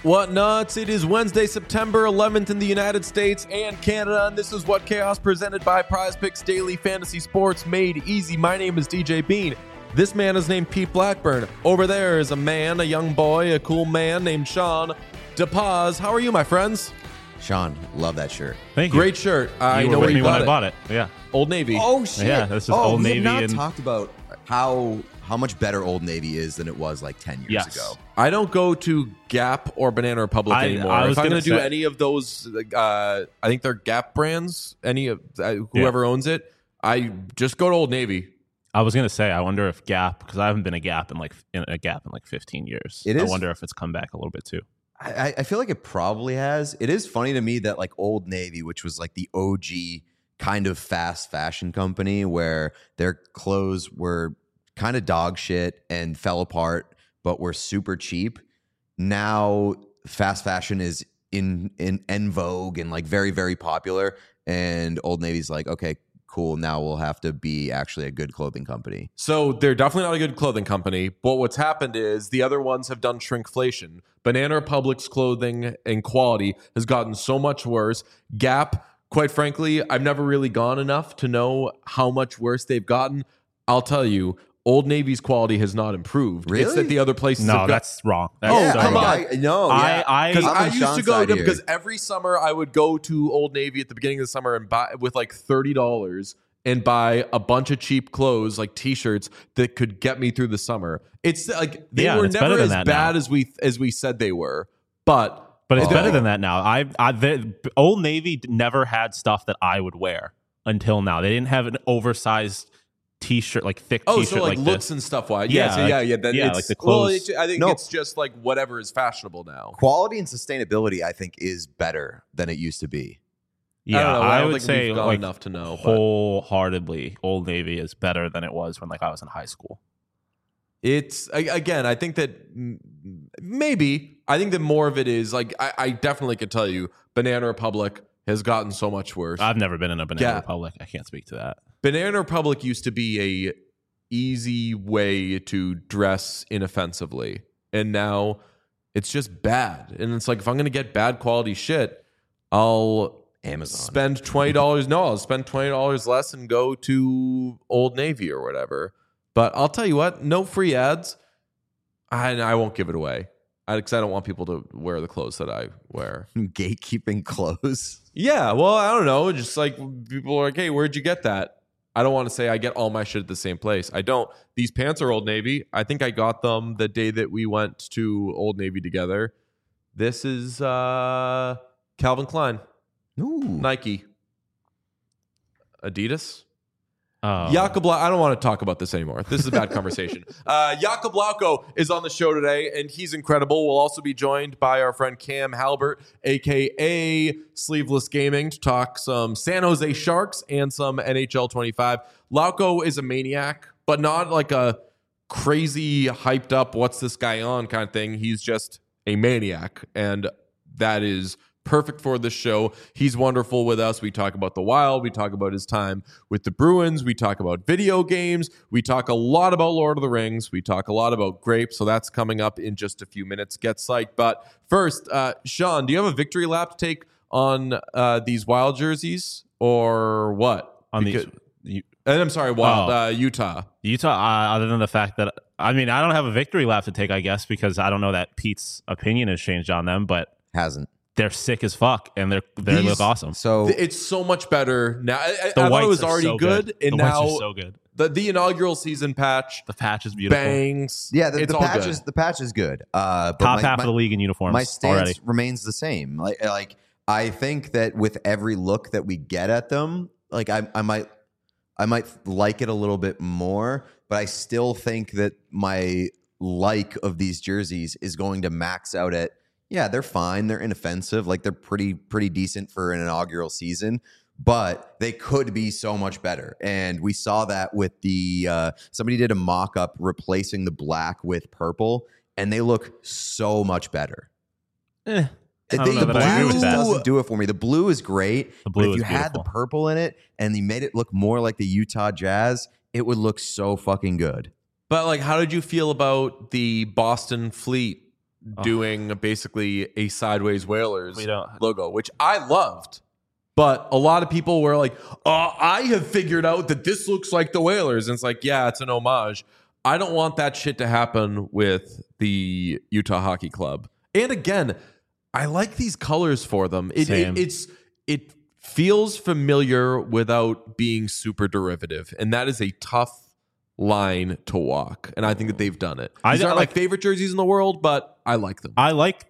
What nuts? It is Wednesday, September 11th in the United States and Canada, and this is What Chaos presented by Prize Picks Daily Fantasy Sports made easy. My name is DJ Bean. This man is named Pete Blackburn. Over there is a man, a young boy, a cool man named Sean DePaz. How are you, my friends? Sean, love that shirt. Thank you. Great shirt. I You know were where with you me when got I it. bought it. Yeah. Old Navy. Oh shit! Yeah, this is Old we Navy have not and- talked about how much better Old Navy is than it was like 10 years Yes. ago. I don't go to Gap or Banana Republic I anymore. was If I'm gonna going to do say- any of those, I think they're Gap brands. Any of whoever owns it, I just go to Old Navy. I was gonna say, I wonder if Gap, because I haven't been a Gap in like 15 years. It I is- wonder if it's come back a little bit too. I feel like it probably has. It is funny to me that like Old Navy, which was like the OG kind of fast fashion company where their clothes were kind of dog shit and fell apart, but were super cheap. Now fast fashion is in vogue and like very, very popular. And Old Navy's like, okay, cool. Now we'll have to be actually a good clothing company. So they're definitely not a good clothing company. But what's happened is the other ones have done shrinkflation. Banana Republic's clothing and quality has gotten so much worse. Gap, quite frankly, I've never really gone enough to know how much worse they've gotten. I'll tell you, Old Navy's quality has not improved. Really? It's that the other places No, have got. that's wrong. That's Oh, so come wrong. on. No, yeah. Because I'm I on used to Sean's go side to here. because every summer I would go to Old Navy at the beginning of the summer and buy with like $30 and buy a bunch of cheap clothes like T-shirts that could get me through the summer. It's like they Yeah, were it's never better than as that bad now. as we said they were, but But it's better than that now. Old Navy never had stuff that I would wear until now. They didn't have an oversized T-shirt, like thick T-shirt so like looks this. and stuff. Why? Yeah, Then yeah, it's, like the well, clothes. I think No. it's just like whatever is fashionable now. Quality and sustainability, I think, is better than it used to be. Yeah, I don't know. I don't would think we've say gone like enough to know, but- wholeheartedly, Old Navy is better than it was when like I was in high school. It's again, I think that maybe I think that more of it is like I definitely could tell you Banana Republic has gotten so much worse. I've never been in a Banana Yeah. Republic. I can't speak to that. Banana Republic used to be a easy way to dress inoffensively, and now it's just bad. And it's like if I'm going to get bad quality shit, I'll Amazon. spend $20. No, I'll spend $20 less and go to Old Navy or whatever. But I'll tell you what, no free ads. I won't give it away because I don't want people to wear the clothes that I wear. Gatekeeping clothes. Yeah, well, I don't know. Just like people are like, hey, where'd you get that? I don't want to say I get all my shit at the same place. I don't. These pants are Old Navy. I think I got them the day that we went to Old Navy together. This is Calvin Klein, Ooh. Nike, Adidas. Oh. Jakob, I don't want to talk about this anymore. This is a bad conversation. Jakob Lauko is on the show today, and he's incredible. We'll also be joined by our friend Cam Halbert, a.k.a. Sleeveless Gaming, to talk some San Jose Sharks and some NHL 25. Lauko is a maniac, but not like a crazy, hyped up, what's this guy on kind of thing. He's just a maniac, and that is perfect for this show. He's wonderful with us. We talk about the Wild. We talk about his time with the Bruins. We talk about video games. We talk a lot about Lord of the Rings. We talk a lot about grapes. So that's coming up in just a few minutes. Get psyched. But first, Sean, do you have a victory lap to take on these Wild jerseys or what? On Because- these, and I'm sorry, Wild, Oh. Utah. Utah, other than the fact that, I mean, I don't have a victory lap to take, I guess, because I don't know that Pete's opinion has changed on them, but Hasn't. they're sick as fuck and they These- look awesome. So It's so much better now. I The thought it whites was are already so good, and the now whites are so good. the inaugural season patch The patch is beautiful. bangs. yeah, it's the all patch good. is good. But Top half of the league in uniforms my stance already. remains the same. Like I think that with every look that we get at them, like I might like it a little bit more, but I still think that my like of these jerseys is going to max out at, yeah, they're fine, they're inoffensive, like they're pretty decent for an inaugural season, but they could be so much better. And we saw that with the somebody did a mock-up replacing the black with purple, and they look so much better. I don't The know that I agree blue with that. doesn't do it for me. The blue is great, The blue but if is you had the beautiful. purple in it and you made it look more like the Utah Jazz, it would look so fucking good. But like, how did you feel about the Boston Fleet doing basically a sideways Whalers We don't- logo, which I loved. But a lot of people were like, I have figured out that this looks like the Whalers. And it's like, yeah, it's an homage. I don't want that shit to happen with the Utah Hockey Club. And again, I like these colors for them. It feels familiar without being super derivative. And that is a tough line to walk. And I think that they've done it. These aren't my favorite jerseys in the world, but I like them.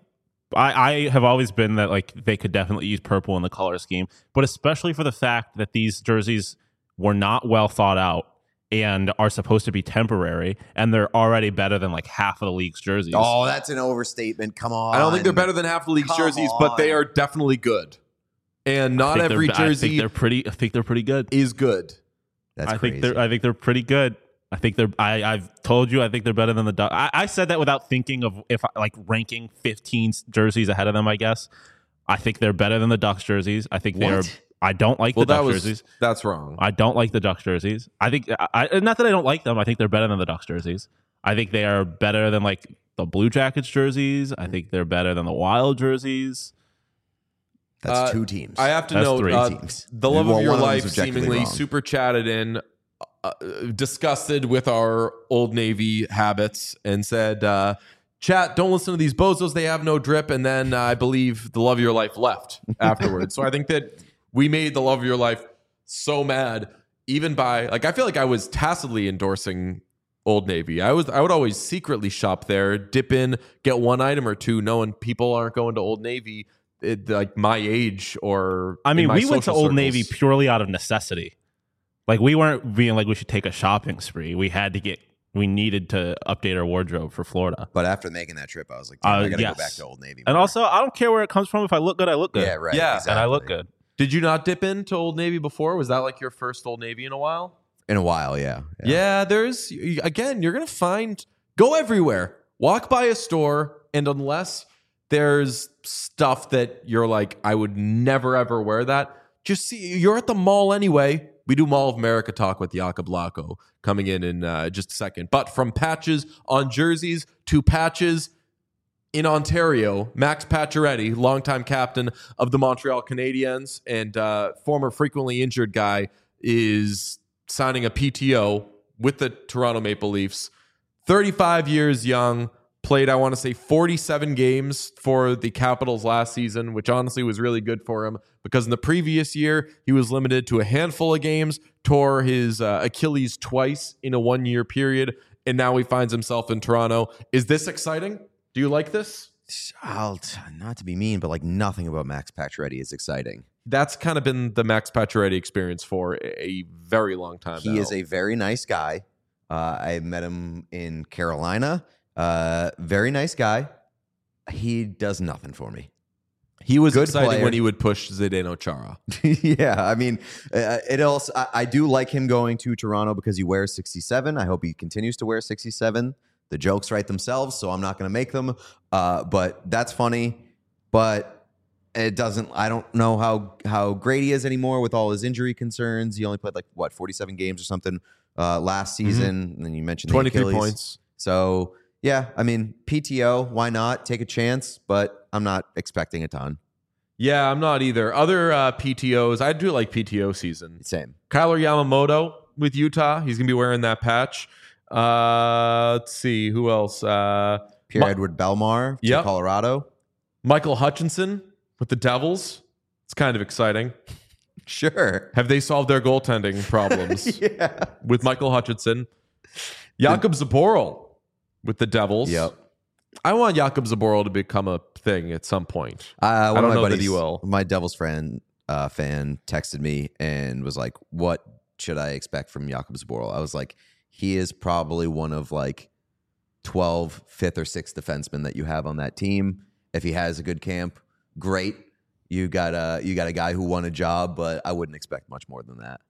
I have always been that like they could definitely use purple in the color scheme, but especially for the fact that these jerseys were not well thought out and are supposed to be temporary, and they're already better than like half of the league's jerseys. Oh, that's an overstatement. Come on. I don't think they're better than half the league's jerseys, but they are definitely good. And not every jersey I think they're pretty good. is good. That's crazy. I think they're pretty good. I've told you I think they're better than the Ducks. I said that without thinking of ranking 15 jerseys ahead of them, I guess. I think they're better than the Ducks jerseys. I think I don't like the Ducks jerseys. That's wrong. I don't like the Ducks jerseys. I think not that I don't like them. I think they're better than the Ducks jerseys. I think they are better than like the Blue Jackets jerseys. I think they're better than the Wild jerseys. That's two teams. I have to That's note, three teams. The Love Well, of Your one of Life them's objectively seemingly wrong. super chatted in, disgusted with our Old Navy habits, and said, chat, don't listen to these bozos. They have no drip. And then I believe the Love of Your Life left afterwards. So I think that we made the Love of Your Life so mad, even by I feel like I was tacitly endorsing Old Navy. I would always secretly shop there, dip in, get one item or two, knowing people aren't going to Old Navy like my age or. I mean, we went to social Old circles. Navy purely out of necessity. Like we weren't being like we should take a shopping spree. We needed to update our wardrobe for Florida. But after making that trip, I was like, I got to yes. go back to Old Navy. And more. also, I don't care where it comes from. If I look good, I look good. Yeah, right. Yeah, exactly. And I look good. Did you not dip into Old Navy before? Was that like your first Old Navy in a while? In a while, yeah. Yeah, there's again, you're gonna go everywhere. Walk by a store, and unless there's stuff that you're like, I would never ever wear that, just see you're at the mall anyway. We do Mall of America talk with Jakob Lacko coming in just a second. But from patches on jerseys to patches in Ontario, Max Pacioretty, longtime captain of the Montreal Canadiens and former frequently injured guy, is signing a PTO with the Toronto Maple Leafs. 35 years young, played, I want to say, 47 games for the Capitals last season, which honestly was really good for him because in the previous year, he was limited to a handful of games, tore his Achilles twice in a 1-year period, and now he finds himself in Toronto. Is this exciting? Do you like this? Not to be mean, but like nothing about Max Pacioretty is exciting. That's kind of been the Max Pacioretty experience for a very long time now. He is a very nice guy. I met him in Carolina. Very nice guy. He does nothing for me. He was Good exciting player. when he would push Zdeno Chara. Yeah, I mean, it also. I do like him going to Toronto because he wears 67. I hope he continues to wear 67. The jokes write themselves, so I'm not going to make them. But that's funny. But it doesn't. I don't know how great he is anymore with all his injury concerns. He only played 47 games or something last season. And then you mentioned the 23 Achilles. points. So yeah, I mean, PTO, why not take a chance? But I'm not expecting a ton. Yeah, I'm not either. Other PTOs, I do like PTO season. Same. Kyler Yamamoto with Utah. He's going to be wearing that patch. Let's see. Who else? Pierre-Edouard Bellemare to Yep. Colorado. Michael Hutchinson with the Devils. It's kind of exciting. Sure. Have they solved their goaltending problems Yeah. with Michael Hutchinson? Jakob Zaboral with the Devils. Yep. I want Jakob Zaboral to become a thing at some point. One I of don't my know that buddies, he will. My Devils fan texted me and was like, "What should I expect from Jakob Zaboral?" I was like, "He is probably one of 12 fifth or sixth defensemen that you have on that team. If he has a good camp, great. You got a guy who won a job, but I wouldn't expect much more than that."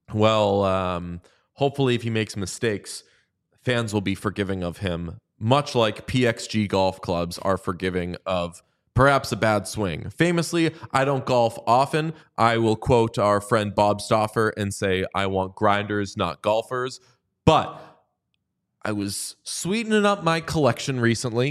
Well, hopefully if he makes mistakes, fans will be forgiving of him, much like PXG golf clubs are forgiving of perhaps a bad swing. Famously, I don't golf often. I will quote our friend Bob Stauffer and say, I want grinders, not golfers. But I was sweetening up my collection recently,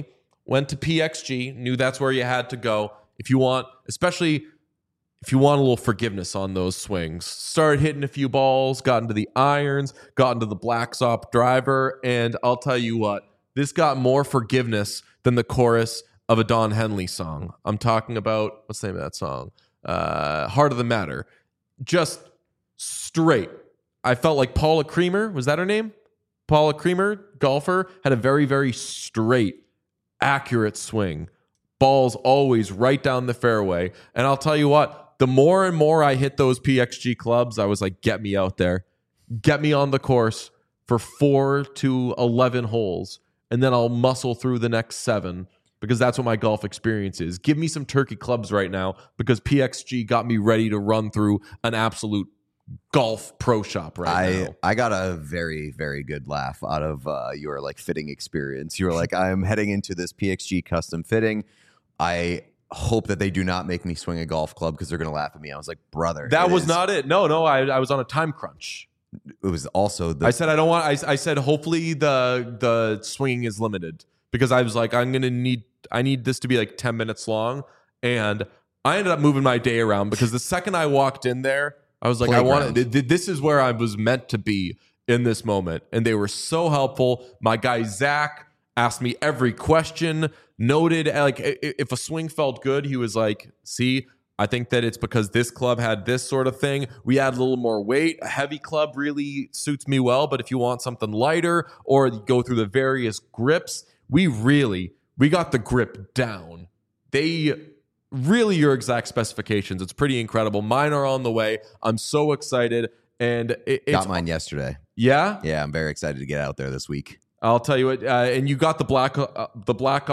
went to PXG, knew that's where you had to go. If you want, especially if you want a little forgiveness on those swings, started hitting a few balls, got into the irons, got into the Black Ops driver, and I'll tell you what, this got more forgiveness than the chorus of a Don Henley song. I'm talking about, what's the name of that song? Heart of the Matter. Just straight. I felt like Paula Creamer, was that her name? Paula Creamer, golfer, had a very, very straight, accurate swing. Balls always right down the fairway. And I'll tell you what, the more and more I hit those PXG clubs, I was like, get me out there. Get me on the course for 4 to 11 holes, and then I'll muscle through the next 7 because that's what my golf experience is. Give me some turkey clubs right now because PXG got me ready to run through an absolute golf pro shop now. I got a very, very good laugh out of your like fitting experience. You were like, I'm heading into this PXG custom fitting. I hope that they do not make me swing a golf club because they're going to laugh at me. I was like, brother, that was not it. No, I was on a time crunch. It was also I said I don't want. I said hopefully the swinging is limited because I was like I need this to be like 10 minutes long, and I ended up moving my day around because the second I walked in there, I was like this is where I was meant to be in this moment, and they were so helpful. My guy Zach asked me every question, noted like if a swing felt good, he was like, see, I think that it's because this club had this sort of thing. We add a little more weight. A heavy club really suits me well, but if you want something lighter or go through the various grips, we got the grip down. They really your exact specifications. It's pretty incredible. Mine are on the way. I'm so excited. And it's got mine yesterday. Yeah? Yeah, I'm very excited to get out there this week. I'll tell you what, and you got the Black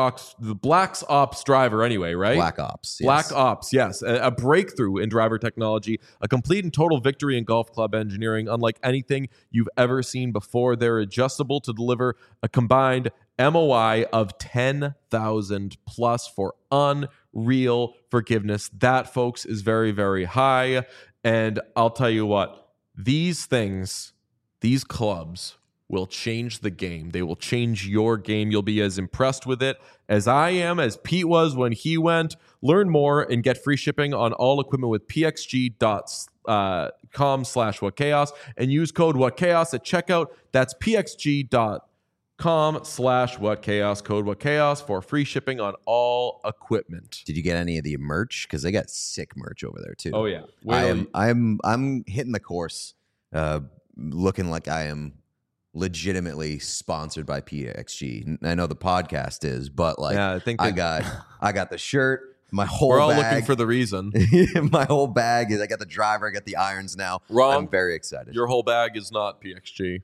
Ops driver anyway, right? Black Ops, yes. Black Ops, yes. A breakthrough in driver technology, a complete and total victory in golf club engineering, unlike anything you've ever seen before. They're adjustable to deliver a combined MOI of 10,000 plus for unreal forgiveness. That, folks, is very, very high. And I'll tell you what, these clubs will change the game. They will change your game. You'll be as impressed with it as I am, as Pete was when he went. Learn more and get free shipping on all equipment with pxg.com/whatchaos and use code whatchaos at checkout. That's pxg.com/whatchaos, code whatchaos for free shipping on all equipment. Did you get any of the merch? Because they got sick merch over there too. Oh yeah. I'm hitting the course looking like I am legitimately sponsored by PXG. I know the podcast is, but like, yeah, I got the shirt. My whole we're all bag, looking for the reason. My whole bag is I got the driver, I got the irons now. Wrong. I'm very excited. Your whole bag is not PXG.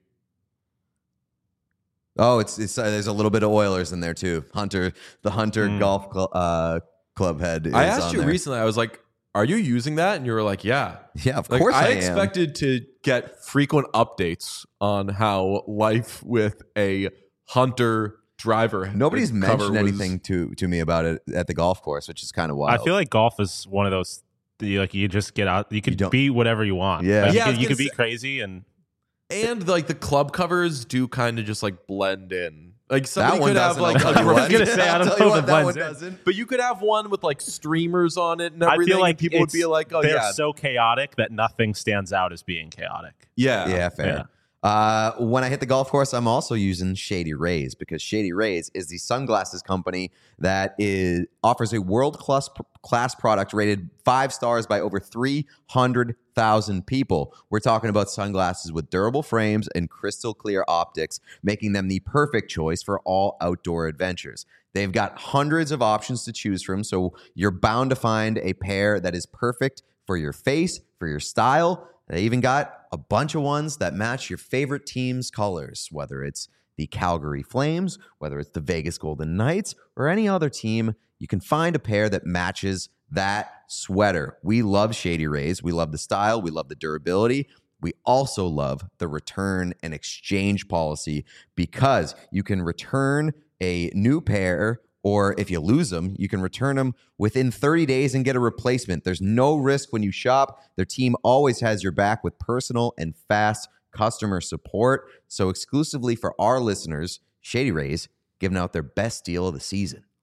Oh, it's there's a little bit of Oilers in there too. The Hunter Golf Club head. Is I asked you there recently. I was like, "Are you using that?" And you were like, "Yeah, yeah, of course." I expected to get frequent updates on how life with a Hunter driver. Nobody's mentioned anything to me about it at the golf course, which is kind of wild. I feel like golf is one of those. Like you just get out. You can be whatever you want. Yeah, like, you can be crazy and like the club covers do kind of just like blend in. Like somebody could have like I was gonna say I don't know if it blends in. Doesn't. But you could have one with like streamers on it and everything. I feel like people would be like, "Oh, they're so chaotic that nothing stands out as being chaotic." Yeah, fair. Yeah. When I hit the golf course, I'm also using Shady Rays because Shady Rays is the sunglasses company that offers a world-class product rated 5 stars by over 300,000 people. We're talking about sunglasses with durable frames and crystal clear optics, making them the perfect choice for all outdoor adventures. They've got hundreds of options to choose from, so you're bound to find a pair that is perfect for your face, for your style. They even got a bunch of ones that match your favorite team's colors, whether it's the Calgary Flames, whether it's the Vegas Golden Knights, or any other team. You can find a pair that matches that sweater. We love Shady Rays. We love the style. We love the durability. We also love the return and exchange policy because you can return a new pair, or if you lose them, you can return them within 30 days and get a replacement. There's no risk when you shop. Their team always has your back with personal and fast customer support. So exclusively for our listeners, Shady Rays giving out their best deal of the season.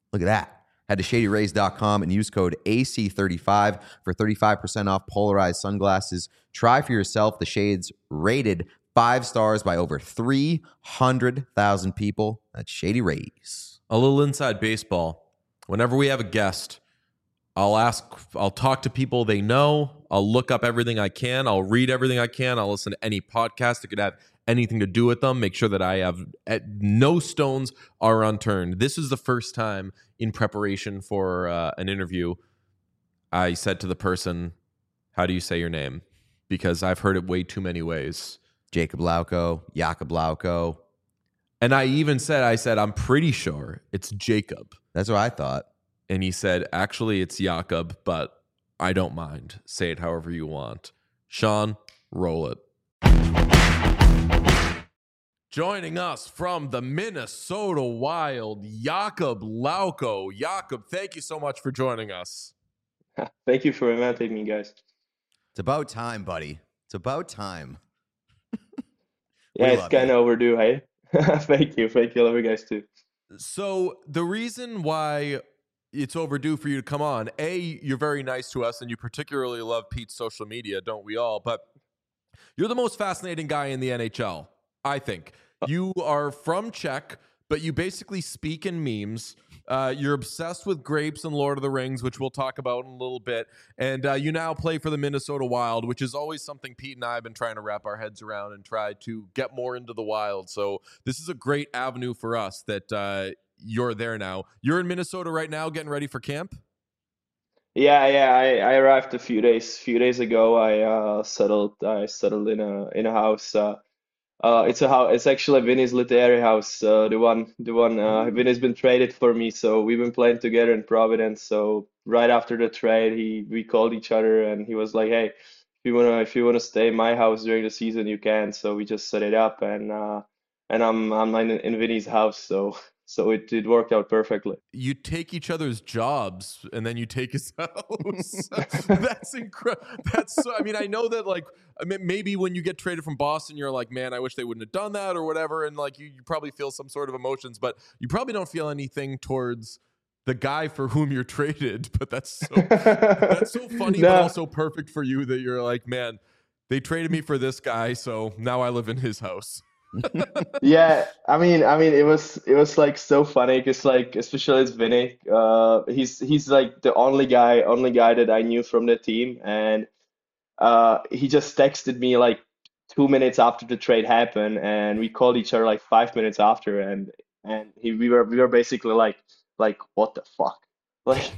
Look at that. Head to shadyrays.com and use code AC35 for 35% off polarized sunglasses. Try for yourself the shades rated 5 stars by over 300,000 people. That's Shady Rays. A little inside baseball. Whenever we have a guest, I'll talk to people they know. I'll look up everything I can. I'll read everything I can. I'll listen to any podcast that could have anything to do with them. Make sure that I have no stones are unturned. This is the first time in preparation for an interview I said to the person, how do you say your name? Because I've heard it way too many ways. Jacob Lauko, Jakob Lauko. And I said, I'm pretty sure it's Jacob. That's what I thought. And he said, actually, it's Jakob, but I don't mind. Say it however you want. Sean, roll it. Joining us from the Minnesota Wild, Jakob Lauko. Jakob, thank you so much for joining us. Thank you for inviting me, guys. It's about time, buddy. It's about time. Yeah, it's kind of overdue, hey? Thank you. I love you guys too. So the reason why it's overdue for you to come on, A, you're very nice to us and you particularly love Pete's social media, don't we all? But you're the most fascinating guy in the NHL, I think. You are from Czech, but you basically speak in memes. You're obsessed with grapes and Lord of the Rings, which we'll talk about in a little bit. And you now play for the Minnesota Wild, which is always something Pete and I have been trying to wrap our heads around and try to get more into the Wild. So this is a great avenue for us that you're there now. You're in Minnesota right now getting ready for camp? Yeah. I arrived a few days ago. I settled in a house. It's a house. It's actually Vinny's literary house. The one. Vinny's been traded for me, so we've been playing together in Providence. So right after the trade, we called each other, and he was like, "Hey, if you wanna stay in my house during the season, you can." So we just set it up, and I'm in Vinny's house, so it worked out perfectly. You take each other's jobs and then you take his house. That's incredible. That's so, I mean, I know that like maybe when you get traded from Boston, you're like, man, I wish they wouldn't have done that or whatever. And like you probably feel some sort of emotions, but you probably don't feel anything towards the guy for whom you're traded. But that's so funny, No. but also perfect for you that you're like, man, they traded me for this guy, so now I live in his house. Yeah, I mean, it was like so funny because like especially it's Vinny. He's like the only guy that I knew from the team, and he just texted me like 2 minutes after the trade happened, and we called each other like 5 minutes after, and we were basically like what the fuck, like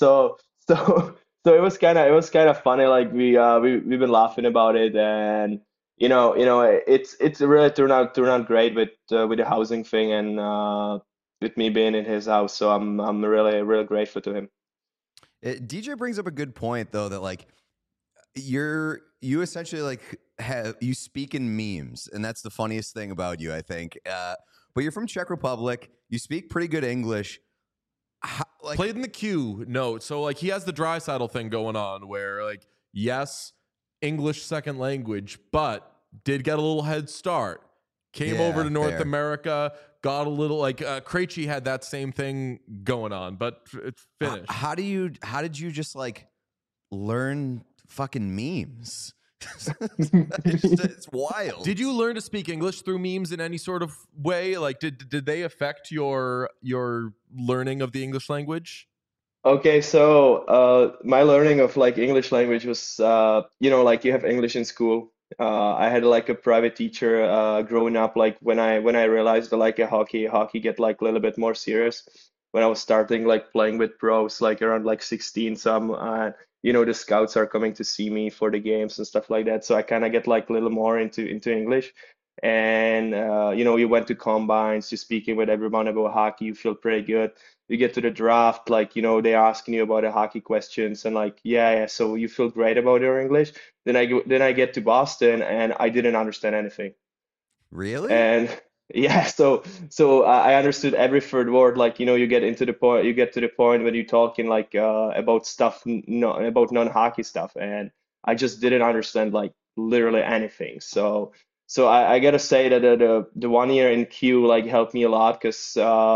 so it was kind of funny. Like we've been laughing about it, and it's really turned out great with the housing thing and with me being in his house. So I'm really grateful to him. DJ brings up a good point though, that like you essentially like you speak in memes, and that's the funniest thing about you, I think. But you're from Czech Republic. You speak pretty good English. Played in the queue. No, so like he has the Draisaitl thing going on, where like yes, English second language, but did get a little head start. Came over to North America, got a little like Krejci had that same thing going on, but it's finished. How did you just like learn fucking memes? It's wild. Did you learn to speak English through memes in any sort of way? Like did they affect your learning of the English language? Okay, so my learning of like English language was like you have English in school. I had like a private teacher growing up. Like when I realized that like hockey get like a little bit more serious when I was starting like playing with pros like around like 16. So the scouts are coming to see me for the games and stuff like that. So I kind of get like a little more into English. And you went to combines, you're speaking with everyone about hockey, you feel pretty good. You get to the draft, like they're asking you about the hockey questions, and like yeah, so you feel great about your English. Then I get to Boston, and I didn't understand anything. Really? And yeah, so I understood every third word. Like you get to the point when you're talking like about stuff, about non-hockey stuff, and I just didn't understand like literally anything. So I gotta say that the 1 year in Q like helped me a lot because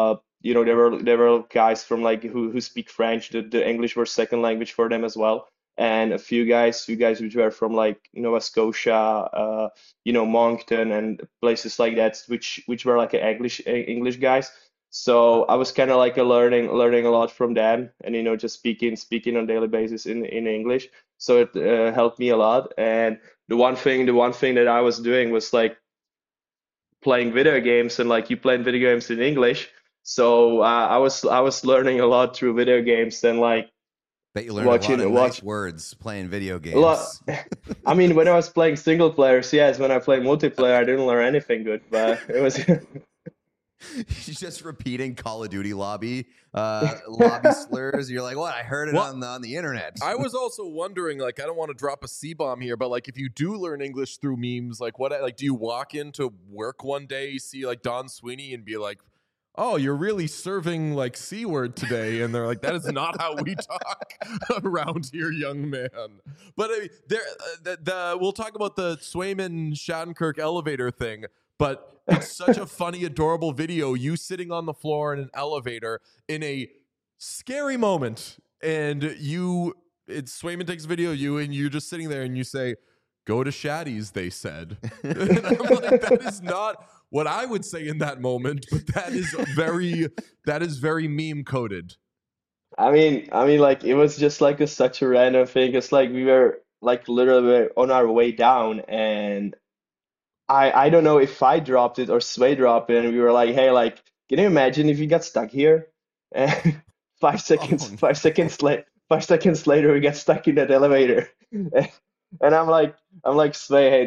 there were guys from like who speak French. The English were second language for them as well, and a few guys which were from like Nova Scotia, Moncton and places like that, which were like English guys. So I was kind of like learning a lot from them, and just speaking on daily basis in English. So it helped me a lot. And the one thing that I was doing was like playing video games, and like you playing video games in English. So I was learning a lot through video games, and like Bet you learned a lot of watch nice words playing video a lot. games. I mean, when I was playing single players, yes. When I played multiplayer, I didn't learn anything good, but it was. He's just repeating Call of Duty lobby slurs. You're like, what? I heard it Well, on the internet. I was also wondering, like, I don't want to drop a C-bomb here, but like, if you do learn English through memes, like, do you walk into work one day, see like Don Sweeney, and be like, "Oh, you're really serving like C-word today," and they're like, "That is not how we talk around here, young man." But I mean, we'll talk about the Swayman Shattenkirk elevator thing. But it's such a funny, adorable video. You sitting on the floor in an elevator in a scary moment, and Swayman takes a video of you, and you're just sitting there, and you say, "Go to Shaddy's," they said. And I'm like, that is not what I would say in that moment, but that is very meme coded. I mean, like it was just like such a random thing. It's like we were like literally on our way down, and I don't know if I dropped it or Sway dropped it, and we were like, hey, like, can you imagine if you got stuck here? And 5 seconds, Oh, 5 seconds later, we get stuck in that elevator, and I'm like, Sway, hey,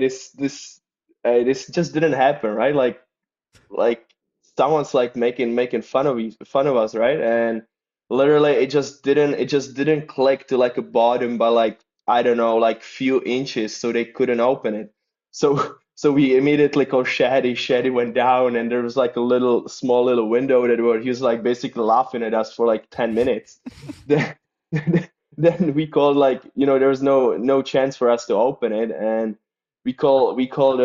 this just didn't happen, right? Like someone's like making fun of us, right? And literally, it just didn't click to like a bottom by like I don't know, like few inches, so they couldn't open it. So we immediately called Shady. Shady went down, and there was like a small little window that where he was like basically laughing at us for like 10 minutes. Then, then we called like there was no chance for us to open it, and we call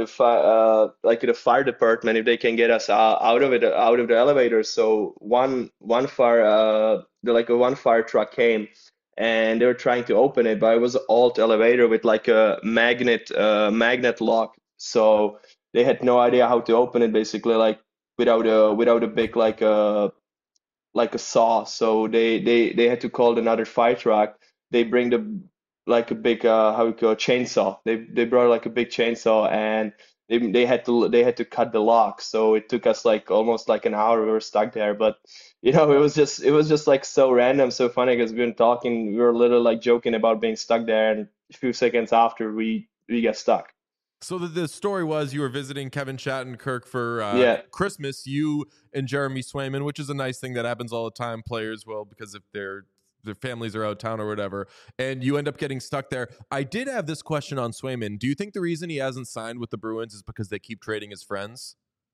like the fire department if they can get us out of the elevator. So one fire one fire truck came, and they were trying to open it, but it was an alt elevator with like a magnet lock. So they had no idea how to open it, basically, like without a big like a saw. So they had to call another fire truck. They bring the like a big how we call chainsaw. They brought like a big chainsaw, and they had to cut the lock. So it took us like almost like an hour. We were stuck there, but it was just like so random, so funny because we were literally like joking about being stuck there, and a few seconds after we get stuck. So the story was you were visiting Kevin Shattenkirk for Yeah. Christmas, you and Jeremy Swayman, which is a nice thing that happens all the time. Players will, because if their families are out of town or whatever, and you end up getting stuck there. I did have this question on Swayman. Do you think the reason he hasn't signed with the Bruins is because they keep trading his friends?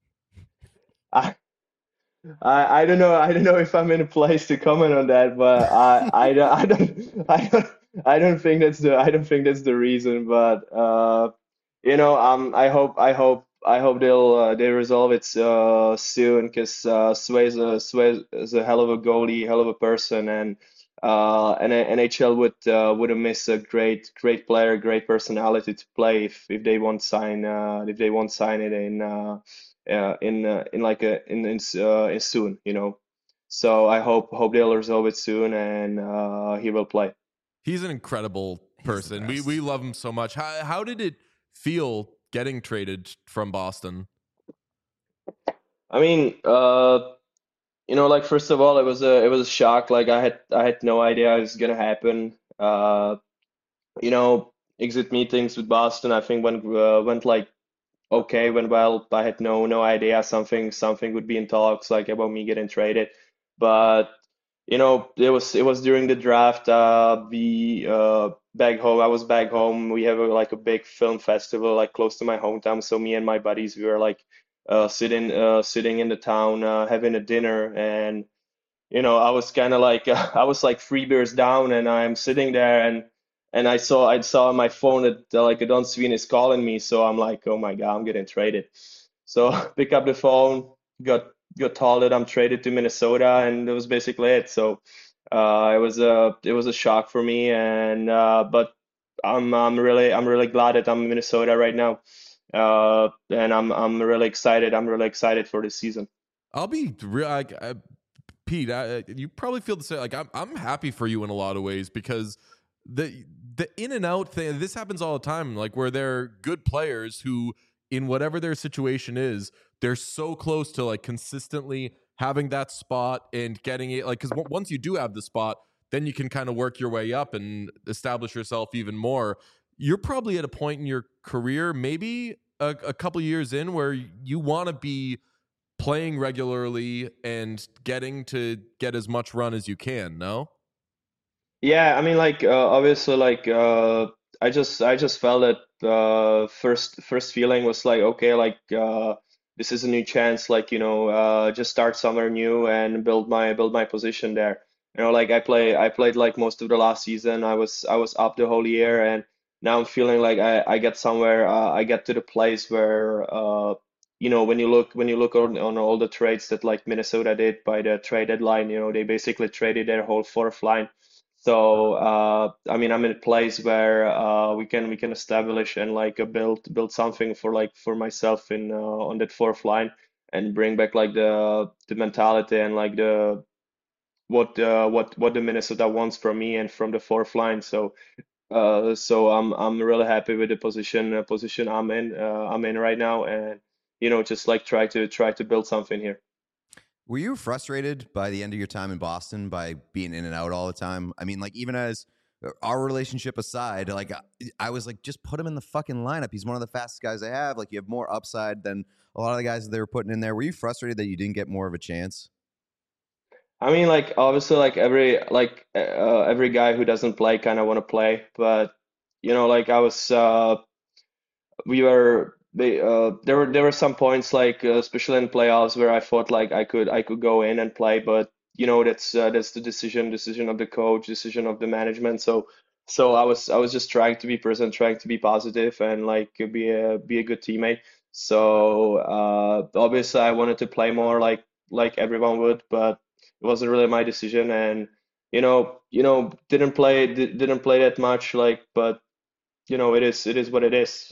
I, I don't know if I'm in a place to comment on that, but I don't think that's the reason. But I hope they resolve it soon, because Sway's a hell of a goalie, hell of a person, and NHL would miss a great player, great personality to play if they won't sign it in soon. So I hope they'll resolve it soon, and he will play. He's an incredible He's the person. best. We love him so much. How did it feel getting traded from Boston? I mean, like first of all, it was a shock. Like I had no idea it was gonna happen. Exit meetings with Boston, I think went like okay, went well. I had no idea something would be in talks like about me getting traded. But it was during the draft. We back home. I was back home. We have like a big film festival like close to my hometown. So me and my buddies, we were like sitting in the town, having a dinner, and I was kind of like I was like 3 beers down, and I'm sitting there, and I saw on my phone that like Don Sweeney is calling me. So I'm like, oh my God, I'm getting traded. So pick up the phone, got got told that I'm traded to Minnesota, and that was basically it. So it was a shock for me, and but I'm really glad that I'm in Minnesota right now, and I'm really excited. I'm really excited for this season. I'll be real. Pete, you probably feel the same. Like I'm happy for you in a lot of ways because the in and out thing. This happens all the time. Like where they're good players who, in whatever their situation is, they're so close to like consistently having that spot and getting it. Like because once you do have the spot, then you can kind of work your way up and establish yourself even more. You're probably at a point in your career, maybe a couple years in, where you want to be playing regularly and getting to get as much run as you can, no? Yeah, I mean, like obviously, like I just felt that first feeling was like, okay, like this is a new chance, like just start somewhere new and build my position there. Like I played like most of the last season. I was up the whole year, and now I'm feeling like I get somewhere. I get to the place where when you look on all the trades that like Minnesota did by the trade deadline, they basically traded their whole fourth line. So I mean, I'm in a place where we can establish and like build something for like for myself in on that fourth line and bring back like the mentality and like the what the Minnesota wants from me and from the fourth line. So I'm really happy with the position I'm in right now, and just like try to build something here. Were you frustrated by the end of your time in Boston by being in and out all the time? I mean, like even as our relationship aside, like I was like, just put him in the fucking lineup. He's one of the fastest guys I have. Like you have more upside than a lot of the guys that they were putting in there. Were you frustrated that you didn't get more of a chance? I mean, like obviously, like every guy who doesn't play kind of want to play, but like I was we were there were some points like especially in playoffs where I thought like I could go in and play, but that's the decision of the coach, decision of the management. So I was just trying to be present, trying to be positive, and like be a good teammate. So obviously I wanted to play more like everyone would, but it wasn't really my decision, and didn't play that much, like, but it is what it is.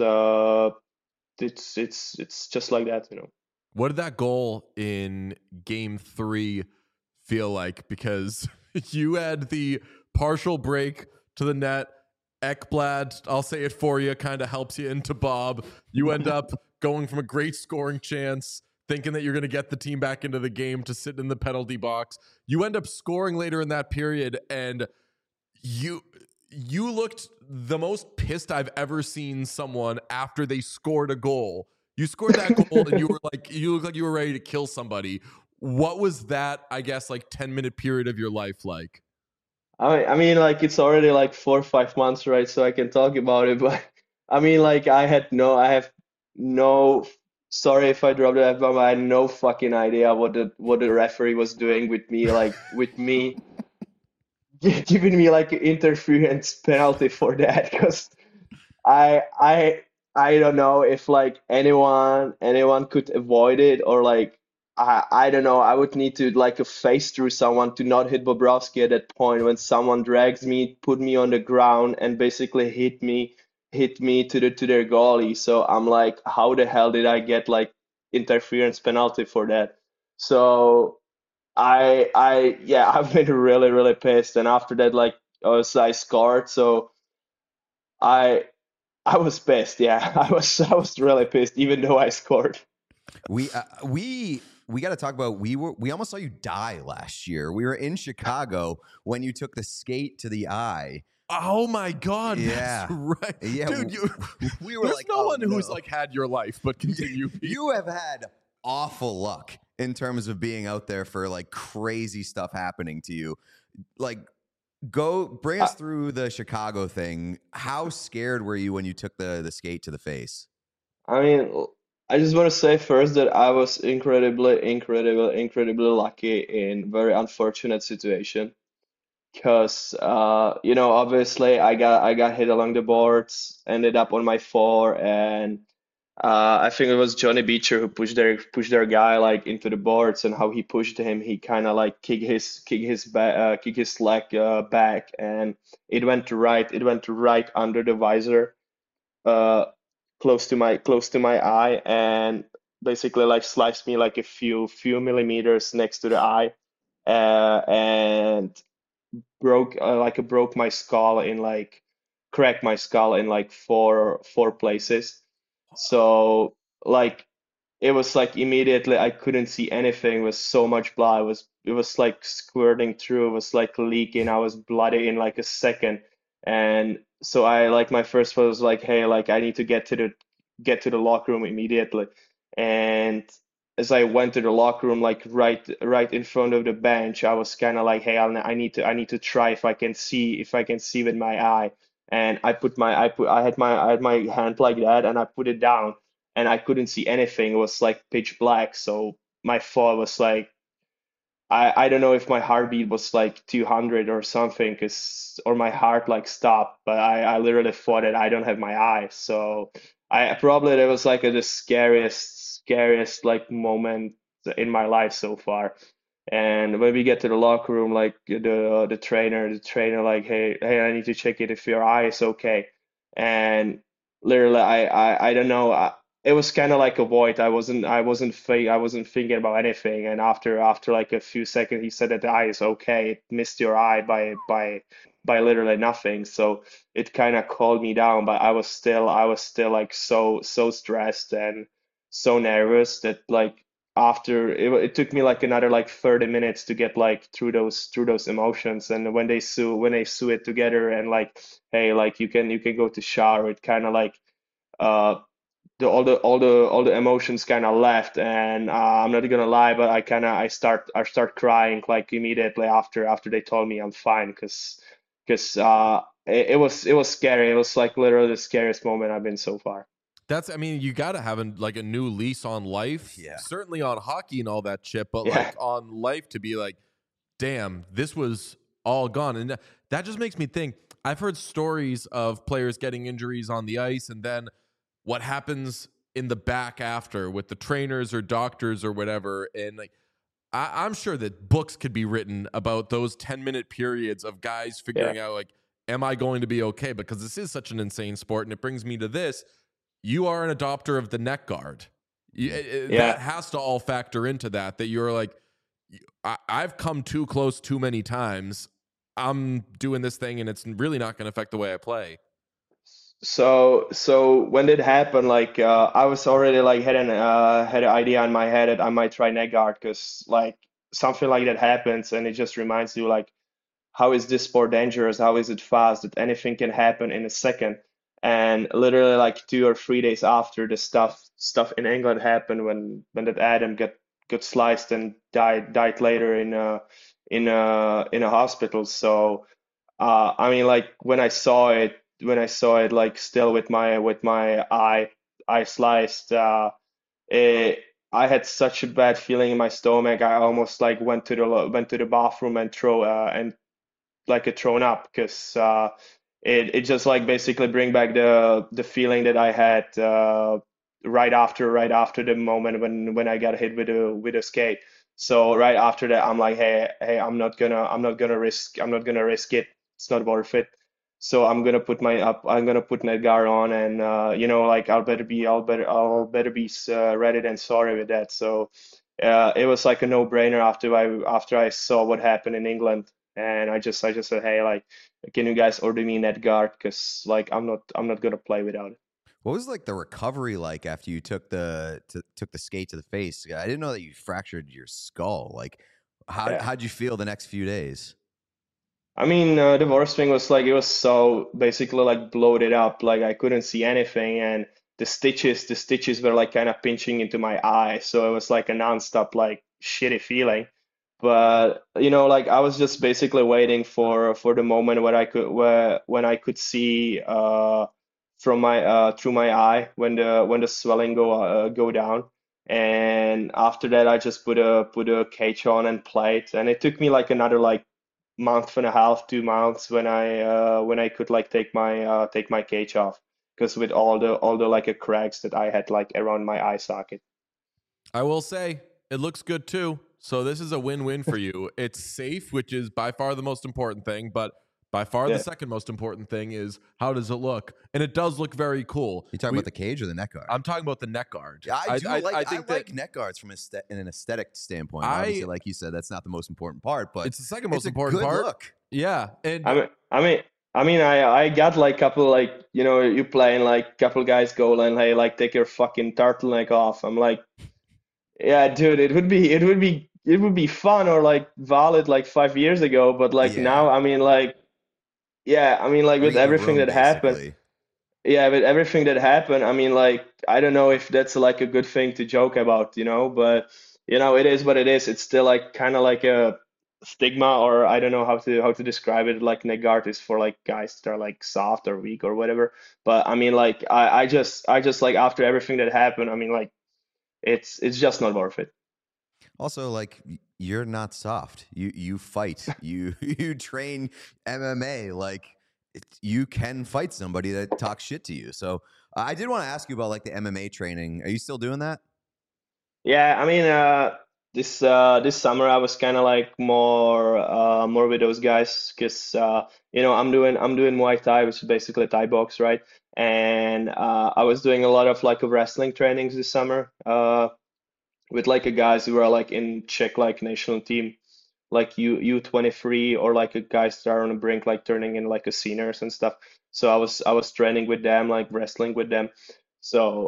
It's just like that. What did that goal in game 3 feel like? Because you had the partial break to the net. Ekblad, I'll say it for you, kind of helps you into Bob. You end up going from a great scoring chance, thinking that you're going to get the team back into the game, to sit in the penalty box. You end up scoring later in that period, and you looked the most pissed I've ever seen someone after they scored a goal. You scored that goal and you looked like you were ready to kill somebody. What was that, I guess, like 10-minute period of your life like? I mean, like it's already like 4 or 5 months, right? So I can talk about it, but I mean, like I have no. Sorry if I dropped the F-bomb. I had no fucking idea what the referee was doing with me, like with me giving me like an interference penalty for that, because I I I don't know if like anyone could avoid it, or like I don't know. I would need to like a face through someone to not hit Bobrovsky at that point when someone drags me, put me on the ground, and basically hit me to their goalie. So I'm like, how the hell did I get like interference penalty for that? So yeah, I've been really pissed, and after that, like I scored, so I. I was pissed. Yeah, I was really pissed, even though I scored. We got to talk about we almost saw you die last year. We were in Chicago when you took the skate to the eye. Oh my God, Yeah. that's right. Yeah, Dude, we were there's like, no oh, one who's no. like had your life, but continue. Pete. You have had awful luck in terms of being out there for like crazy stuff happening to you. Like, go bring us through the Chicago thing. How scared were you when you took the skate to the face? I mean, I just want to say first that I was incredibly lucky in very unfortunate situation, because obviously I got hit along the boards, ended up on my floor, and I think it was Johnny Beecher who pushed their guy like into the boards, and how he pushed him, he kind of like kick his leg back, and it went right under the visor, uh, close to my eye, and basically like sliced me like a few millimeters next to the eye, and broke my skull in like cracked my skull in like four places. So like it was like immediately I couldn't see anything. It was so much blood. It was like squirting through. It was like leaking. I was bloody in like a second. And so I like my first thought was like, hey, like I need to get to the locker room immediately. And as I went to the locker room, like right in front of the bench, I was kind of like, hey, I need to try if I can see with my eye. And I had my hand like that, and I put it down, and I couldn't see anything. It was like pitch black. So my thought was like, I don't know if my heartbeat was like 200 or something, or my heart like stopped, but I literally thought that I don't have my eye. So I probably that was like the scariest like moment in my life so far. And when we get to the locker room, like the trainer like, hey, I need to check it if your eye is okay. And literally, I don't know. It was kind of like a void. I wasn't thinking about anything. And after like a few seconds, he said that the eye is okay. It missed your eye by literally nothing. So it kind of calmed me down. But I was still like so stressed and so nervous that like after it took me like another like 30 minutes to get like through those emotions. And when they sew it together, and like, hey, like you can go to shower, it kind of like uh all the emotions kind of left. And I'm not gonna lie, but I start crying like immediately after they told me I'm fine, because it was scary. It was like literally the scariest moment I've been so far. I mean, you got to have like a new lease on life, Yeah. certainly on hockey and all that shit, but Yeah. like on life to be like, damn, this was all gone. And that just makes me think. I've heard stories of players getting injuries on the ice, and then what happens in the back after with the trainers or doctors or whatever. And like, I'm sure that books could be written about those 10-minute periods of guys Yeah. figuring out, like, am I going to be okay? Because this is such an insane sport. And it brings me to this. You are an adopter of the neck guard. That Yeah. has to all factor into that you're like, I've come too close too many times. I'm doing this thing, and it's really not going to affect the way I play. So when it happened, like I was already like had an idea in my head that I might try neck guard, because like something like that happens, and it just reminds you like, how is this sport dangerous? How is it fast? That anything can happen in a second. And literally like 2 or 3 days after the stuff in England happened, when that Adam got sliced and died later in a hospital. So I mean, like when I saw it like still with my eye sliced, it, I had such a bad feeling in my stomach. I almost like went to the bathroom and like a thrown up, because it just like basically bring back the feeling that I had right after the moment when I got hit with a skate. So right after that, I'm like, hey, I'm not gonna risk it. It's not worth it. So I'm gonna put Nedgar on, and like I'll better be ready than sorry with that. So it was like a no-brainer after I saw what happened in England. And I just said, hey, like, can you guys order me net guard? Because like I'm not gonna play without it. What was like the recovery like after you took took the skate to the face? I didn't know that you fractured your skull. Like, Yeah. how'd you feel the next few days? I mean, the worst thing was like it was so basically like bloated up, like I couldn't see anything, and the stitches were like kind of pinching into my eye, so it was like a nonstop like shitty feeling. But like I was just basically waiting for the moment when I could see from my through my eye, when the swelling go down. And after that, I just put a cage on and played, and it took me like another like month and a half, 2 months, when I could like take my cage off. because with all the like cracks that I had like around my eye socket. I will say it looks good too. So this is a win-win for you. It's safe, which is by far the most important thing, but by far Yeah. the second most important thing is how does it look? And it does look very cool. You talking about the cage or the neck guard? I'm talking about the neck guard. Yeah, I think like neck guards from in an aesthetic standpoint. I- Obviously, like you said, that's not the most important part, but it's the second most it's a important good part. look. Yeah, and I got like couple like you playing like couple guys go and hey like take your fucking turtleneck off. I'm like, yeah, dude, it would be fun or like valid like 5 years ago, but like Yeah. now like with Read the everything room, that happened. basically. Yeah, with everything that happened, I mean, like, I don't know if that's like a good thing to joke about, but it is what it is. It's still like kind of like a stigma, or I don't know how to describe it. Like neck guard is for like guys that are like soft or weak or whatever. But I mean, like, I just like after everything that happened, I mean, like, it's just not worth it. Also, like you're not soft. You fight. You train MMA. Like you can fight somebody that talks shit to you. So I did want to ask you about like the MMA training. Are you still doing that? Yeah, I mean, this summer I was kind of like more with those guys because I'm doing Muay Thai, which is basically Thai box, right? And I was doing a lot of like wrestling trainings this summer with like a guys who are like in Czech like national team, like U23 or like a guys that are on the brink like turning in like a seniors and stuff. So I was training with them, like wrestling with them. So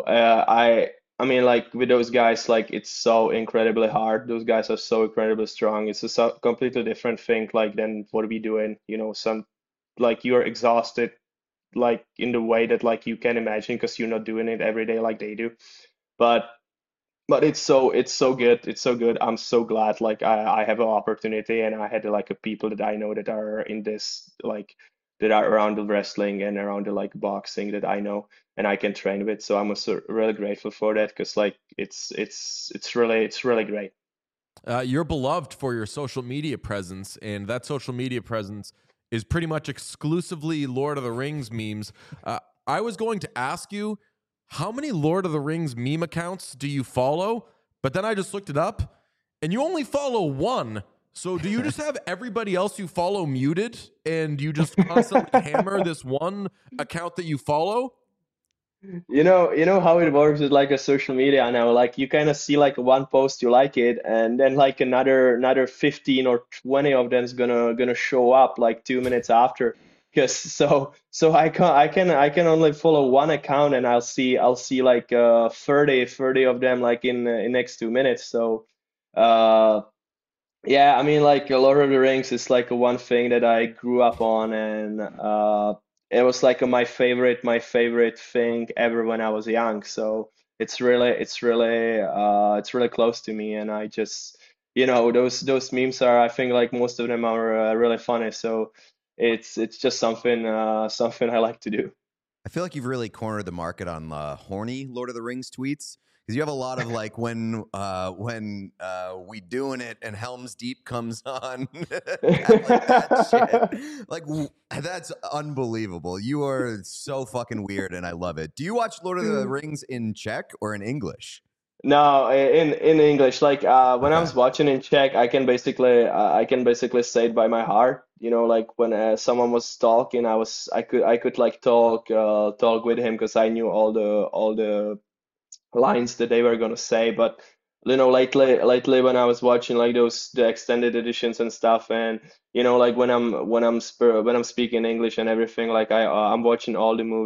I mean, like with those guys, like it's so incredibly hard. Those guys are so incredibly strong. It's a completely different thing, like than what we doing. Some like you're exhausted, like in the way that like you can imagine, because you're not doing it every day like they do. But it's so good. It's so good. I'm so glad like I have an opportunity and I had like a people that I know that are in this like that are around the wrestling and around the like boxing that I know and I can train with. So I'm also really grateful for that because like it's really great. You're beloved for your social media presence, and that social media presence is pretty much exclusively Lord of the Rings memes. I was going to ask you, how many Lord of the Rings meme accounts do you follow? But then I just looked it up, and you only follow one. So do you just have everybody else you follow muted, and you just constantly hammer this one account that you follow? You know how it works with like a social media now. Like you kind of see like one post you like it, and then like another 15 or 20 of them is gonna show up like 2 minutes after. Because so I can only follow one account, and I'll see like 30 of them like in next 2 minutes. So uh yeah, I mean, like Lord of the Rings is like a one thing that I grew up on, and it was like my favorite thing ever when I was young. So it's really close to me, and I just, those memes are, I think, like most of them are really funny. So it's just something I like to do. I feel like you've really cornered the market on horny Lord of the Rings tweets because you have a lot of like when we doing it and Helm's Deep comes on, like that shit. Like that's unbelievable. You are so fucking weird, and I love it. Do you watch Lord of the Rings in Czech or in English? No, in English. Like when I Okay. was watching in Czech, I can basically say it by my heart. Like when someone was talking, I could like talk with him because I knew all the lines that they were gonna say. But lately when I was watching like the extended editions and stuff, and like when I'm speaking English and everything, like I'm watching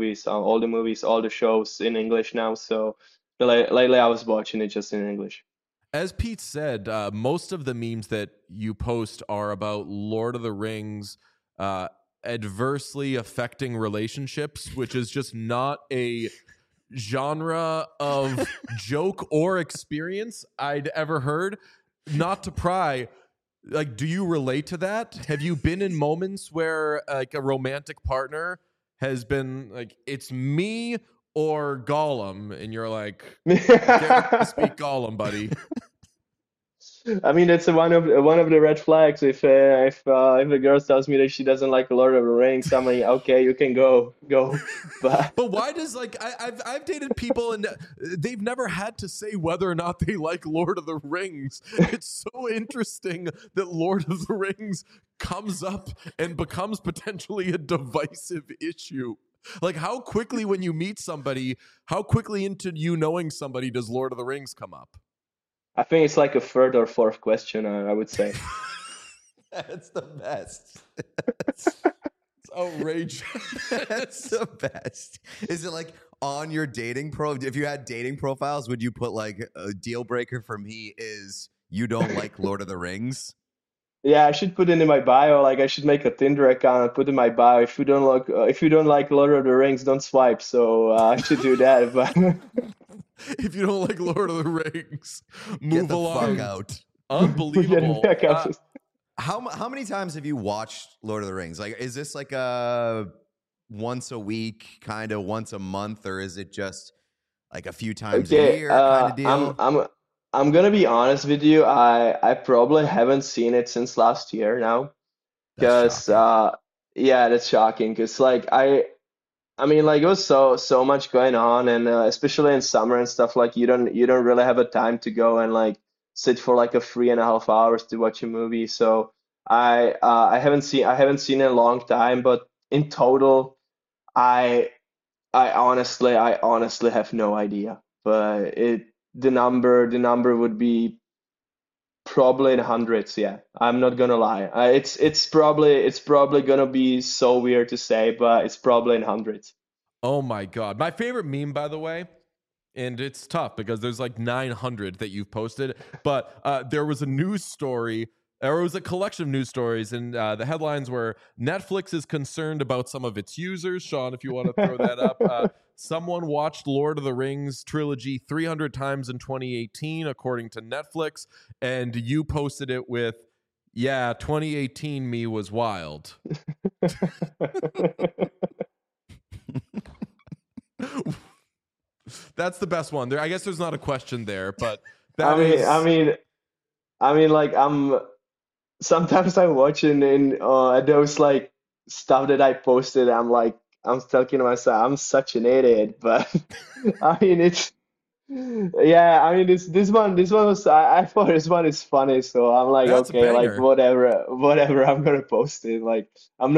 all the shows in English now. So lately I was watching it just in English. As Pete said, most of the memes that you post are about Lord of the Rings adversely affecting relationships, which is just not a genre of joke or experience I'd ever heard. Not to pry, like, do you relate to that? Have you been in moments where like a romantic partner has been like, it's me or Gollum, and you're like, get ready to speak Gollum, buddy? I mean, that's one of the red flags. If a girl tells me that she doesn't like Lord of the Rings, I'm like, okay, you can go. But But why does like I've dated people and they've never had to say whether or not they like Lord of the Rings. It's so interesting that Lord of the Rings comes up and becomes potentially a divisive issue. Like how quickly when you meet somebody, how quickly into you knowing somebody does Lord of the Rings come up? I think it's like a third or fourth question, I would say. That's the best. It's outrageous. That's the best. Is it like on your dating if you had dating profiles, would you put like a deal breaker for me is you don't like Lord of the Rings? Yeah, I should put it in my bio. Like I should make a Tinder account and put in my bio. If you don't like Lord of the Rings, don't swipe. So I should do that. But If you don't like Lord of the Rings, Get move the along. fuck out. Unbelievable. back out. How many times have you watched Lord of the Rings? Like, is this like a once a week, kind of once a month, or is it just like a few times a Okay, year kind of deal? I'm gonna be honest with you. I probably haven't seen it since last year now. That's Because shocking. yeah, that's shocking. Because like I mean like it was so much going on, and especially in summer and stuff. Like you don't really have a time to go and like sit for like a 3.5 hours to watch a movie. So I haven't seen it in a long time. But in total, I I honestly have no idea. But the number would be probably in hundreds, yeah. I'm not gonna lie. It's probably gonna be so weird to say, but it's probably in hundreds. Oh my God. My favorite meme, by the way, and it's tough because there's like 900 that you've posted, but there was a news story, or it was a collection of news stories, and the headlines were Netflix is concerned about some of its users. Sean, if you want to throw that up. Someone watched Lord of the Rings trilogy 300 times in 2018, according to Netflix, and you posted it with, yeah, 2018 me was wild. That's the best one. There, I guess there's not a question there, but I that mean, is. like sometimes I'm watching in those like stuff that I posted. I'm talking to myself, I'm such an idiot. But I mean, it's yeah. I mean, this one was I thought this one is funny, so I'm like, That's a okay, like banger. whatever. I'm gonna post it. Like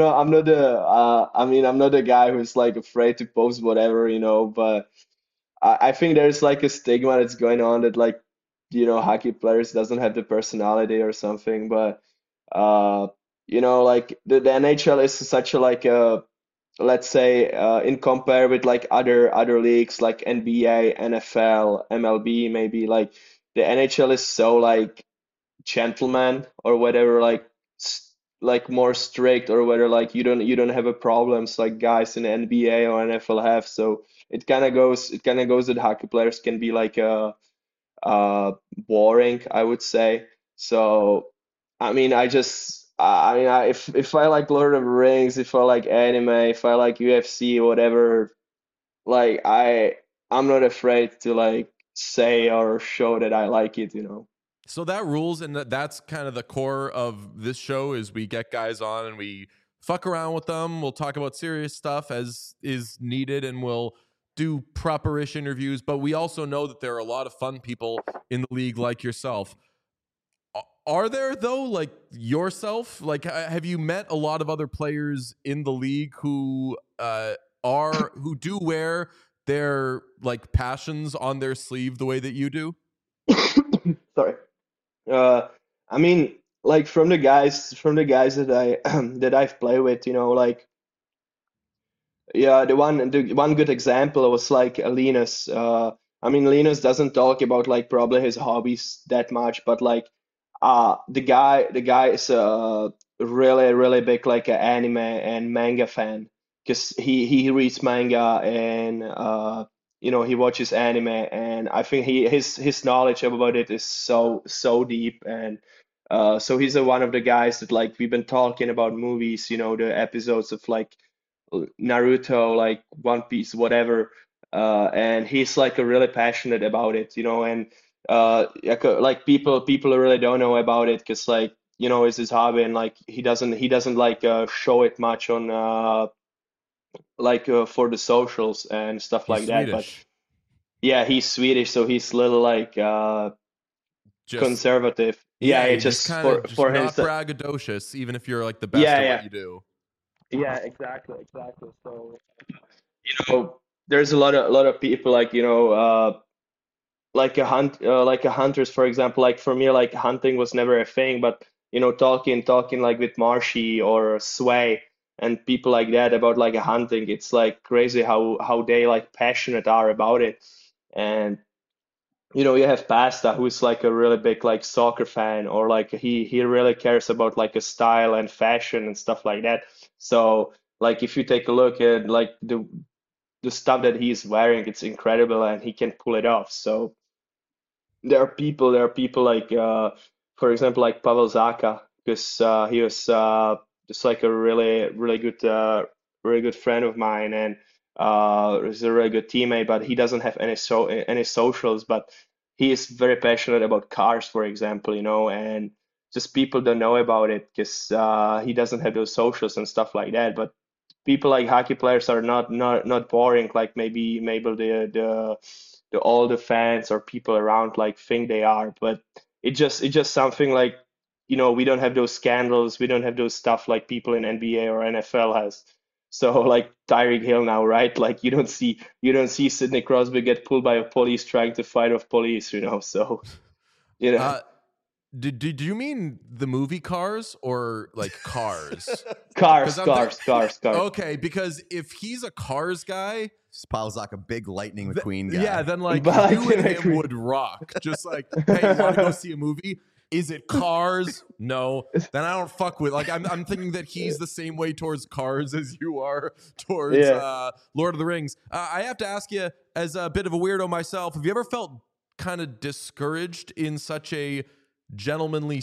I'm not the guy who's like afraid to post whatever, but. I think there's like a stigma that's going on that like hockey players doesn't have the personality or something. But uh like the NHL is such a like a, let's say, in compare with like other leagues like NBA, NFL, MLB, maybe like the NHL is so like gentleman or whatever, like like more strict, or whether like you don't have a problems like guys in the NBA or NFL have. So it kind of goes that hockey players can be like boring, I would say. So I mean, if I like Lord of the Rings, if I like anime, if I like UFC, whatever, like I'm not afraid to like say or show that I like it. So that rules, and that's kind of the core of this show. Is we get guys on and we fuck around with them. We'll talk about serious stuff as is needed, and we'll do proper-ish interviews. But we also know that there are a lot of fun people in the league, like yourself. Are there though, like yourself? Like, have you met a lot of other players in the league who who do wear their like passions on their sleeve the way that you do? Sorry. Uh, I mean, like from the guys that I that I've played with, like yeah, the one good example was like Linus. I mean, Linus doesn't talk about like probably his hobbies that much, but like the guy is a really big like a anime and manga fan, because he reads manga, and he watches anime, and I think his knowledge about it is so deep. And so he's one of the guys that like we've been talking about movies, the episodes of like Naruto, like One Piece, whatever. And he's like a really passionate about it, and like people really don't know about it because like it's his hobby and like he doesn't like show it much on like for the socials and stuff He's like that. But Swedish. yeah, he's Swedish, so he's little like Just conservative. yeah, Yeah, you're just just kind of just for not himself. braggadocious, even if you're like the best Yeah, at what yeah, you do. yeah, exactly. So there's a lot of people like like a hunters, for example. Like for me, like hunting was never a thing, but talking like with Marshy or Sway and people like that about like a hunting, it's like crazy how they like passionate are about it. And you have Pasta, who's like a really big like soccer fan, or like he really cares about like a style and fashion and stuff like that. So like if you take a look at like the stuff that he's wearing, it's incredible and he can pull it off. So there are people like for example like Pavel Zaka, because he was just like a really good friend of mine, and he's a really good teammate, but he doesn't have any socials. But he is very passionate about cars, for example, and just people don't know about it because he doesn't have those socials and stuff like that. But people like hockey players are not boring like maybe the all the fans or people around like think they are. But it's just something like we don't have those scandals, we don't have those stuff like people in NBA or NFL has. So like Tyreek Hill now, right? Like you don't see Sidney Crosby get pulled by a police trying to fight off police. So you know Uh, did you mean the movie Cars or like Cars? cars Because I'm cars cars cars. okay, because if he's a Cars guy, Spalzak, a big Lightning th- McQueen guy. yeah, then like But you and him McQueen. would rock. Just like, hey, you want to go see a movie? Is it Cars? No. Then I don't fuck with. Like, I'm thinking that he's the same way towards Cars as you are towards Yeah. Lord of the Rings. I have to ask you, as a bit of a weirdo myself, have you ever felt kind of discouraged in such a gentlemanly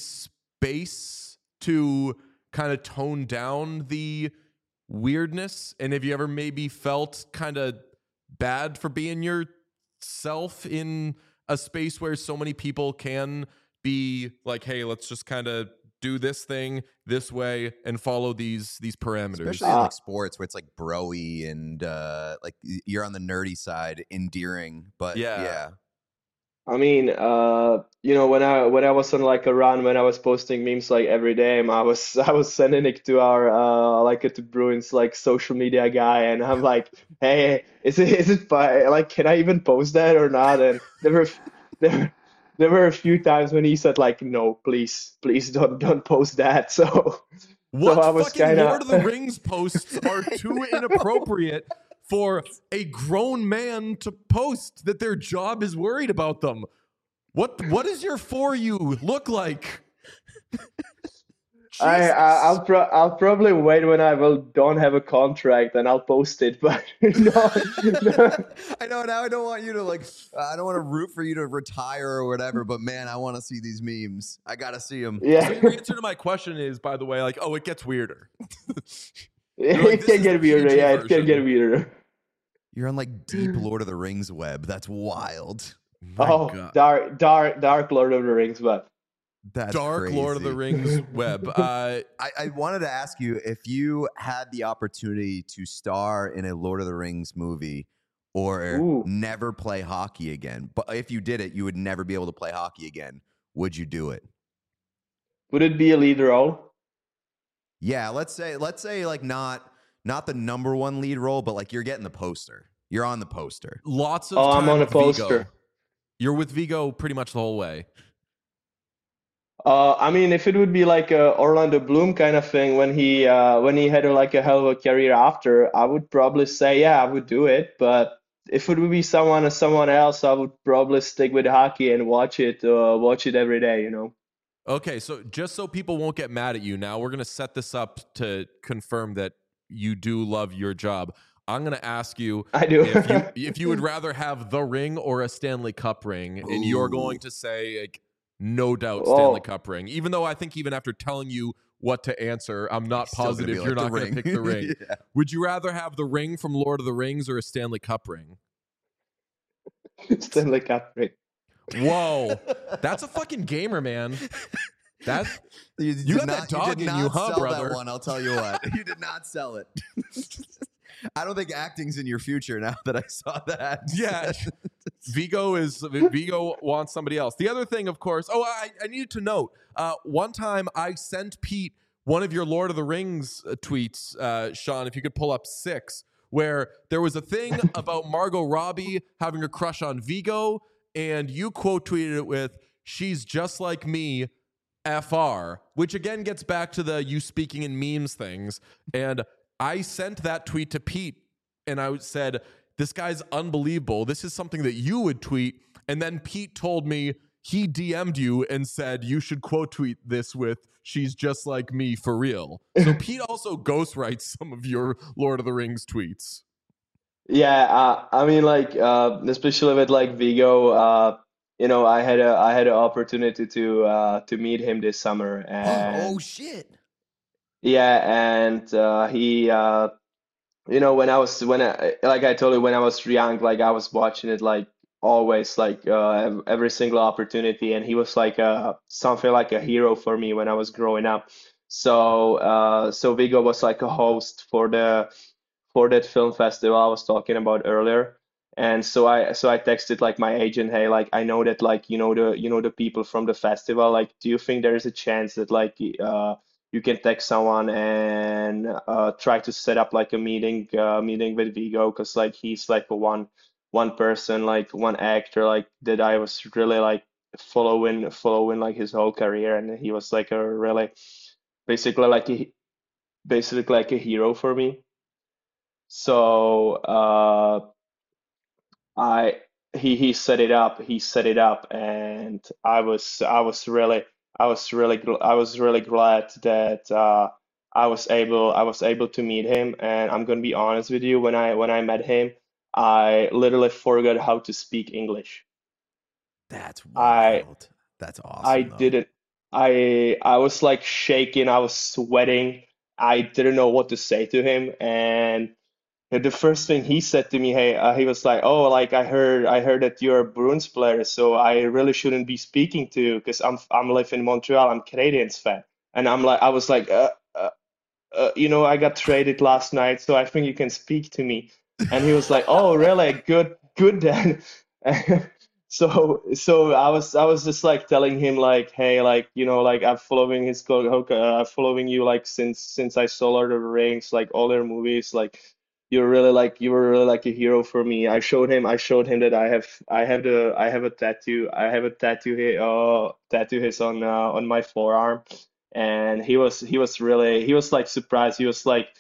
space to kind of tone down the weirdness? And have you ever maybe felt kind of bad for being yourself in a space where so many people can be like, hey, let's just kind of do this thing this way and follow these parameters? Especially in like sports where it's like broy and like you're on the nerdy side, endearing. But Yeah. yeah. I mean, when I was on like a run, when I was posting memes like every day, I was sending it to our like to Bruins like social media guy, and I'm like, hey, like, can I even post that or not? And there there were a few times when he said like, no, please don't post that. So What I was fucking kind Lord of the of Rings posts are too inappropriate for a grown man to post that their job is worried about them? What does your For You look like? I'll probably wait when I will don't have a contract and I'll post it, but no, no. I know now I don't want you to like I don't want to root for you to retire or whatever, but man, I want to see these memes. I gotta see them. So Yeah. your answer to my question is, by the way, like, oh, it gets weirder. You're like, It this can is get the weirder. PG Yeah, it can get version. weirder. You're on like deep Lord of the Rings web. That's wild. My Oh, God. dark Lord of the Rings, but That's Dark crazy. Lord of the Rings web. I wanted to ask you if you had the opportunity to star in a Lord of the Rings movie or ooh, never play hockey again. But if you did it, you would never be able to play hockey again. Would you do it? would it be a lead role? Yeah, let's say like not the number one lead role, but like you're getting the poster. You're on the poster. Lots of Oh, I'm time on a with Vigo. poster. You're with Vigo pretty much the whole way. I mean, if it would be like a Orlando Bloom kind of thing when he had like a hell of a career after, I would probably say yeah, I would do it. But if it would be someone else, I would probably stick with hockey and watch it every day. Okay, so just so people won't get mad at you, now we're going to set this up to confirm that you do love your job. I'm going to ask you I do. if you would rather have the ring or a Stanley Cup ring, and you're going to say like, no doubt Stanley Oh, Cup ring. Even though I think even after telling you what to answer, I'm not Still gonna positive be you're like not going to ring. pick the ring. Yeah. Would you rather have the ring from Lord of the Rings or a Stanley Cup ring? Stanley Cup ring. Whoa, that's a fucking gamer, man. That You got that dog in you, huh, sell brother? that one, I'll tell you what. You did not sell it. I don't think acting's in your future now that I saw that. Yeah. Vigo wants somebody else. The other thing, of course, I needed to note, one time I sent Pete one of your Lord of the Rings tweets, Sean, if you could pull up 6, where there was a thing about Margot Robbie having a crush on Vigo, and you quote tweeted it with, "She's just like me, FR," which again gets back to the you speaking in memes things. And I sent that tweet to Pete, and I said, "This guy's unbelievable. This is something that you would tweet." And then Pete told me he DM'd you and said you should quote tweet this with, "She's just like me for real." So Pete also ghostwrites some of your Lord of the Rings tweets. Yeah, I mean, like, especially with like Vigo, I had an opportunity to meet him this summer, and Oh shit. yeah, and he, like I told you, when I was young, like I was watching it like always, like every single opportunity, and he was like something like a hero for me when I was growing up. So Vigo was like a host for that film festival I was talking about earlier. And so I texted like my agent, hey, like I know that like the people from the festival, like do you think there is a chance that like you can text someone and try to set up like a meeting with Vigo, because like he's like a one person, like one actor like that I was really like following like his whole career, and he was like a really basically like a basically like a hero for me. So I he set it up. He set it up, and I was really glad that I was able to meet him. And I'm gonna be honest with you, when I met him, I literally forgot how to speak English. That's I wild. That's I awesome though. didn't. I was like shaking. I was sweating. I didn't know what to say to him, and the first thing he said to me, hey, he was like, "Oh, like I heard that you're a Bruins player, so I really shouldn't be speaking to you because I'm live in Montreal. I'm Canadiens fan." And I was like, I got traded last night, so I think you can speak to me. And he was like, "Oh, really? Good then." So I was just like telling him like, "Hey, like like I'm following I'm following you like since I saw Lord of the Rings, like all their movies, like." You were really like a hero for me. I showed him that I have a tattoo. I have a tattoo here, tattoo his on my forearm, and he was really, he was like surprised. He was like,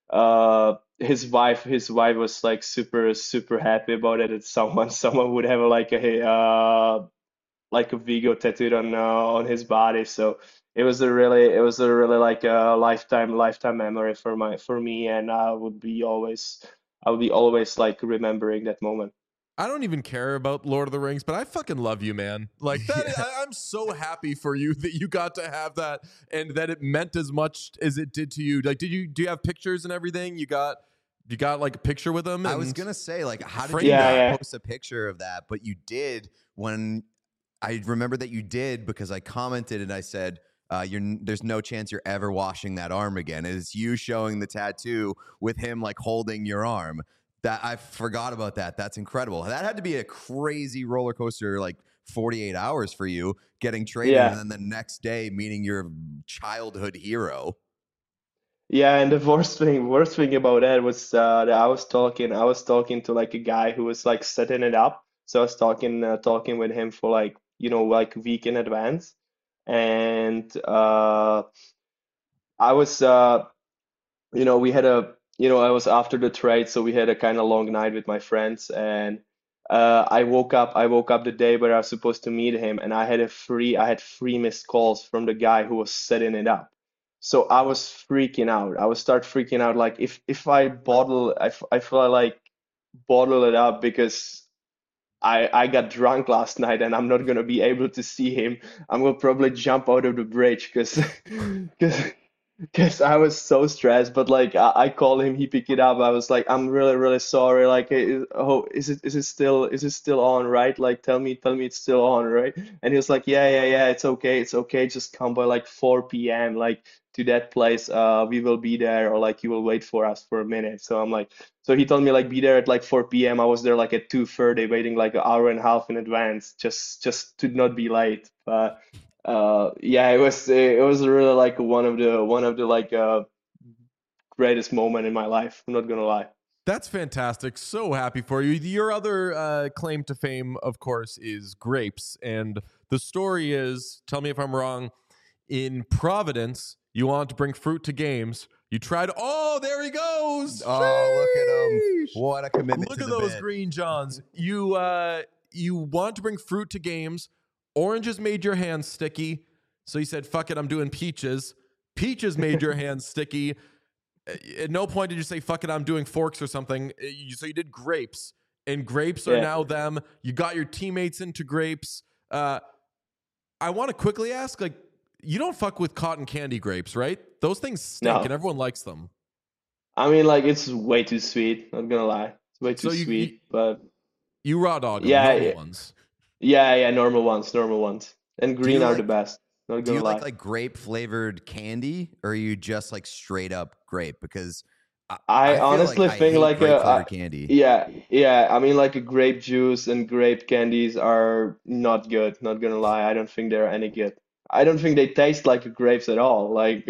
his wife was like super happy about it. That someone would have like a Vigo tattooed on his body. So it was a really like a lifetime memory for me, and I would be always like remembering that moment. I don't even care about Lord of the Rings, but I fucking love you, man. Like that, Yeah. I'm so happy for you that you got to have that and that it meant as much as it did to you. Like, do you have pictures and everything? You got like a picture with them? I was and- gonna say, like, how did Frame you that. not Yeah. post a picture of that? But you did when I remember that you did, because I commented and I said, there's no chance you're ever washing that arm again. It's you showing the tattoo with him like holding your arm. That I forgot about that. That's incredible. That had to be a crazy roller coaster, like 48 hours for you getting traded, Yeah. and then the next day meeting your childhood hero. Yeah, and the worst thing about that was that I was talking to like a guy who was like setting it up. So I was talking with him for like like a week in advance, and I was we had a I was after the trade, so we had a kind of long night with my friends, and I woke up the day where I was supposed to meet him, and I had 3 missed calls from the guy who was setting it up. So I was freaking out. I would start freaking out, like if I feel like bottle it up, because I got drunk last night and I'm not gonna be able to see him. I'm gonna probably jump out of the bridge because because I was so stressed. But like I called him, he picked it up. I was like, I'm really really sorry. Like, is it still on, right? Like, tell me it's still on, right? And he was like, yeah, it's okay. Just come by like 4 p.m. like to that place. We will be there, or like you will wait for us for a minute. So I'm like, so he told me like be there at like 4 p.m. I was there like at 2:30, waiting like an hour and a half in advance, just to not be late. But yeah, it was really like one of the like greatest moment in my life. I'm not gonna lie. That's fantastic. So happy for you. Your other claim to fame, of course, is grapes. And the story is, tell me if I'm wrong, in Providence, you want to bring fruit to games. You tried, oh, there he goes. Oh, look at him. Sheesh. What a commitment Look to at the those bit. green johns. You want to bring fruit to games. Oranges made your hands sticky. So you said, fuck it, I'm doing peaches. Peaches made your hands sticky. At no point did you say, fuck it, I'm doing forks or something. So you did grapes, and grapes are Yeah. now them. You got your teammates into grapes. I want to quickly ask, like, you don't fuck with cotton candy grapes, right? Those things stink, No. and everyone likes them. I mean, like it's way too sweet. Not gonna lie, it's way too So sweet. But you raw dog them, yeah, normal yeah, ones. yeah, normal ones, and Do you green are the like best. Not do gonna you lie. like grape flavored candy, or are you just like straight up grape? Because I I feel like honestly I think hate like grape flavored candy. yeah. I mean, like a grape juice and grape candies are not good. Not gonna lie, I don't think they're any good. I don't think they taste like grapes at all. Like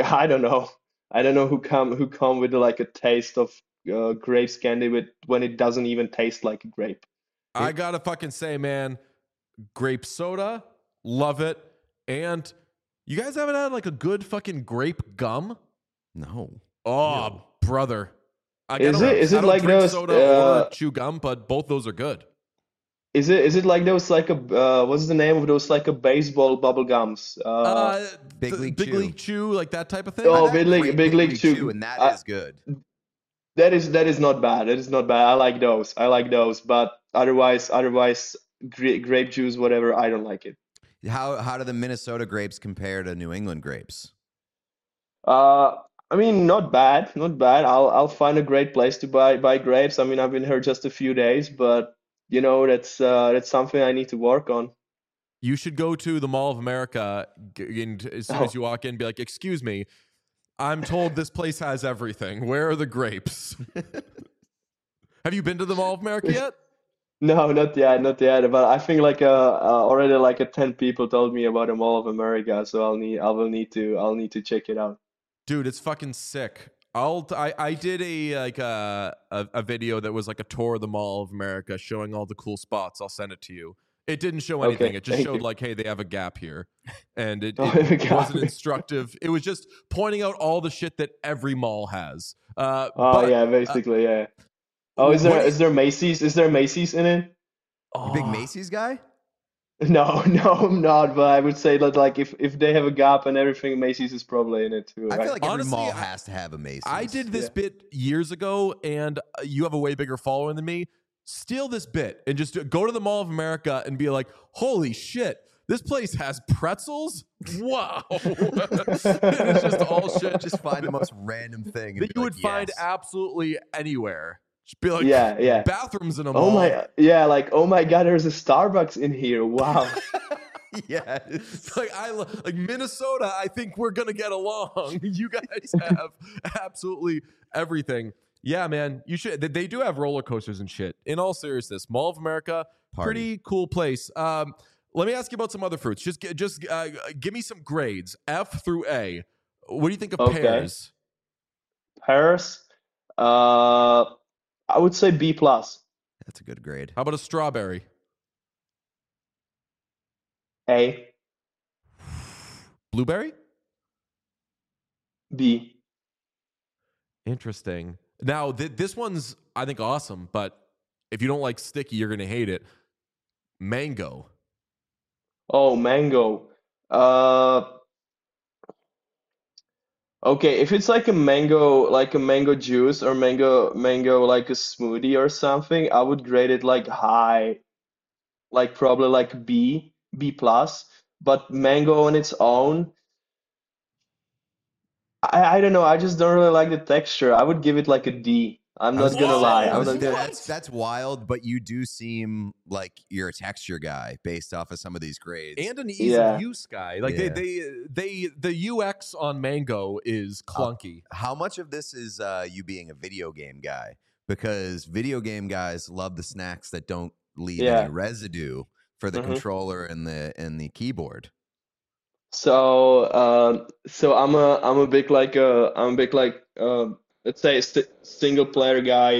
I don't know who come with like a taste of grapes candy with when it doesn't even taste like a grape. I gotta fucking say, man, grape soda, love it. And you guys haven't had like a good fucking grape gum? No. Oh, brother. Like, Is it is I it don't like drink those soda or chew gum, but both those are good. is it like those like a what's the name of those like a baseball bubble gums? Big League Big Chew. League Chew, like that type of thing. Oh, I've had great Big League Chew, Chew. and that is good. That is not bad. That is not bad. I like those. I like those. But otherwise, grape juice, whatever, I don't like it. How do the Minnesota grapes compare to New England grapes? Uh, I mean, not bad, not bad. I'll find a great place to buy grapes. I mean, I've been here just a few days, but that's something I need to work on. You should go to the Mall of America and as soon as Oh. you walk in, be like, "Excuse me, I'm told this place has everything. Where are the grapes?" Have you been to the Mall of America yet? No, not yet, not yet. But I think like already like a 10 people told me about the Mall of America, so I'll need to check it out. Dude, it's fucking sick. I did a video that was like a tour of the Mall of America showing all the cool spots. I'll send it to you. It didn't show anything. Okay, It just thank showed you. like, hey, they have a gap here. And Oh, my it wasn't God. instructive. It was just pointing out all the shit that every mall has. Oh But yeah, basically, yeah. Oh, what do you, is there Macy's? Is there Macy's in it? You big oh, Macy's guy? No, no, I'm not. But I would say that like if they have a gap and everything, Macy's is probably in it too, I feel right? like every Honestly, mall has to have a Macy's. I did this Yeah. bit years ago, and you have a way bigger following than me. Steal this bit and just go to the Mall of America and be like, holy shit, this place has pretzels? Wow. It's just all shit Just find the most random thing and that be you like, would find yes. absolutely anywhere. Just be like, Yeah, yeah. bathrooms in a Oh mall. my, yeah, like oh my God, there's a Starbucks in here. Wow. Yes. Like Minnesota, I think we're gonna get along. You guys have absolutely everything. Yeah, man, you should. They do have roller coasters and shit. In all seriousness, Mall of America, Party. pretty cool place. Let me ask you about some other fruits. Just give me some grades, F through A. What do you think of Okay. pears? Paris, uh, I would say B plus. That's a good grade. How about a strawberry? A, Blueberry? B. Interesting. Now, this one's, I think, awesome, but if you don't like sticky, you're going to hate it. Mango. Oh, mango. Uh, okay, if it's like a mango juice or mango like a smoothie or something, I would grade it like high, like probably like B plus. But mango on its own, I don't know. I just don't really like the texture. I would give it like a D. I'm I was not gonna gonna lie. say, I I'm was not gonna. that's wild, but you do seem like you're a texture guy based off of some of these grades. And an ease Yeah. of use guy. Like Yeah. the UX on Mango is clunky. How much of this is you being a video game guy? Because video game guys love the snacks that don't leave Yeah. any residue for the Mhm. controller and the keyboard. So I'm a big like let's say single player guy.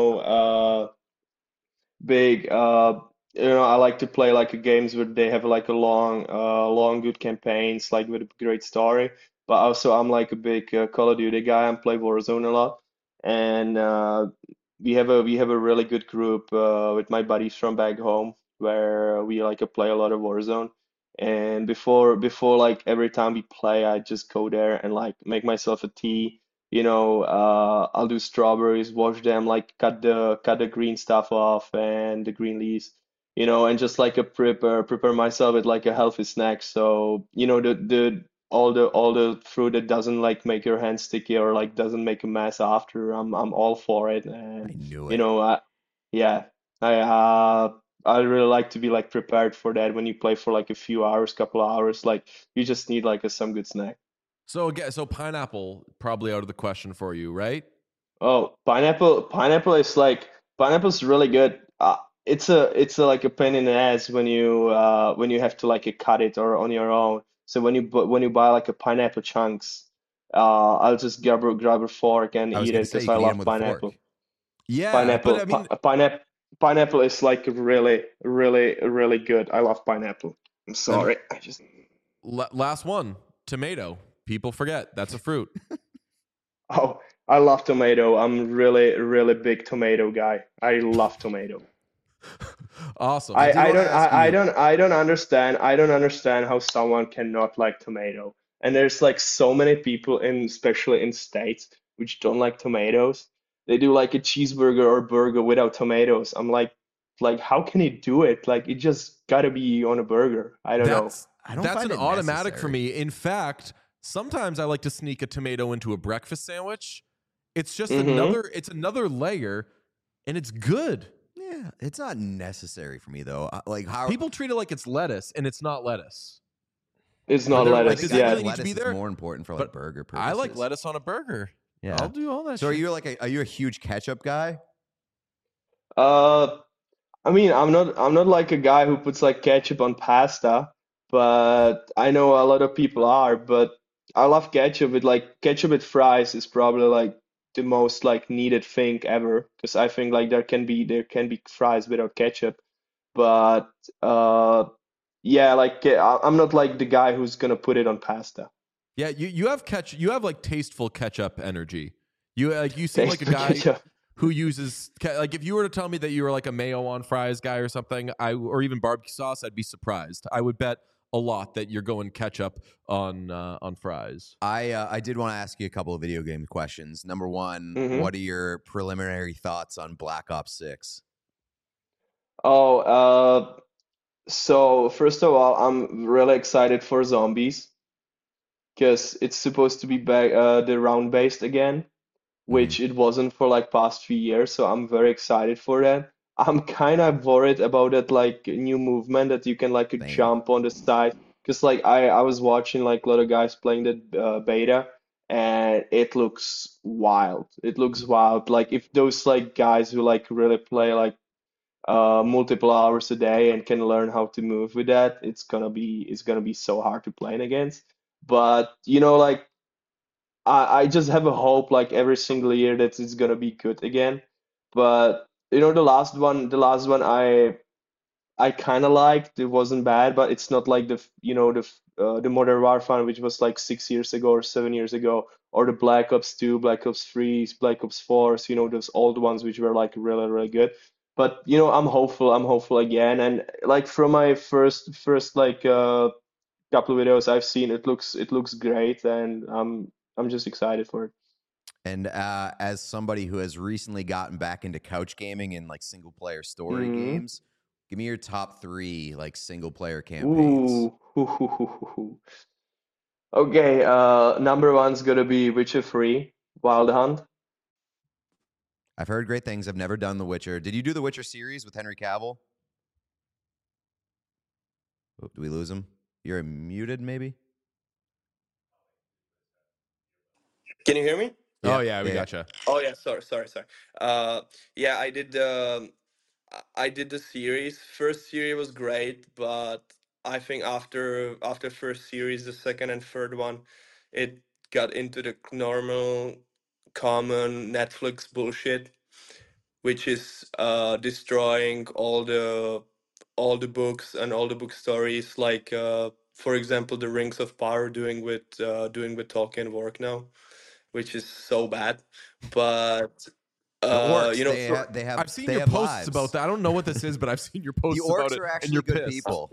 Big I like to play like games where they have like a long good campaigns like with a great story. But also I'm like a big Call of Duty guy. I play Warzone a lot, and we have a really good group with my buddies from back home where we like to play a lot of Warzone. And before like every time we play, I just go there and like make myself a tea. I'll do strawberries, wash them, like cut the green stuff off and the green leaves, and just like a prepare myself with like a healthy snack. So, all the fruit that doesn't like make your hands sticky or like doesn't make a mess after, I'm all for it. I And knew you it. know, I, yeah, I really like to be like prepared for that when you play for like a few hours, couple of hours. Like you just need like some good snack. So again, so pineapple probably out of the question for you, right? Oh, pineapple's really good. It's a like a pain in the ass when you have to like cut it or on your own. So when you buy like a pineapple chunks, I'll just grab a fork and I was eat gonna it say because you I can eat them love with a pineapple. fork. Yeah, but Pineapple I mean, pineapple is like really really really good. I love pineapple. I'm then sorry. I just last one, tomato. People forget that's a fruit. Oh, I love tomato. I'm really really big tomato guy. I love tomato. Awesome. I did I want to don't ask I you. don't I don't understand how someone cannot like tomato. And there's like so many people especially in States which don't like tomatoes. They do like a cheeseburger or burger without tomatoes. I'm like how can you do it? Like it just gotta be on a burger. I don't know. I don't That's find an it automatic for necessary. me. In fact, sometimes I like to sneak a tomato into a breakfast sandwich. It's just Mm-hmm. another layer, and it's good. Yeah, it's not necessary for me though. Like how People treat it like it's lettuce, and it's not lettuce. It's But not they're I like, lettuce. does think that I Yeah. really think need to be lettuce is there? more important for like But burger I like purposes. lettuce on a burger. Yeah. I'll do all that So are shit. you a huge ketchup guy? Uh I mean, I'm not like a guy who puts like ketchup on pasta, but I know a lot of people are, but I love ketchup with like ketchup with fries is probably like the most like needed thing ever because I think like there can be fries without ketchup, but yeah, like I'm not like the guy who's gonna put it on pasta. Yeah, you have you have like tasteful ketchup energy. You seem like Taste a for guy ketchup. who uses like if you were to tell me that you were like a mayo on fries guy or something, or even barbecue sauce, I'd be surprised. I would bet a lot that you're going ketchup on fries. I did want to ask you a couple of video game questions. Number one, Hmm. what are your preliminary thoughts on Black Ops 6? Oh, so first of all, I'm really excited for zombies because it's supposed to be back the round based again, Hmm. which it wasn't for like past few years. So I'm very excited for that. I'm kind of worried about that like new movement that you can like Same. jump on the side because like I was watching like a lot of guys playing the beta and it looks wild. It looks wild. Like if those like guys who like really play like multiple hours a day and can learn how to move with that, it's gonna be so hard to play against. But like I just have a hope like every single year that it's gonna be good again. But the last one I kind of liked. It wasn't bad, but it's not like the Modern Warfare which was like 6 years ago or 7 years ago, or the Black Ops 2, Black Ops 3, Black Ops 4, those old ones which were like really really good. But I'm hopeful. I'm hopeful again, and like from my first like couple of videos I've seen, it looks great, and I'm just excited for it. And as somebody who has recently gotten back into couch gaming and like single player story Hmm. games, give me your top 3 like single player campaigns. Ooh. Okay, number one's gonna be Witcher 3, Wild Hunt. I've heard great things. I've never done The Witcher. Did you do The Witcher series with Henry Cavill? Oh, do we lose him? You're muted, maybe? Can you hear me? Oh yeah, we gotcha. Oh yeah, sorry. Yeah, I did the series. First series was great, but I think after first series, the second and third one, it got into the normal, common Netflix bullshit, which is destroying all the books and all the book stories. Like for example, the Rings of Power doing with Tolkien work now, which is so bad. But The orcs, I've seen they your have posts lives. about that. I don't know what this is, but I've seen your posts The about orcs it, are and actually you're good pissed. people.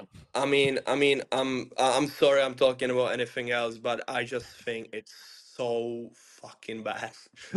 I'm sorry I'm talking about anything else, but I just think it's so fucking bad.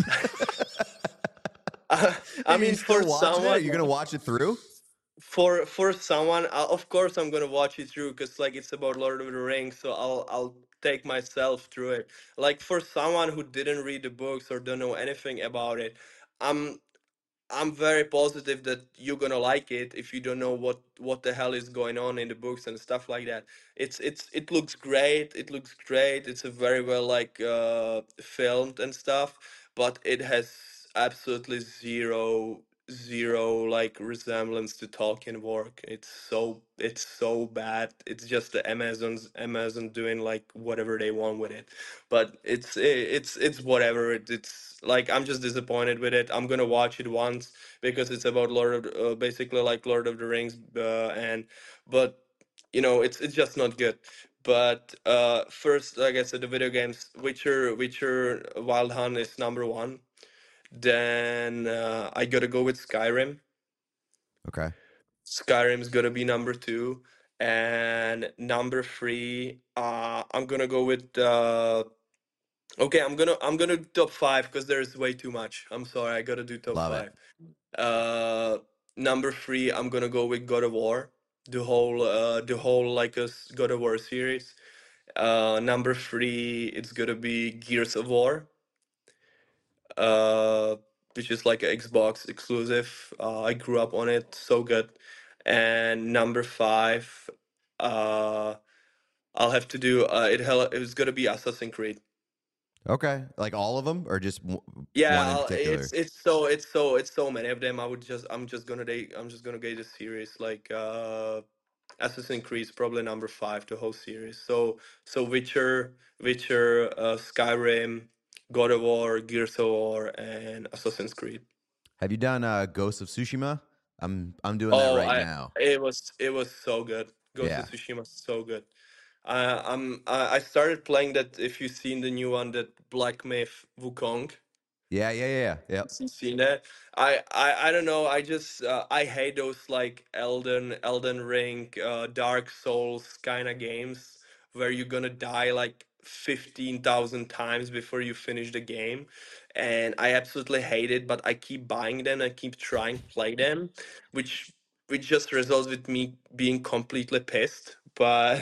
I Are you mean, still for watching it? Are someone, you going to watch it through? for someone, of course I'm gonna watch it through because like it's about Lord of the Rings, so I'll take myself through it. Like for someone who didn't read the books or don't know anything about it, I'm I'm very positive that you're gonna like it if you don't know what the hell is going on in the books and stuff like that. It looks great. It looks great. It's a very well like filmed and stuff, but it has absolutely zero like resemblance to Tolkien work. It's so bad. It's just the Amazon doing like whatever they want with it, but it's whatever. It's like I'm just disappointed with it. I'm gonna watch it once because it's about basically like Lord of the Rings, and but it's just not good. But first, like I said, the video games, Witcher Wild Hunt is number one. Then I gotta go with Skyrim. Okay. Skyrim's gonna be number two, and number three, I'm gonna go with. Okay, I'm gonna do top five because there's way too much. I'm sorry, I gotta do top Love it. five. Uh, Number three, I'm gonna go with God of War, the whole like God of War series. Number three, it's gonna be Gears of War, uh, which is like an Xbox exclusive. I grew up on it, so good. And number five, uh, I'll have to do it's gonna be Assassin's Creed. Okay. Like all of them or just Yeah, one in particular? it's so many of them. I'm just gonna get the series like Assassin's Creed is probably number five, the whole series. So Witcher, Skyrim, God of War, Gears of War, and Assassin's Creed. Have you done Ghost of Tsushima? I'm doing that Oh, right I now. it was so good. Ghost of Yeah. Tsushima is so good. I started playing that. If you've seen the new one, that Black Myth Wukong. Yeah. Yep. Seen that. I don't know. I just I hate those like Elden Ring, Dark Souls kind of games where you're gonna die like 15,000 times before you finish the game, and I absolutely hate it. But I keep buying them and keep trying to play them, which which just results with me being completely pissed. But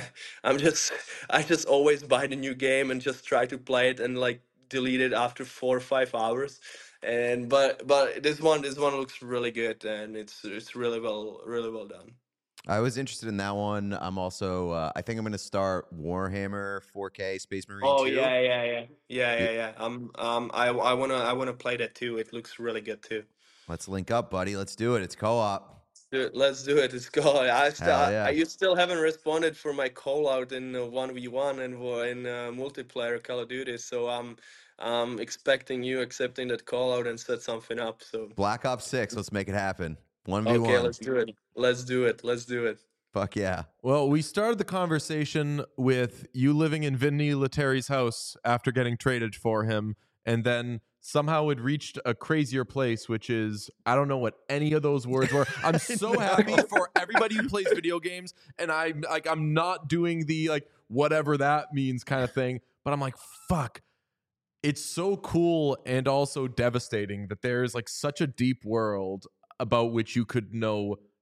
I just always buy the new game and just try to play it and like delete it after 4 or 5 hours. And but this one looks really good, and it's really well done. I was interested in that one. I'm also I think I'm going to start Warhammer 4K Space Marine Oh 2. yeah. I wanna play that too. It looks really good too. Let's link up, buddy. Let's do it. It's co-op. Let's do it. Let's go. Hell yeah. You still haven't responded for my call out in 1v1 and in multiplayer Call of Duty. So I'm expecting you accepting that call out and set something up. So Black Ops 6. Let's make it happen. 1v1. okay, let's do it. Let's do it. Fuck yeah. Well, we started the conversation with you living in Vinny Letteri's house after getting traded for him, and then somehow it reached a crazier place, which is I don't know what any of those words were. I'm so happy for everybody who plays video games, and I'm not doing the like whatever that means kind of thing, but I'm like, fuck. It's so cool and also devastating that there's like such a deep world about which you could know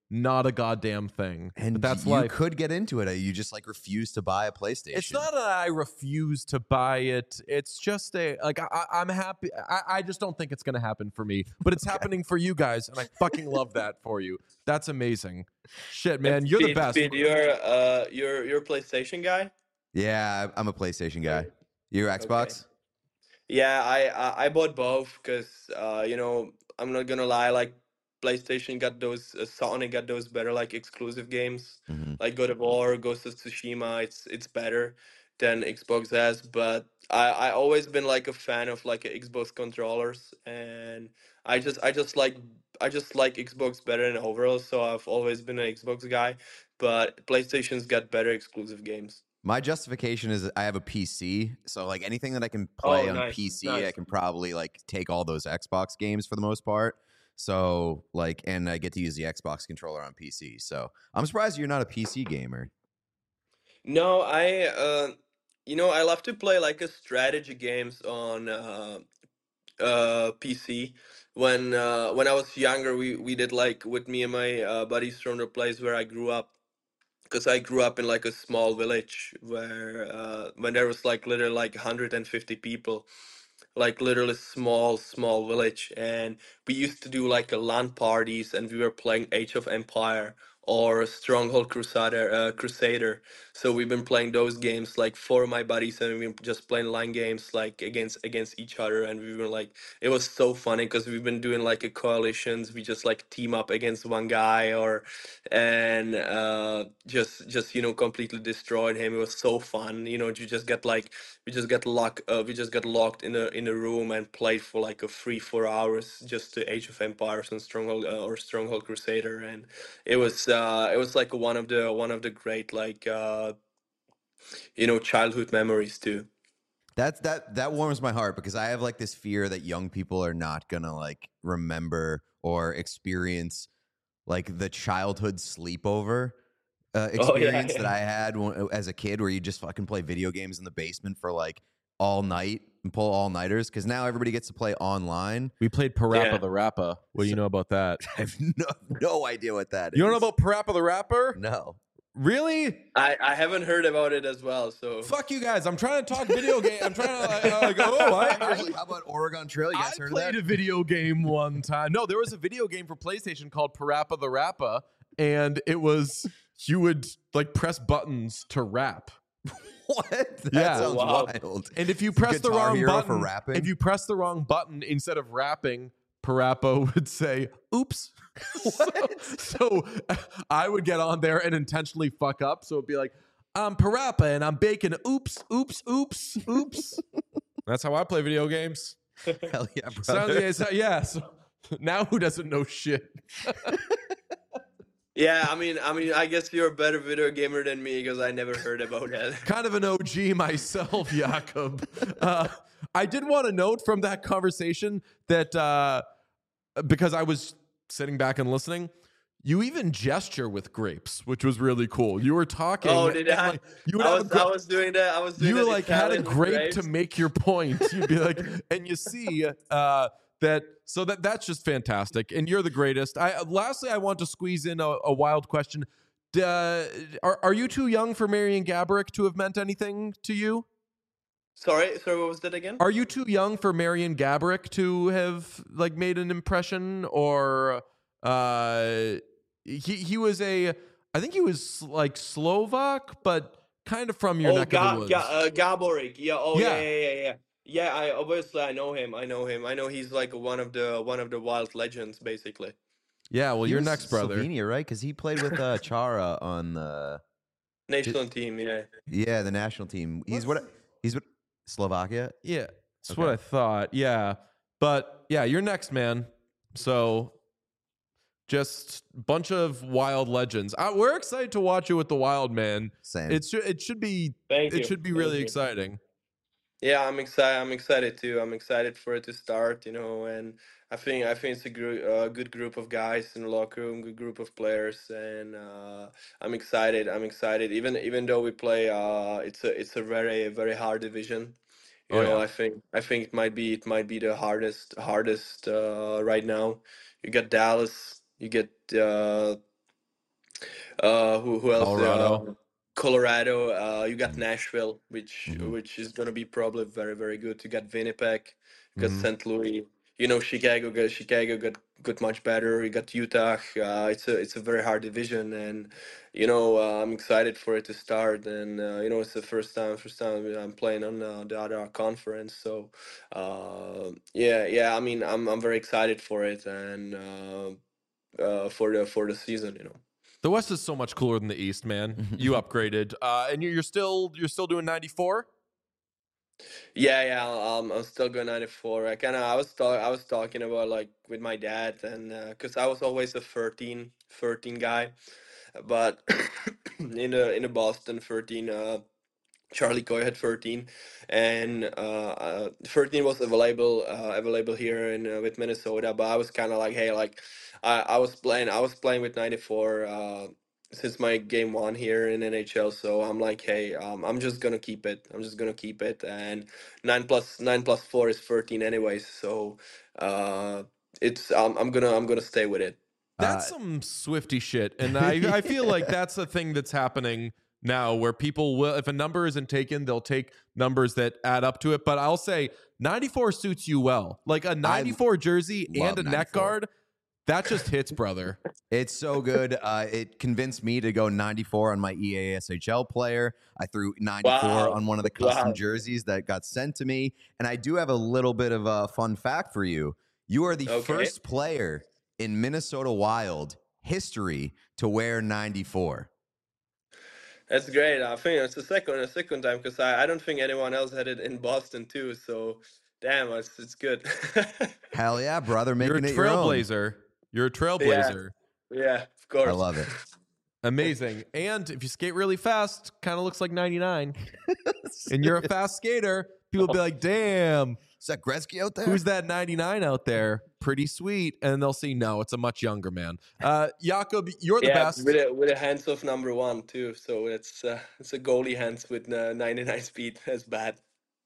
not a goddamn thing. And But that's you life. could get into it. You just like refuse to buy a PlayStation. It's not that I refuse to buy it. It's just I'm happy. I just don't think it's going to happen for me, but it's happening for you guys, and I fucking love that for you. That's amazing. Shit, man, you're the best. Speed, you're a PlayStation guy. Yeah, I'm a PlayStation guy. You're Xbox? Yeah, I bought both because I'm not gonna lie, like PlayStation got those Sony got those better like exclusive games Mhm. like God of War, Ghost of Tsushima. It's better than Xbox has, but I always been like a fan of like Xbox controllers, and I just like Xbox better than overall. So I've always been an Xbox guy, but PlayStation's got better exclusive games. My justification is that I have a PC, so like anything that I can play on nice, PC, nice. I can probably like take all those Xbox games for the most part. So like, and I get to use the Xbox controller on PC. So I'm surprised you're not a PC gamer. No, I love to play like a strategy games on PC. When I was younger, we did like with me and my buddies from the place where I grew up, because I grew up in like a small village where when there was like literally like 150 people, like literally small village, and we used to do like a LAN parties, and we were playing Age of Empire or Stronghold Crusader. So we've been playing those games like for my buddies, and we've been just playing LAN games like against each other, and we were like, it was so funny because we've been doing like a coalitions. We just like team up against one guy, or and just completely destroyed him. It was so fun. You just get like we just got locked in a room and played for like a 3-4 hours just to Age of Empires and Stronghold or Stronghold Crusader, and it was like one of the great like childhood memories too. That warms my heart because I have like this fear that young people are not gonna like remember or experience like the childhood sleepover experience that I had as a kid, where you just fucking play video games in the basement for like all night and pull all nighters. Because now everybody gets to play online. We played Parappa Yeah. the Rapper. What do you know about that? I have no idea what that is. You don't know about Parappa the Rapper? No. Really? I haven't heard about it as well. So Fuck you guys. I'm trying to talk video game. I'm trying to How about Oregon Trail? You I guys heard of played that? a video game one time. No, there was a video game for PlayStation called Parappa the Rapper, and it was you would like press buttons to rap. What? That Yeah. sounds Wow. wild. And if you press the Guitar wrong Hero button, for rapping? if you press the wrong button instead of rapping, Parappa would say, "Oops." So I would get on there and intentionally fuck up. So it'd be like, "I'm Parappa and I'm baking oops, oops, oops, oops." That's how I play video games. Hell yeah, So, brother. yeah. So now who doesn't know shit? yeah, I guess you're a better video gamer than me because I never heard about that. Kind of an OG myself, Jakob. I did want to note from that conversation that because I was sitting back and listening, you even gesture with grapes, which was really cool. You were talking. Oh, did and, I? like, you would I have a was doing that. I was doing you that like had a Italian grape grapes. to make your point. You'd be like, and you see that's just fantastic, and you're the greatest. Lastly, I want to squeeze in a wild question. Are you too young for Marian Gaborik to have meant anything to you? Sorry, what was that again? Are you too young for Marian Gaborik to have like made an impression, or he was I think he was like Slovak, but kind of from your neck of the woods. Gaborik. Yeah. Oh, Yeah. yeah. Yeah, I know him. I know he's like one of the wild legends, basically. Yeah, well, He your was next brother. Slovenia, right? Because he played with Chara on the National team, yeah. the national team. He's what Slovakia. Yeah, that's what I thought. Yeah, but yeah, you're next, man. So just bunch of wild legends. We're excited to watch you with the Wild, man. Same. It should be Thank you. it should be Thank really you. exciting. Yeah, I'm excited. I'm excited too. I'm excited for it to start, and I think it's a good group of guys in the locker room, good group of players, and I'm excited. I'm excited. Even though we play, it's a very very hard division. Oh, yeah. I think it might be the hardest right now. You get Dallas, you get Who else? Colorado. Colorado. You got Mhm. Nashville, Mhm. which is gonna be probably very very good. You got Winnipeg, you got Mhm. St. Louis. You know Chicago got much better. You got Utah. It's a very hard division, and I'm excited for it to start. And it's the first time I'm playing on the other conference. So yeah. I mean, I'm very excited for it and for the season. The West is so much cooler than the East, man. You upgraded, and you're still doing 94. Yeah. I'm still going 94. I was talking about like with my dad and because I was always a 13 guy, but in the Boston 13. Charlie Coy had 13, and 13 was available here in with Minnesota. But I was kind of like, hey, like I was playing with 94 since my game one here in NHL. So I'm like, hey, I'm just gonna keep it. I'm just gonna keep it, and 9 plus 4 is 13 anyways. So it's I'm gonna stay with it. That's some Swifty shit, and I feel like that's a thing that's happening now, where people will, if a number isn't taken, they'll take numbers that add up to it. But I'll say 94 suits you well, like a 94 jersey and love a neck 94. guard. That just hits, brother. It's so good. It convinced me to go 94 on my EA SHL player. I threw 94 Wow. on one of the custom Wow. jerseys that got sent to me. And I do have a little bit of a fun fact for you. You are the Okay. first player in Minnesota Wild history to wear 94. That's great. I think it's the second time because I don't think anyone else had it in Boston too. So damn, it's good. Hell yeah, brother. You're a Making it your own. trailblazer. You're a Yeah, trailblazer. yeah, of course. I love it. Amazing. And if you skate really fast, kind of looks like 99. And you're a fast skater, people be like, damn, Is that Gretzky out there? who's that 99 out there? Pretty sweet. And they'll see, no, it's a much younger man. Jakob, you're the Yeah, best. with a hands of number one too. So it's a goalie hands with 99 speed. That's bad.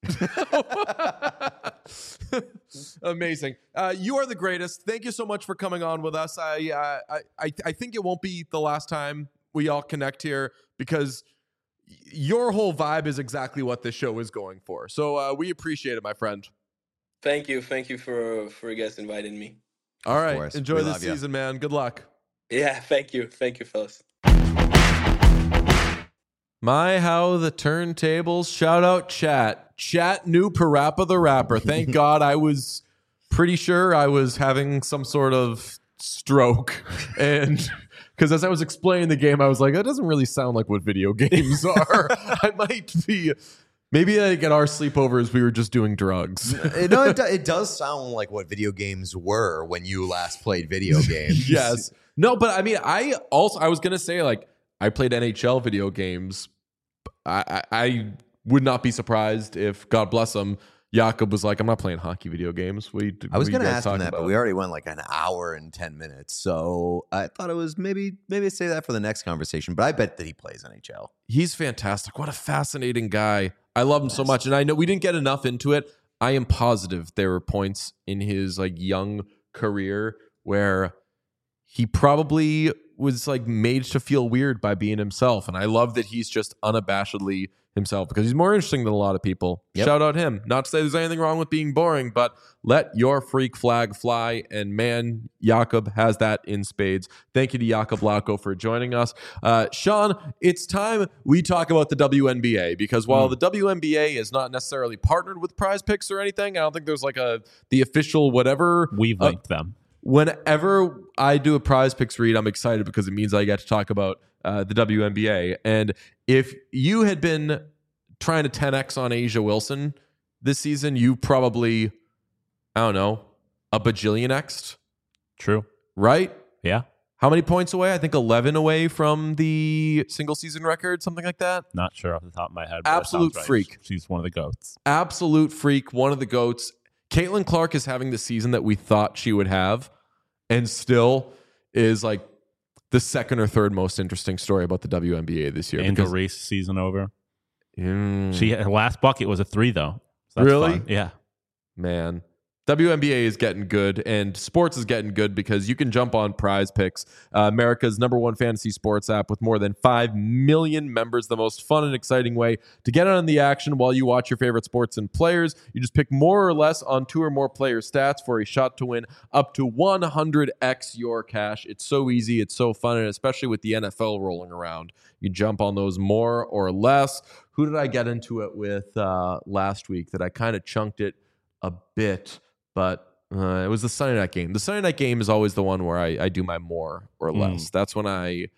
Amazing. You are the greatest. Thank you so much for coming on with us. I think it won't be the last time we all connect here, because your whole vibe is exactly what this show is going for. So we appreciate it, my friend. Thank you for you guys inviting me. All right. course. Enjoy We this love ya. season, man. Good luck. Yeah, thank you, fellas. My, how the turntables. Shout out chat. Chat knew Parappa the Rapper. Thank God. I was pretty sure I was having some sort of stroke. And because as I was explaining the game, I was like, that doesn't really sound like what video games are. I might be. Maybe like at our sleepovers, we were just doing drugs. It does sound like what video games were when you last played video games. Yes. No, but I mean, I was gonna say, like, I played NHL video games. I would not be surprised if, God bless him, Jakob was like, I'm not playing hockey video games. I was going to ask him that, but we already went like an hour and 10 minutes. So I thought it was maybe say that for the next conversation. But I bet that he plays NHL. He's fantastic. What a fascinating guy. I love him so much. And I know we didn't get enough into it. I am positive there were points in his like young career where he probably was like made to feel weird by being himself. And I love that he's just unabashedly himself, because he's more interesting than a lot of people. Yep. Shout out him. Not to say there's anything wrong with being boring, but let your freak flag fly. And man, Jakob has that in spades. Thank you to Jakob Lauko for joining us. Sean, it's time we talk about the WNBA, because while the WNBA is not necessarily partnered with Prize Picks or anything, I don't think there's like the official whatever. We've linked them. Whenever I do a Prize Picks read, I'm excited because it means I get to talk about the WNBA. And if you had been trying to 10x on Asia Wilson this season, you probably, I don't know, a bajillion X'd, True. right? Yeah. How many points away? I think 11 away from the single season record, something like that. Not sure off the top of my head. But that Absolute sounds right. freak. She's one of the GOATs. Absolute freak, one of the GOATs. Caitlin Clark is having the season that we thought she would have, and still is like the second or third most interesting story about the WNBA this year. Angel Reese season over. Mm, Her last bucket was a 3 though. So that's Really? fun. Yeah. man, WNBA is getting good, and sports is getting good because you can jump on Prize Picks, America's #1 fantasy sports app with more than 5 million members. The most fun and exciting way to get on the action while you watch your favorite sports and players. You just pick more or less on 2 or more player stats for a shot to win up to 100x your cash. It's so easy. It's so fun, and especially with the NFL rolling around, you jump on those more or less. Who did I get into it with last week that I kind of chunked it a bit? But it was the Sunday night game. The Sunday night game is always the one where I do my more or less. That's when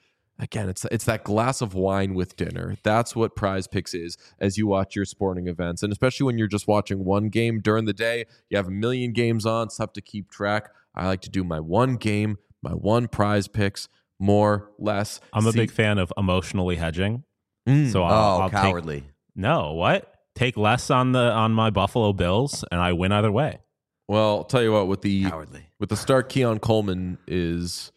it's that glass of wine with dinner. That's what Prize Picks is as you watch your sporting events. And especially when you're just watching one game during the day, you have a million games on, it's tough to keep track. I like to do my one game, my one Prize Picks, more, less. I'm a big fan of emotionally hedging. So I'll cowardly. Take less on my Buffalo Bills, and I win either way. Well, I'll tell you what, with the start Keon Coleman is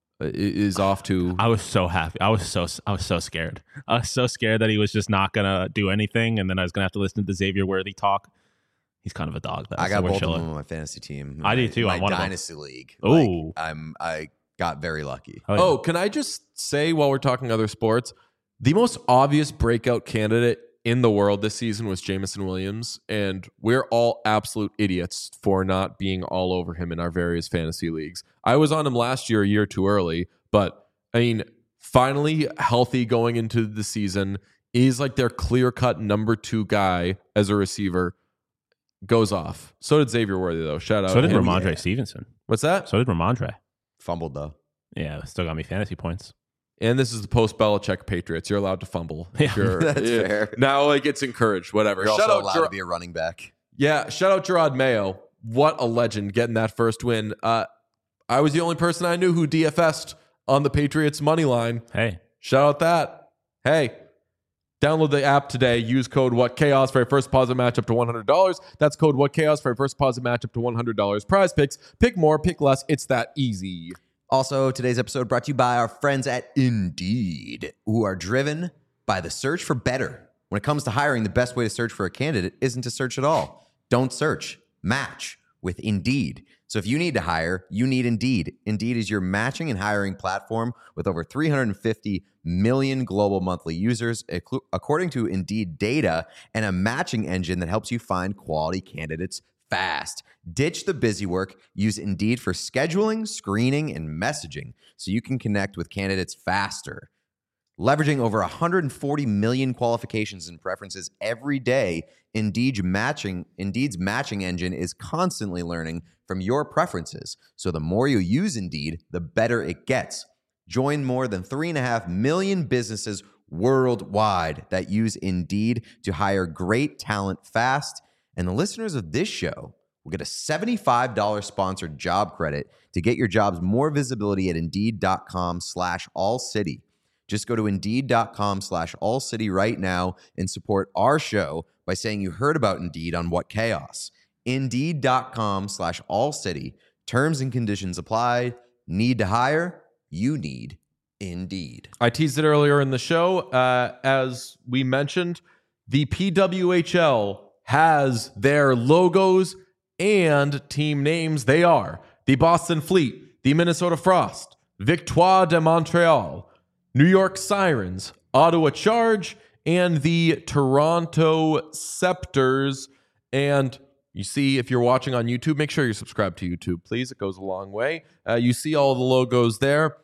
off to. I was so happy. I was so scared. I was so scared that he was just not gonna do anything, and then I was gonna have to listen to the Xavier Worthy talk. He's kind of a dog, though. I got both of them on my fantasy team. I do too. My on one dynasty league. Oh, I got very lucky. Oh, can I just say while we're talking other sports, the most obvious breakout candidate in the world this season was Jameson Williams, and we're all absolute idiots for not being all over him in our various fantasy leagues. I was on him last year, a year too early, but I mean, finally healthy going into the season, is like their clear-cut number 2 guy as a receiver, goes off. So did Xavier Worthy, though. Shout out. So did to him. Ramondre Stevenson. What's that? So did Ramondre. Fumbled, though. Yeah, still got me fantasy points. And this is the post-Belichick Patriots. You're allowed to fumble. Yeah, that's fair. Now it gets encouraged, whatever. You're Shout also out allowed to be a running back. Yeah, shout out Gerard Mayo. What a legend getting that first win. I was the only person I knew who DFS'd on the Patriots money line. Hey. Shout out that. Hey, download the app today. Use code WhatChaos for a first deposit match up to $100. That's code WhatChaos for a first deposit match up to $100. Prize Picks. Pick more, pick less. It's that easy. Also, today's episode brought to you by our friends at Indeed, who are driven by the search for better. When it comes to hiring, the best way to search for a candidate isn't to search at all. Don't search. Match with Indeed. So if you need to hire, you need Indeed. Indeed is your matching and hiring platform with over 350 million global monthly users, according to Indeed data, and a matching engine that helps you find quality candidates fast. Ditch the busy work. Use Indeed for scheduling, screening, and messaging so you can connect with candidates faster. Leveraging over 140 million qualifications and preferences every day, Indeed's matching engine is constantly learning from your preferences. So the more you use Indeed, the better it gets. Join more than 3.5 million businesses worldwide that use Indeed to hire great talent fast. And the listeners of this show will get a $75 sponsored job credit to get your jobs more visibility at Indeed.com/allcity. Just go to Indeed.com/allcity right now and support our show by saying you heard about Indeed on What Chaos. Indeed.com/allcity. Terms and conditions apply. Need to hire? You need Indeed. I teased it earlier in the show. As we mentioned, the PWHL has their logos and team names. They are the Boston Fleet, the Minnesota Frost, Victoire de Montreal, New York Sirens, Ottawa Charge, and the Toronto Scepters. And you see, if you're watching on YouTube, make sure you're subscribed to YouTube, please. It goes a long way. You see all the logos there.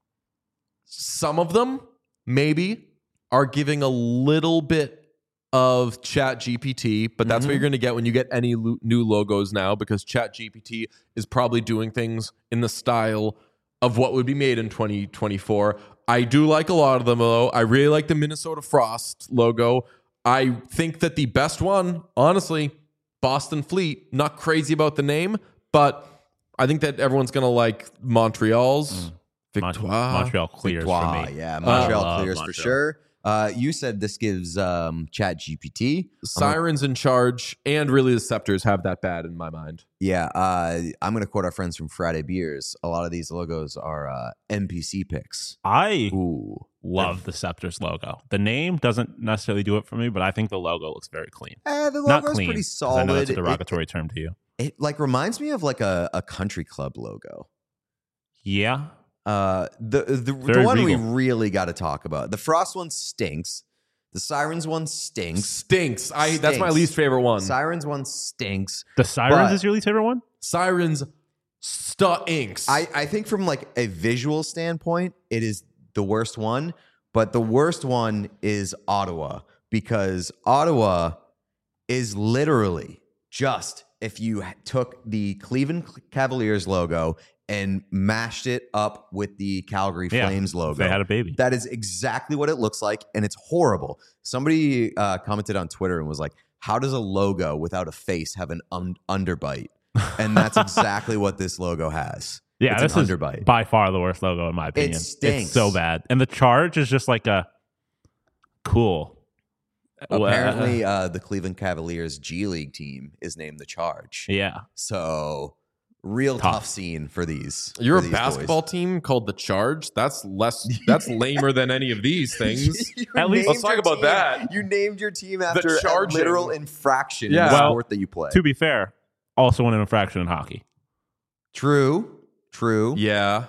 Some of them, maybe, are giving a little bit of ChatGPT, but that's what you're going to get when you get any new logos now, because ChatGPT is probably doing things in the style of what would be made in 2024. I do like a lot of them, though. I really like the Minnesota Frost logo. I think that the best one, honestly, Boston Fleet. Not crazy about the name, but I think that everyone's going to like Montreal's. Victoire. Montreal clears Victoire, for me. yeah, Montreal clears Montreal. for sure. You said this gives ChatGPT. Sirens in Charge and really the Scepters have that bad in my mind. Yeah, I'm going to quote our friends from Friday Beers. A lot of these logos are NPC picks. I love the Scepters logo. The name doesn't necessarily do it for me, but I think the logo looks very clean. The Not logo's clean, pretty 'cause solid. I know that's a derogatory term to you. It like reminds me of like a country club logo. Yeah. The Very one we regal. really got to talk about. The Frost one stinks. The Sirens one stinks. Stinks. That's my Stinks. least favorite one. Sirens one stinks. The Sirens But- is your least favorite one? Sirens stinks. I think from like a visual standpoint, it is the worst one. But the worst one is Ottawa, because Ottawa is literally just if you took the Cleveland Cavaliers logo and mashed it up with the Calgary Yeah, Flames logo. They had a baby. That is exactly what it looks like, and it's horrible. Somebody commented on Twitter and was like, how does a logo without a face have an underbite? And that's exactly what this logo has. Yeah, it's this an is underbite. by far the worst logo in my opinion. stinks. It's so bad. And the charge is just like a cool. Apparently, the Cleveland Cavaliers G League team is named the Charge. Yeah. So, real tough scene for these. You're for a these basketball team called the Charge. That's lamer than any of these things. You At least- named Let's talk your about team- that. You named your team after a Charging. literal infraction Yeah. in the Well, sport that you play. To be fair, also won an infraction in hockey. True. Yeah.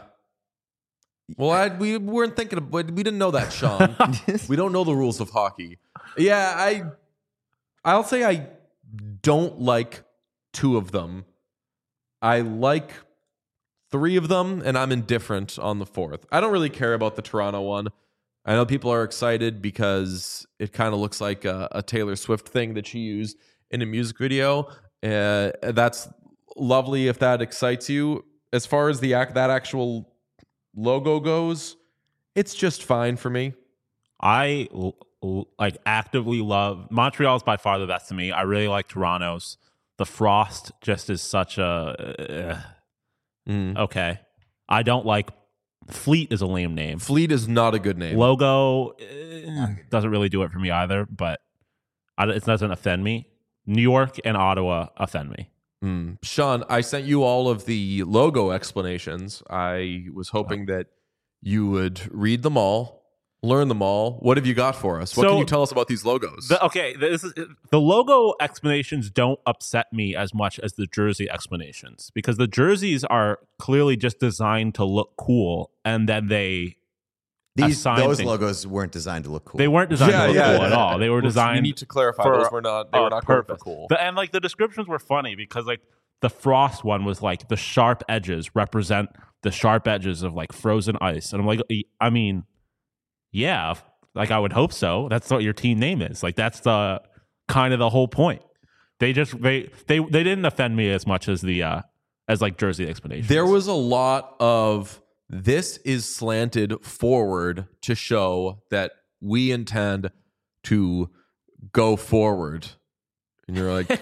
Well, we weren't thinking of, we didn't know that, Sean. We don't know the rules of hockey. Yeah, I'll say I don't like 2 of them. I like 3 of them, and I'm indifferent on the 4th. I don't really care about the Toronto one. I know people are excited because it kind of looks like a Taylor Swift thing that she used in a music video. That's lovely if that excites you. As far as that actual logo goes, it's just fine for me. I like actively love Montreal's by far the best to me. I really like Toronto's. The Frost just is such a okay. I don't like Fleet is a lame name. Fleet is not a good name. Logo doesn't really do it for me either, but it doesn't offend me. New York and Ottawa offend me. Sean, I sent you all of the logo explanations. I was hoping that you would read them all, learn them all. What have you got for us? What So- can you tell us about these logos? The logo explanations don't upset me as much as the jersey explanations, because the jerseys are clearly just designed to look cool, and then Those things. logos weren't designed to look cool. They weren't designed to look Yeah, cool at all. They were We designed. need to clarify for those were not. They were not going for purpose. cool. And like the descriptions were funny because like the Frost one was like the sharp edges represent the sharp edges of like frozen ice, and I'm like, I mean, yeah, like I would hope so. That's what your team name is. Like that's the kind of the whole point. They didn't offend me as much as the as like jersey explanations. There was a lot of this is slanted forward to show that we intend to go forward. And you're like,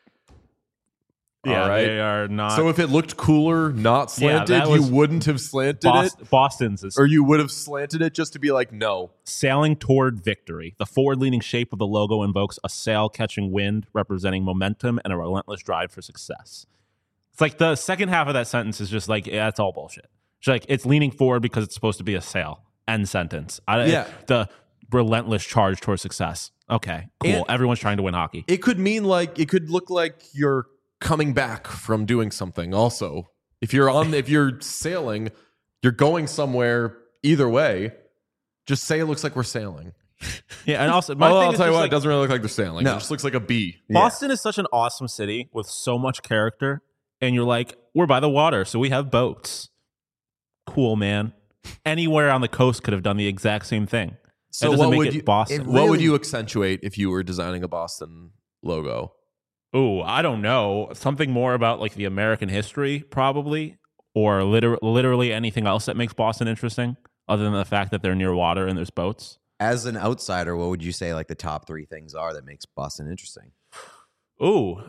yeah, all right. they are not. So if it looked cooler, not Yeah, slanted, that you was wouldn't have slanted it? Boston's is Or you would have slanted it just to be like, no. sailing toward victory. The forward-leaning shape of the logo invokes a sail catching wind, representing momentum and a relentless drive for success. It's like the second half of that sentence is just like, yeah, it's all bullshit. It's like it's leaning forward because it's supposed to be a sail. End sentence. Yeah. The relentless charge toward success. Okay, cool. And- Everyone's trying to win hockey. It could mean like, it could look like you're coming back from doing something also. If you're sailing, you're going somewhere either way. Just say it looks like we're sailing. Yeah, and also my Although thing I'll is tell you just what, like, it doesn't really look like they're sailing. No. It just looks like a bee. Boston is such an awesome city with so much character, and you're like, we're by the water, so we have boats. Cool, man. Anywhere on the coast could have done the exact same thing. So That doesn't what make would it you Boston. what would really- you accentuate if you were designing a Boston logo? Oh, I don't know. Something more about like the American history, probably, or literally anything else that makes Boston interesting, other than the fact that they're near water and there's boats. As an outsider, what would you say like the top 3 things are that makes Boston interesting? Ooh,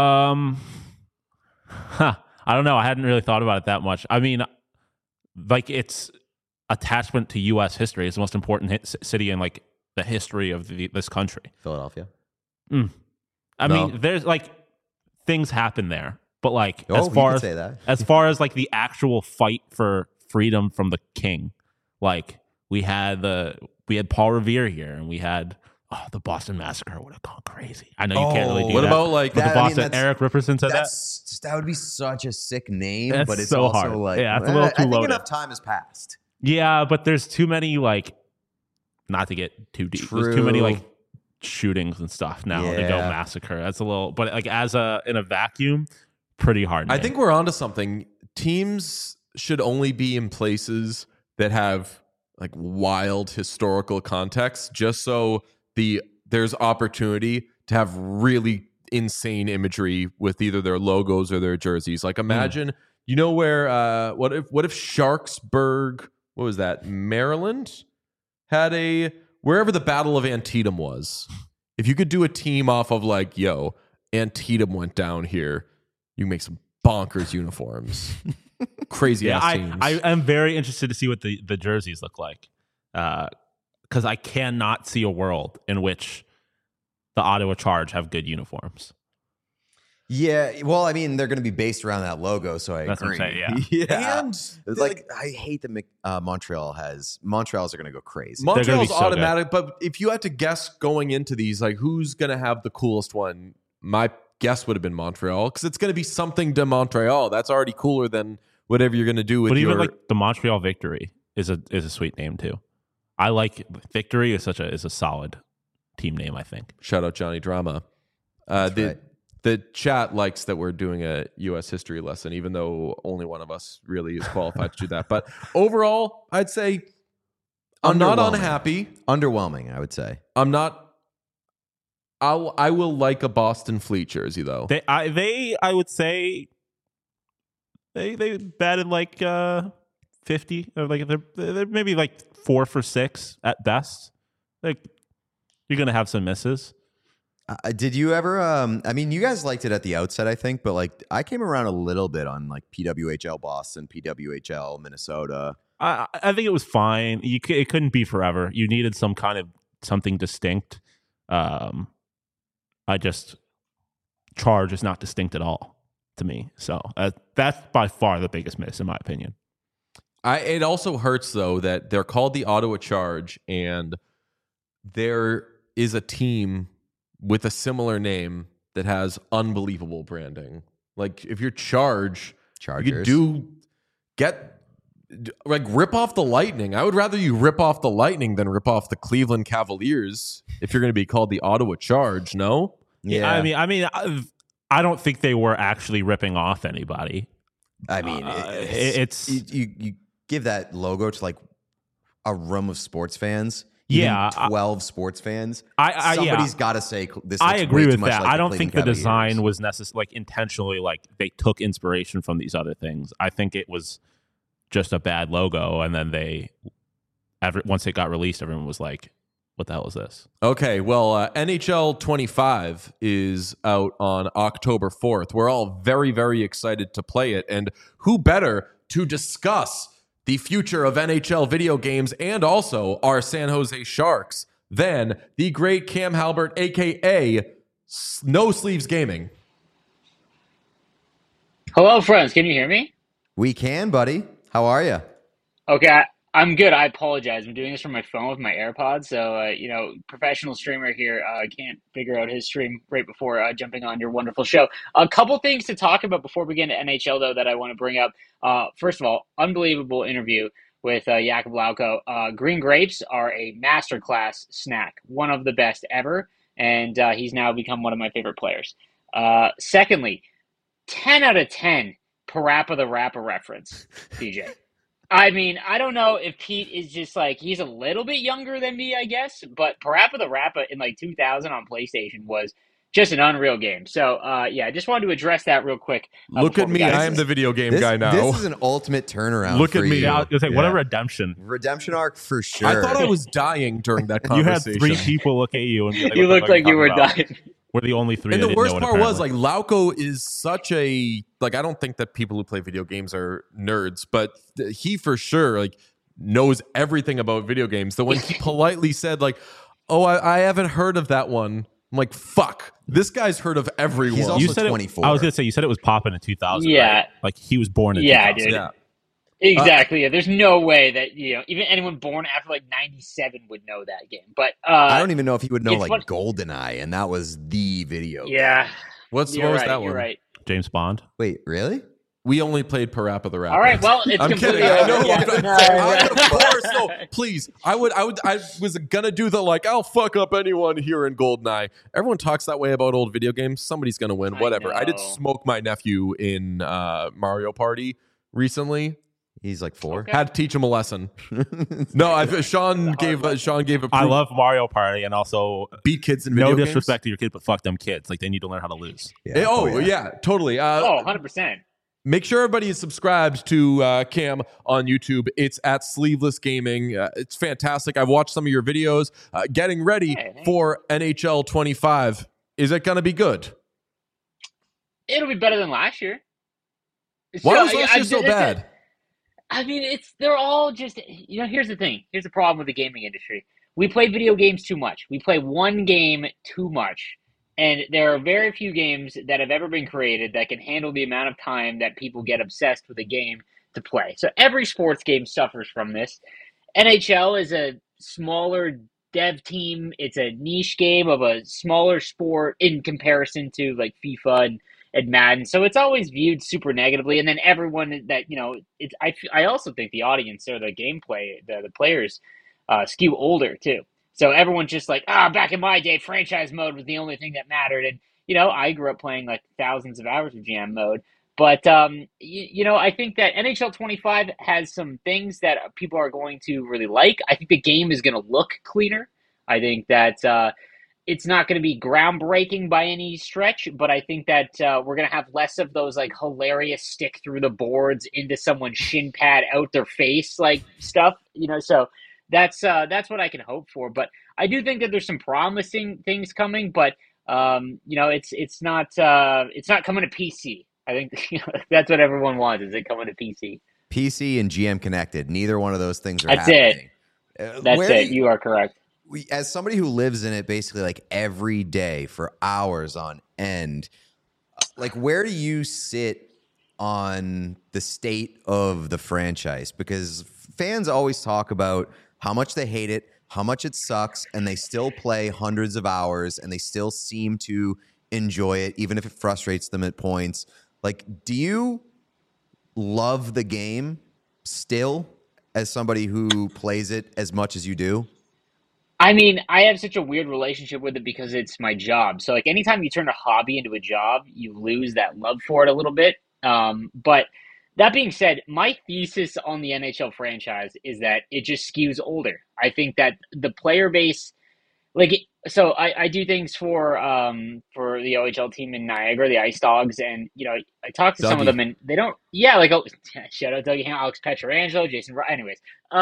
I don't know. I hadn't really thought about it that much. I mean, like its attachment to U.S. history is the most important city in like the history of this country. Philadelphia. I No. mean, there's like things happen there, but like Oh, as you far could as say that. as far as like the actual fight for freedom from the king, like we had Paul Revere here, and we had the Boston Massacre would have gone crazy. I know you can't really do what that. about like But that- the I mean, Boston, Eric Ripperson said that. That would be such a sick name, That's but it's so also hard. like, Yeah, it's a little I too think loaded. enough time has passed. Yeah, but there's too many like, not to get too deep. There's too many True. like shootings and stuff now to go Yeah. massacre. That's a little, but like in a vacuum, pretty hard. I name. think we're onto something. Teams should only be in places that have like wild historical context, just so there's opportunity to have really insane imagery with either their logos or their jerseys. Like imagine, you know where what if Sharksburg, what was that, Maryland, had wherever the Battle of Antietam was. If you could do a team off of like, yo, Antietam went down here, you make some bonkers uniforms. Crazy ass teams. I am very interested to see what the jerseys look like, because I cannot see a world in which the Ottawa Charge have good uniforms. Yeah, well, I mean, they're going to be based around that logo, so I That's what agree. I'm saying, yeah. And It's like I hate that Montreal's are going to go crazy. gonna be Montreal's so automatic, but if you had to guess going into these, like who's going to have the coolest one, my guess would have been Montreal, because it's going to be something to Montreal. That's already cooler than whatever you're going to do with But your... even like the Montreal Victory is a sweet name too. I like Victory is a solid team name. I think. Shout out Johnny Drama. That's right. The chat likes that we're doing a U.S. history lesson, even though only one of us really is qualified to do that. But overall, I'd say I'm not Underwhelming. unhappy. Underwhelming, I would say. I'm not. I will like a Boston Fleet jersey though. I would say they batted like 50 or like they're maybe like 4 for 6 at best. Like you're gonna have some misses. Did you ever? I mean, you guys liked it at the outset, I think, but like I came around a little bit on like PWHL Boston, PWHL Minnesota. I think it was fine. It couldn't be forever. You needed some kind of something distinct. Charge is not distinct at all to me. So that's by far the biggest miss in my opinion. It also hurts though that they're called the Ottawa Charge, and there is a team with a similar name that has unbelievable branding. Like if you're Chargers, you could rip off the Lightning. I would rather you rip off the Lightning than rip off the Cleveland Cavaliers if you're going to be called the Ottawa Charge. No, Yeah, I mean, I don't think they were actually ripping off anybody. I mean, it's you give that logo to like a room of sports fans. Yeah, 12 sports fans. Somebody's got to say this. I looks agree way with too much that. like I don't think the Cleveland design Cavaliers. was necessarily like intentionally like they took inspiration from these other things. I think it was just a bad logo, and then once it got released, everyone was like, "What the hell is this?" Okay, well, NHL 25 is out on October 4th. We're all very, very excited to play it. And who better to discuss the future of NHL video games and also our San Jose Sharks than the great Cam Halbert, a.k.a. No Sleeves Gaming. Hello, friends. Can you hear me? We can, buddy. How are you? Okay, I'm good. I apologize. I'm doing this from my phone with my AirPods. So, professional streamer here can't figure out his stream right before jumping on your wonderful show. A couple things to talk about before we get into NHL, though, that I want to bring up. First of all, unbelievable interview with Jakub Lauko. Green grapes are a masterclass snack, one of the best ever, and he's now become one of my favorite players. Secondly, 10 out of 10 Parappa the Rapper reference, DJ. I mean, I don't know if Pete is just like, he's a little bit younger than me, I guess, but Parappa the Rapper in like 2000 on PlayStation was just an unreal game. So, I just wanted to address that real quick. Look at me. I am the video game guy now. This is an ultimate turnaround. Look for at me. you. Yeah, I was gonna say, what a Yeah. redemption! Redemption arc for sure. I thought I was dying during that You had conversation. 3 people look at you and be like, You "What the looked fuck are like you were talking about?" dying. We're the only 3. And that the didn't worst know it, part was apparently. like Lauko is such a like I don't think that people who play video games are nerds, but he for sure like knows everything about video games. So when he politely said like, "Oh, I haven't heard of that one," I'm like, "Fuck, this guy's heard of everyone." He's also you said 24. I was gonna say you said it was popping in 2000. Yeah. right? Like he was born in Yeah, 2000. dude. yeah. Exactly. Yeah. There's no way that even anyone born after like '97 would know that game. But I don't even know if he would know it's like what. GoldenEye, and that was the video Yeah, game. What you're was right. that You're one? right. James Bond. Wait, really? We only played Parappa the Rapper. All right. Well, it's I'm completely kidding. I know. over. Yeah. Of course, no. Please, I was gonna do the like, I'll fuck up anyone here in GoldenEye. Everyone talks that way about old video games. Somebody's gonna win. Whatever. I did know. smoke my nephew in Mario Party recently. He's like 4. Okay. Had to teach him a lesson. No, Sean gave a I love Mario Party, and also beat kids in video no games. disrespect to your kids, but fuck them kids. Like they need to learn how to lose. Yeah. Yeah, totally. 100%. Make sure everybody is subscribed to Cam on YouTube. It's at Sleeveless Gaming. It's fantastic. I've watched some of your videos. Getting ready for NHL 25. Is it going to be good? It'll be better than last year. Why was last year so bad? I mean, they're all just, here's the thing. Here's the problem with the gaming industry. We play video games too much. We play one game too much. And there are very few games that have ever been created that can handle the amount of time that people get obsessed with a game to play. So every sports game suffers from this. NHL is a smaller dev team. It's a niche game of a smaller sport in comparison to like FIFA and Madden. So it's always viewed super negatively. And then everyone that, I also think the audience or the gameplay, the players skew older too. So everyone's just like, back in my day, franchise mode was the only thing that mattered. And, I grew up playing like thousands of hours of GM mode. But, I think that NHL 25 has some things that people are going to really like. I think the game is going to look cleaner. I think that it's not going to be groundbreaking by any stretch, but I think that we're going to have less of those like hilarious stick through the boards into someone's shin pad out their face like stuff, so that's what I can hope for. But I do think that there's some promising things coming, but it's not coming to PC. I think that's what everyone wants, is it coming to PC. PC and GM connected. Neither one of those things are That's happening. That's it. You are correct. As somebody who lives in it basically like every day for hours on end, like where do you sit on the state of the franchise? Because fans always talk about how much they hate it, how much it sucks, and they still play hundreds of hours and they still seem to enjoy it, even if it frustrates them at points. Like, do you love the game still as somebody who plays it as much as you do? I mean, I have such a weird relationship with it because it's my job. So, like, anytime you turn a hobby into a job, you lose that love for it a little bit. But that being said, my thesis on the NHL franchise is that it just skews older. I think that the player base, so I do things for the OHL team in Niagara, the Ice Dogs, and I talk to some of them, and they don't. Yeah, shout out Dougie Ham, Alex Pietrangelo, Jason. Anyways,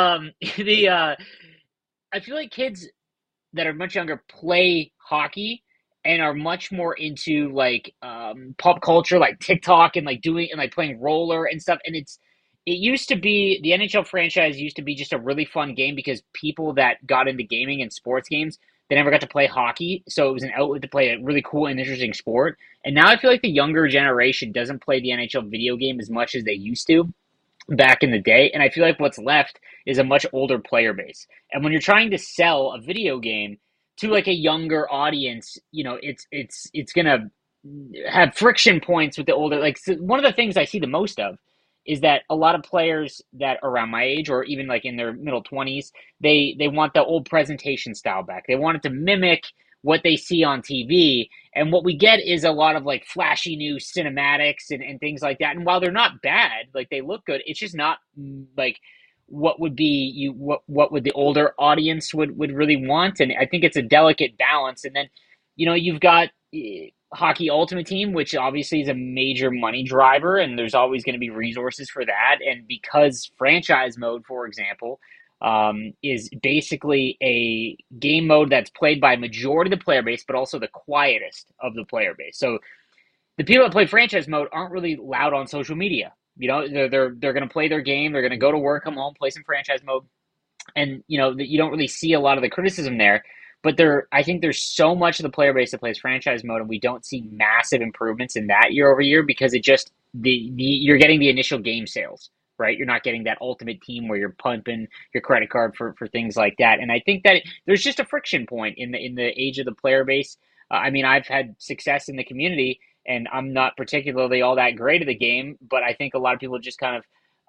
I feel like kids that are much younger play hockey and are much more into pop culture, like TikTok and playing roller and stuff. And it used to be, the NHL franchise used to be just a really fun game because people that got into gaming and sports games, they never got to play hockey. So it was an outlet to play a really cool and interesting sport. And now I feel like the younger generation doesn't play the NHL video game as much as they used to back in the day. And I feel like what's left is a much older player base. And when you're trying to sell a video game to like a younger audience, it's going to have friction points with the older. One of the things I see the most of is that a lot of players that are around my age or even like in their middle 20s, they want the old presentation style back. They want it to mimic what they see on TV. And what we get is a lot of like flashy new cinematics and things like that. And while they're not bad, like they look good, it's just not like what would be what would the older audience would really want. And I think it's a delicate balance. And then, you've got Hockey Ultimate Team, which obviously is a major money driver, and there's always going to be resources for that. And because franchise mode, for example, is basically a game mode that's played by a majority of the player base, but also the quietest of the player base. So the people that play franchise mode aren't really loud on social media. They're going to play their game. They're going to go to work, come home, play some franchise mode. And, you don't really see a lot of the criticism there. But I think there's so much of the player base that plays franchise mode, and we don't see massive improvements in that year over year because it just you're getting the initial game sales right? You're not getting that ultimate team where you're pumping your credit card for things like that. And I think that there's just a friction point in the age of the player base. I mean, I've had success in the community, and I'm not particularly all that great at the game, but I think a lot of people just kind of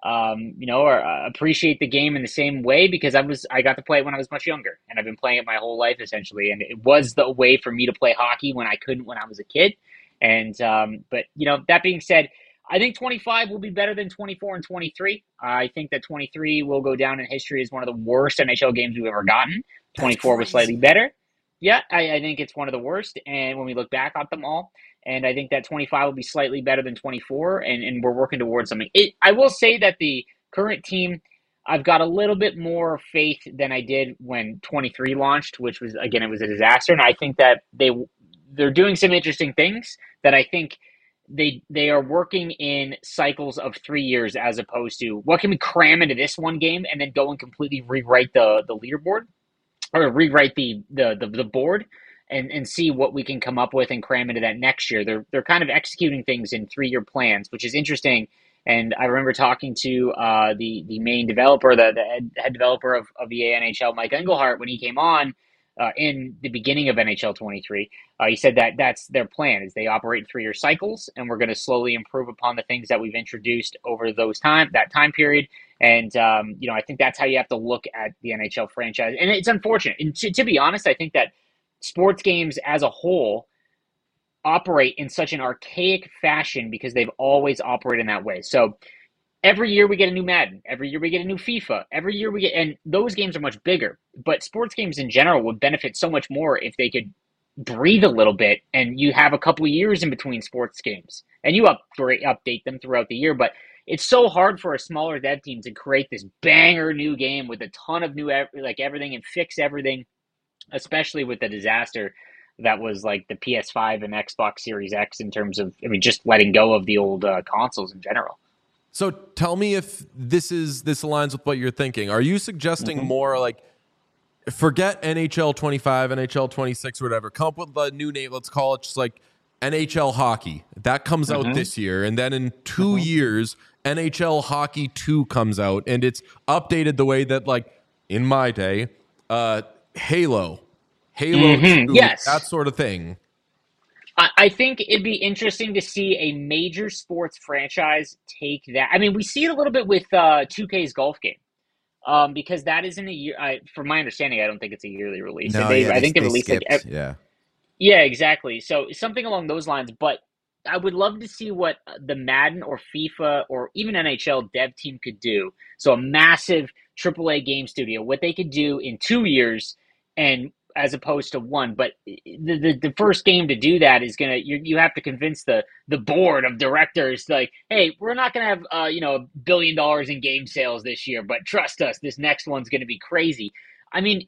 or appreciate the game in the same way because I got to play it when I was much younger, and I've been playing it my whole life essentially. And it was the way for me to play hockey when I couldn't when I was a kid. And but that being said, I think 25 will be better than 24 and 23. I think that 23 will go down in history as one of the worst NHL games we've ever gotten. 24 was slightly better. Yeah, I think it's one of the worst. And when we look back at them all, and I think that 25 will be slightly better than 24, and we're working towards something. I will say that the current team, I've got a little bit more faith than I did when 23 launched, which was, again, it was a disaster. And I think that they're doing some interesting things that I think they are working in cycles of 3 years as opposed to what can we cram into this one game and then go and completely rewrite the leaderboard or rewrite the board and see what we can come up with and cram into that next year. They're kind of executing things in 3-year plans, which is interesting. And I remember talking to the main developer, the head developer of the NHL, Mike Engelhart, when he came on in the beginning of NHL 23. He said that that's their plan, is they operate in 3-year cycles, and we're going to slowly improve upon the things that we've introduced over that time period. And, I think that's how you have to look at the NHL franchise. And it's unfortunate. And to be honest, I think that sports games as a whole operate in such an archaic fashion because they've always operated in that way. So every year we get a new Madden. Every year we get a new FIFA. Every year and those games are much bigger. But sports games in general would benefit so much more if they could breathe a little bit and you have a couple of years in between sports games and you update them throughout the year. But it's so hard for a smaller dev team to create this banger new game with a ton of new everything and fix everything, especially with the disaster that was like the PS5 and Xbox Series X in terms of, just letting go of the old consoles in general. So tell me if this aligns with what you're thinking. Are you suggesting more like forget NHL 25, NHL 26, or whatever, come up with a new name, let's call it just like NHL Hockey. That comes out this year, and then in 2 years, NHL Hockey 2 comes out, and it's updated the way that, like, in my day, Halo 2, yes, that sort of thing. I think it'd be interesting to see a major sports franchise take that. I mean, we see it a little bit with 2K's golf game, because that isn't a year. From my understanding, I don't think it's a yearly release. No, I think they released skipped, like yeah, exactly. So something along those lines. But I would love to see what the Madden or FIFA or even NHL dev team could do. So a massive AAA game studio, what they could do in 2 years, and as opposed to one. But the first game to do that is you have to convince the board of directors, like, hey, we're not gonna have $1 billion in game sales this year, but trust us, this next one's gonna be crazy. I mean,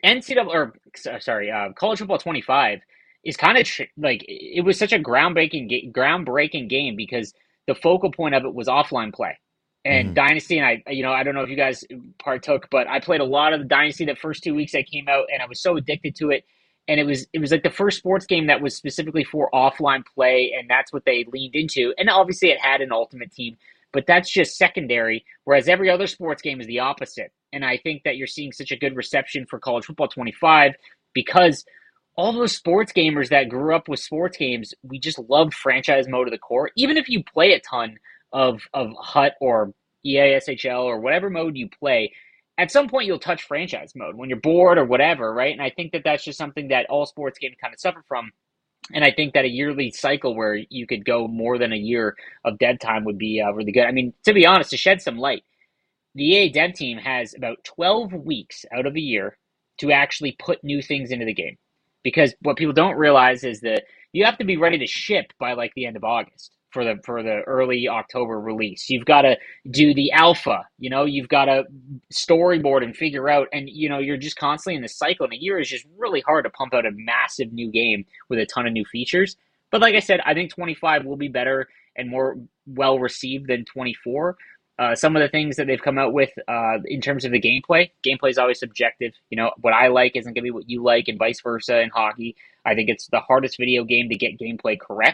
College Football 25 is kind of it was such a groundbreaking game because the focal point of it was offline play. And Dynasty, and I don't know if you guys partook, but I played a lot of the Dynasty the first 2 weeks I came out, and I was so addicted to it. And it was like the first sports game that was specifically for offline play, and that's what they leaned into. And obviously it had an ultimate team, but that's just secondary, whereas every other sports game is the opposite. And I think that you're seeing such a good reception for College Football 25 because all those sports gamers that grew up with sports games, we just loved franchise mode to the core. Even if you play a ton of HUT or EASHL or whatever mode you play, at some point you'll touch franchise mode when you're bored or whatever, right? And I think that that's just something that all sports games kind of suffer from. And I think that a yearly cycle where you could go more than a year of dev time would be really good. I mean, to be honest, to shed some light, the EA dev team has about 12 weeks out of a year to actually put new things into the game. Because what people don't realize is that you have to be ready to ship by like the end of August for the early October release. You've got to do the alpha, you've got to storyboard and figure out, and you're just constantly in this cycle. And a year is just really hard to pump out a massive new game with a ton of new features. But like I said, I think 25 will be better and more well received than 24. Some of the things that they've come out with in terms of the gameplay is always subjective. What I like isn't going to be what you like, and vice versa in hockey. I think it's the hardest video game to get gameplay correct.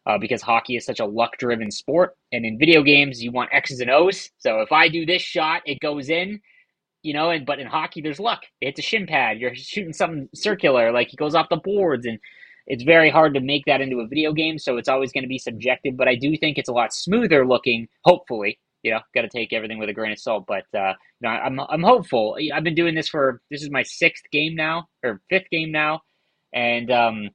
because hockey is such a luck-driven sport. And in video games, you want X's and O's. So if I do this shot, it goes in, but in hockey, there's luck. It's a shin pad. You're shooting something circular, like he goes off the boards, and it's very hard to make that into a video game. So it's always going to be subjective. But I do think it's a lot smoother looking. Hopefully, got to take everything with a grain of salt. But I'm hopeful. I've been doing this this is my fifth game now, and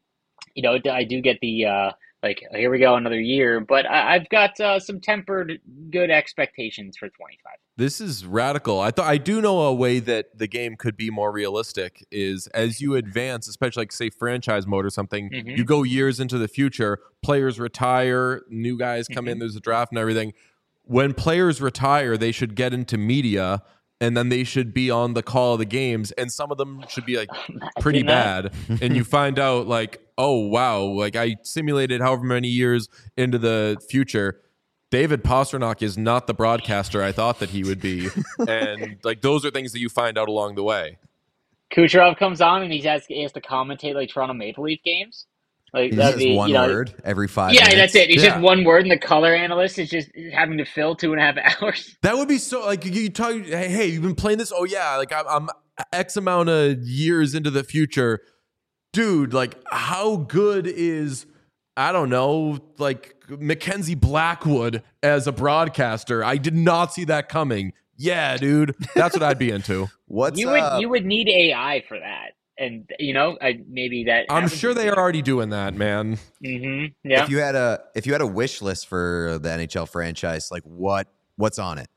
I do get the. Here we go, another year. But I've got some tempered good expectations for 25. This is radical. I do know a way that the game could be more realistic is as you advance, especially like say franchise mode or something, you go years into the future, players retire, new guys come in, there's a draft and everything. When players retire, they should get into media and then they should be on the call of the games, and some of them should be like pretty bad. And you find out like, oh wow, like I simulated however many years into the future. David Pastrnak is not the broadcaster I thought that he would be. And like those are things that you find out along the way. Kucherov comes on and he has to commentate like Toronto Maple Leaf games. Like that'd be one word every 5 minutes. Yeah, that's it. It's just one word, and the color analyst is just having to fill 2.5 hours. That would be so like you talk. Hey, you've been playing this? Oh yeah, like I'm X amount of years into the future, dude. Like how good is I don't know, like Mackenzie Blackwood as a broadcaster? I did not see that coming. Yeah, dude, that's what I'd be into. You would need AI for that. And maybe that I'm sure they are already doing that, man. Mm-hmm. Yeah. If you had a wish list for the NHL franchise, like what's on it?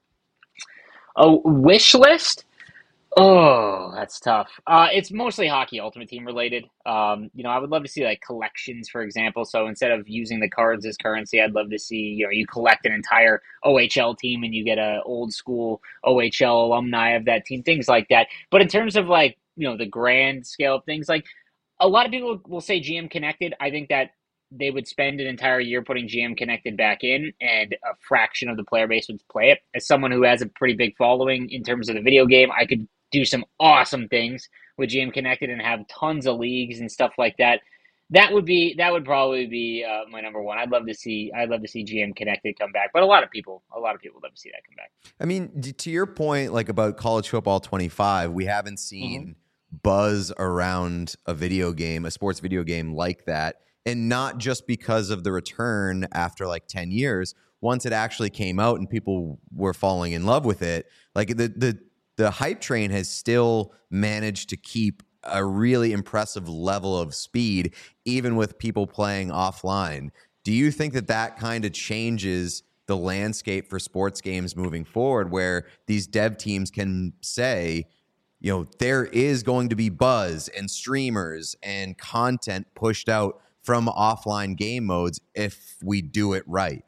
A wish list? Oh, that's tough. It's mostly hockey Ultimate Team related. I would love to see like collections, for example. So instead of using the cards as currency, I'd love to see you collect an entire OHL team and you get a old school OHL alumni of that team, things like that. But in terms of like the grand scale of things, like a lot of people will say GM Connected. I think that they would spend an entire year putting GM Connected back in, and a fraction of the player base would play it. As someone who has a pretty big following in terms of the video game, I could do some awesome things with GM Connected and have tons of leagues and stuff like that. That would probably be my number one. I'd love to see GM Connected come back, but a lot of people would love to see that come back. I mean, to your point, like about College Football 25, we haven't seen buzz around a sports video game like that, and not just because of the return after like 10 years. Once it actually came out and people were falling in love with it, like the hype train has still managed to keep a really impressive level of speed, even with people playing offline. Do you think that kind of changes the landscape for sports games moving forward, where these dev teams can say, there is going to be buzz and streamers and content pushed out from offline game modes if we do it right?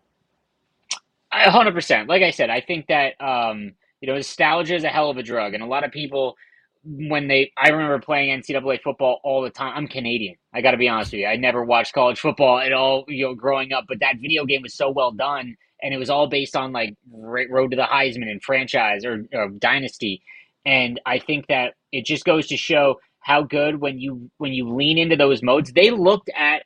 100%. Like I said, I think that nostalgia is a hell of a drug, and a lot of people, I remember playing NCAA football all the time. I'm Canadian. I got to be honest with you. I never watched college football at all, growing up, but that video game was so well done, and it was all based on like Road to the Heisman and franchise or Dynasty. And I think that it just goes to show how good when you lean into those modes. They looked at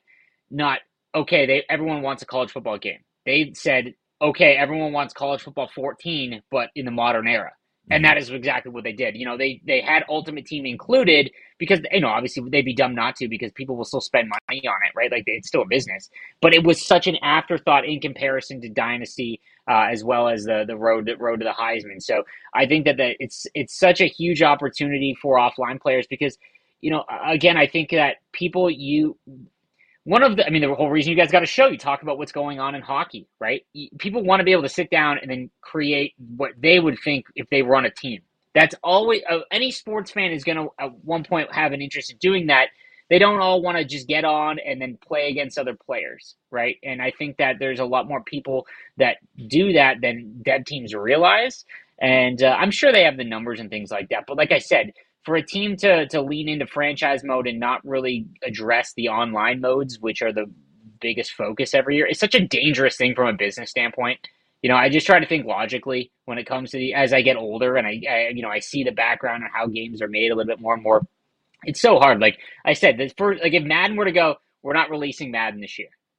everyone wants a college football game. They said, okay, everyone wants college football 14, but in the modern era. And that is exactly what they did. They had Ultimate Team included because, obviously they'd be dumb not to, because people will still spend money on it, right? Like it's still a business. But it was such an afterthought in comparison to Dynasty, as well as the road to the Heisman. So I think that it's such a huge opportunity for offline players because, again, I think that people the whole reason you guys got a show, you talk about what's going on in hockey, right? People want to be able to sit down and then create what they would think if they run a team. That's always any sports fan is going to at one point have an interest in doing that. They don't all want to just get on and then play against other players, right? And I think that there's a lot more people that do that than dev teams realize. And I'm sure they have the numbers and things like that. But like I said, for a team to lean into franchise mode and not really address the online modes, which are the biggest focus every year, it's such a dangerous thing from a business standpoint. I just try to think logically when it comes to as I get older and I see the background on how games are made a little bit more and more. It's so hard. Like I said, if Madden were to go, we're not releasing Madden this year.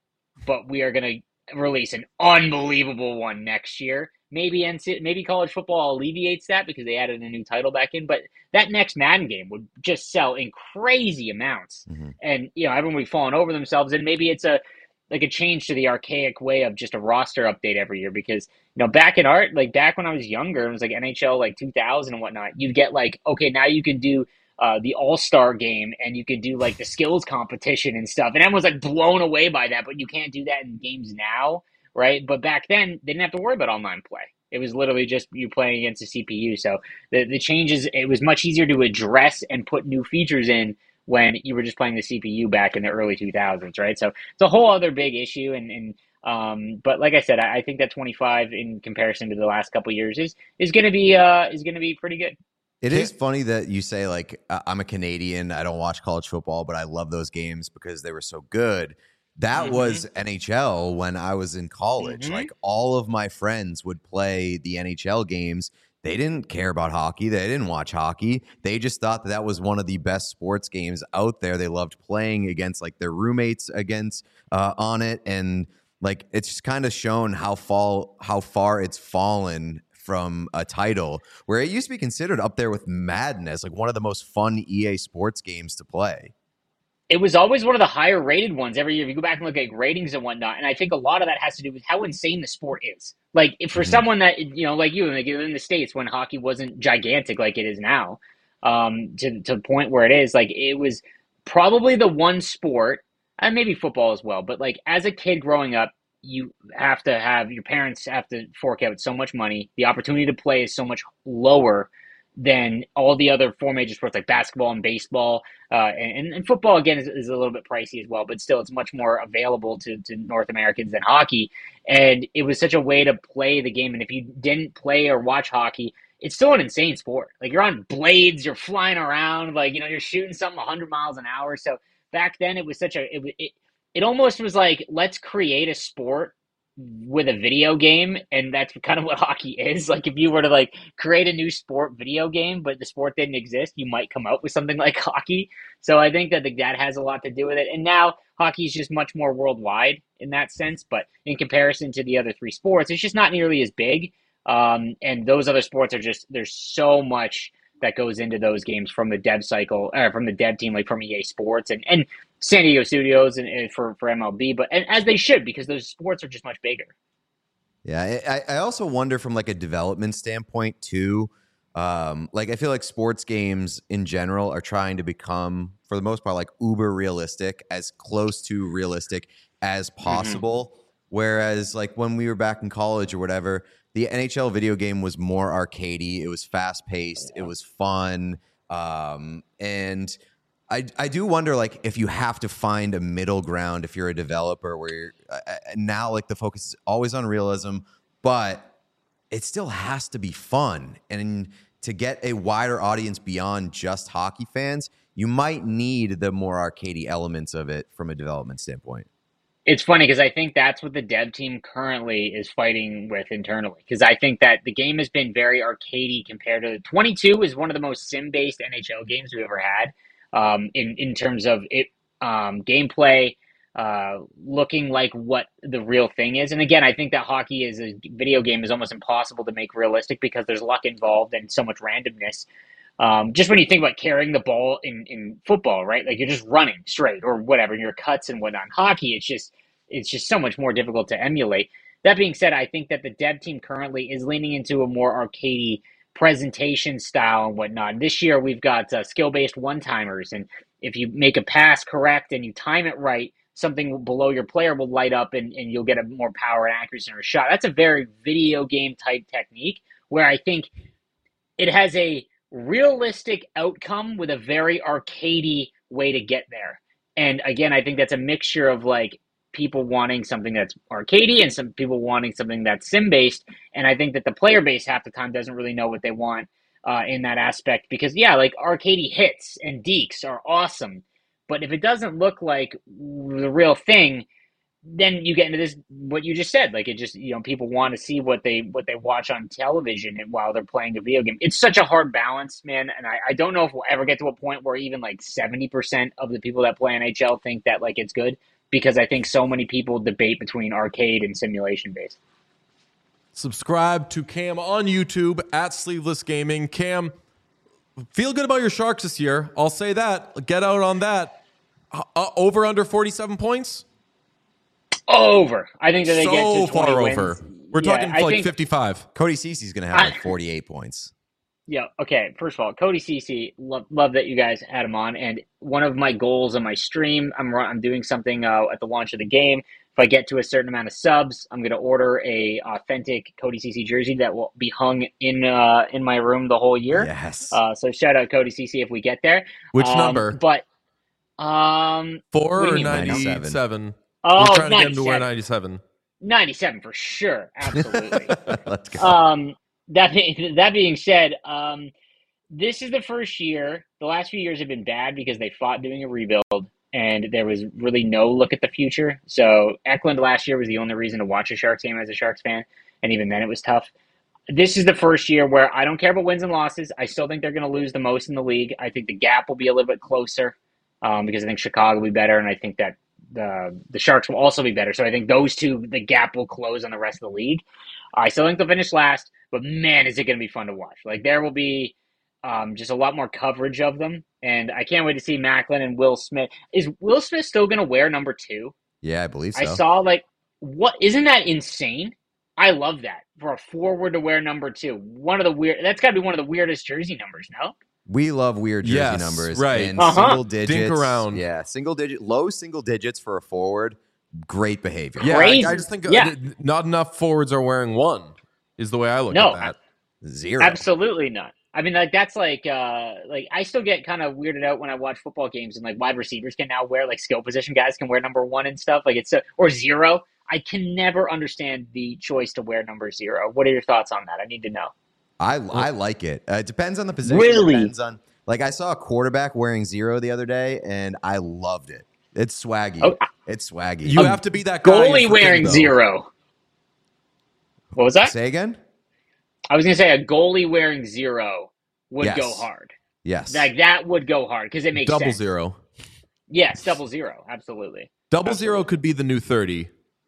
but we are going to release an unbelievable one next year. Maybe college football alleviates that because they added a new title back in, but that next Madden game would just sell in crazy amounts. Mm-hmm. And, everyone will be falling over themselves. And maybe it's a change to the archaic way of just a roster update every year because, back when I was younger, it was like NHL like 2000 and whatnot. You'd get like, okay, now you can do the All-Star game and you could do like the skills competition and stuff. And everyone's like blown away by that, but you can't do that in games now, right? But back then, they didn't have to worry about online play. It was literally just you playing against the CPU. So the changes, it was much easier to address and put new features in when you were just playing the CPU back in the early 2000s, right? So it's a whole other big issue. But like I said, I think that 25 in comparison to the last couple of years is going to be pretty good. It is funny that you say, like, I'm a Canadian. I don't watch college football, but I love those games because they were so good. That was NHL when I was in college. Like, all of my friends would play the NHL games. They didn't care about hockey. They didn't watch hockey. They just thought that was one of the best sports games out there. They loved playing against, like, their roommates on it. And, like, it's just kind of shown how far it's fallen from a title where it used to be considered up there with Madden as like one of the most fun EA Sports games to play. It was always one of the higher rated ones every year. If you go back and look at ratings and whatnot, and I think a lot of that has to do with how insane the sport is. Like for someone that like you, like in the States when hockey wasn't gigantic like it is now, to the point where it is, like it was probably the one sport, and maybe football as well. But like as a kid growing up, you have to have your parents have to fork out so much money. The opportunity to play is so much lower than all the other four major sports like basketball and baseball. And football, again, is a little bit pricey as well, but still it's much more available to North Americans than hockey. And it was such a way to play the game. And if you didn't play or watch hockey, it's still an insane sport. Like you're on blades, you're flying around, like, you're shooting something 100 miles an hour. So back then it was it almost was like, let's create a sport with a video game, and that's kind of what hockey is. Like if you were to like create a new sport video game, but the sport didn't exist, you might come out with something like hockey. So I think that that has a lot to do with it. And now hockey is just much more worldwide in that sense, but in comparison to the other three sports, it's just not nearly as big. And those other sports are just, there's so much that goes into those games from the dev cycle, or from the dev team, like from EA Sports and San Diego Studios and for MLB, but and as they should, because those sports are just much bigger. Yeah, I also wonder from like a development standpoint too. Like I feel like sports games in general are trying to become, for the most part, like uber realistic, as close to realistic as possible. Whereas like when we were back in college or whatever, the NHL video game was more arcadey. It was fast paced. It was fun. And I do wonder, like, if you have to find a middle ground if you're a developer where you're now, like, the focus is always on realism, but it still has to be fun. And to get a wider audience beyond just hockey fans, you might need the more arcadey elements of it from a development standpoint. It's funny because I think that's what the dev team currently is fighting with internally. Because I think that the game has been very arcadey compared to 22 is one of the most sim-based NHL games we've ever had. In terms of it, gameplay, looking like what the real thing is. And again, I think that hockey as a video game is almost impossible to make realistic because there's luck involved and so much randomness. Just when you think about carrying the ball in football, right? Like you're just running straight or whatever, and your cuts and whatnot. In hockey, it's just so much more difficult to emulate. That being said, I think that the dev team currently is leaning into a more arcadey presentation style and whatnot. This year we've got skill-based one-timers, and if you make a pass correct and you time it right, something below your player will light up and you'll get a more power and accuracy in a shot. That's a very video game type technique where I think it has a realistic outcome with a very arcadey way to get there. And again, I think that's a mixture of like people wanting something that's arcadey and some people wanting something that's sim-based. And I think that the player base half the time doesn't really know what they want in that aspect because, yeah, like arcadey hits and dekes are awesome. But if it doesn't look like the real thing, then you get into this, what you just said, like it just, people want to see what they watch on television and while they're playing a video game. It's such a hard balance, man. And I don't know if we'll ever get to a point where even like 70% of the people that play NHL think that like it's good because I think so many people debate between arcade and simulation based. Subscribe to Cam on YouTube at Sleeveless Gaming. Cam, feel good about your Sharks this year. I'll say that. Get out on that. Over under 47 points? Over. I think that they get So to 20 far wins. over. We're talking I like think, 55. Cody Cece's going to have like 48 points. Yeah. Okay. First of all, Cody Cece, love that you guys had him on. And one of my goals on my stream, I'm doing something at the launch of the game. If I get to a certain amount of subs, I'm going to order a authentic Cody Cece jersey that will be hung in my room the whole year. Yes. So shout out Cody Cece if we get there. Which number? But 4 or 97? 97? Oh, We're trying to get him to 97. wear 97. 97 for sure. Absolutely. Let's go. That being said, this is the first year. The last few years have been bad because they fought doing a rebuild, and there was really no look at the future. So Eklund last year was the only reason to watch a Sharks game as a Sharks fan, and even then it was tough. This is the first year where I don't care about wins and losses. I still think they're going to lose the most in the league. I think the gap will be a little bit closer because I think Chicago will be better, and I think that the Sharks will also be better. So I think those two, the gap will close on the rest of the league. I still think they'll finish last, but man, is it going to be fun to watch. Like, there will be just a lot more coverage of them, and I can't wait to see Macklin and Will Smith. Is Will Smith still going to wear number 2? Yeah, I believe so. I saw, like, what? Isn't that insane? I love that. For a forward to wear number 2. That's got to be one of the weirdest jersey numbers, no? We love weird jersey Yes, numbers. right. And Uh-huh. single digits. Dink around. Yeah, low single digits for a forward. Great behavior. Yeah, Crazy. I just think Yeah. not enough forwards are wearing 1 is the way I look No, at that. 0. absolutely not. I mean, like, that's like I still get kind of weirded out when I watch football games and like wide receivers can now wear, like, skill position guys can wear number 1 and stuff. Like, or 0. I can never understand the choice to wear number 0. What are your thoughts on that? I need to know. I like it. It depends on the position. Really? Depends on, like, I saw a quarterback wearing 0 the other day, and I loved it. It's swaggy. Oh, It's swaggy. You have to be that guy Goalie in wearing though. 0. What was that? Say again? I was going to say a goalie wearing 0 would Yes. go hard. Yes. Like, that would go hard because it makes Double sense. 0. Yes, 0. Absolutely. Double Absolutely. 0 could be the new 30.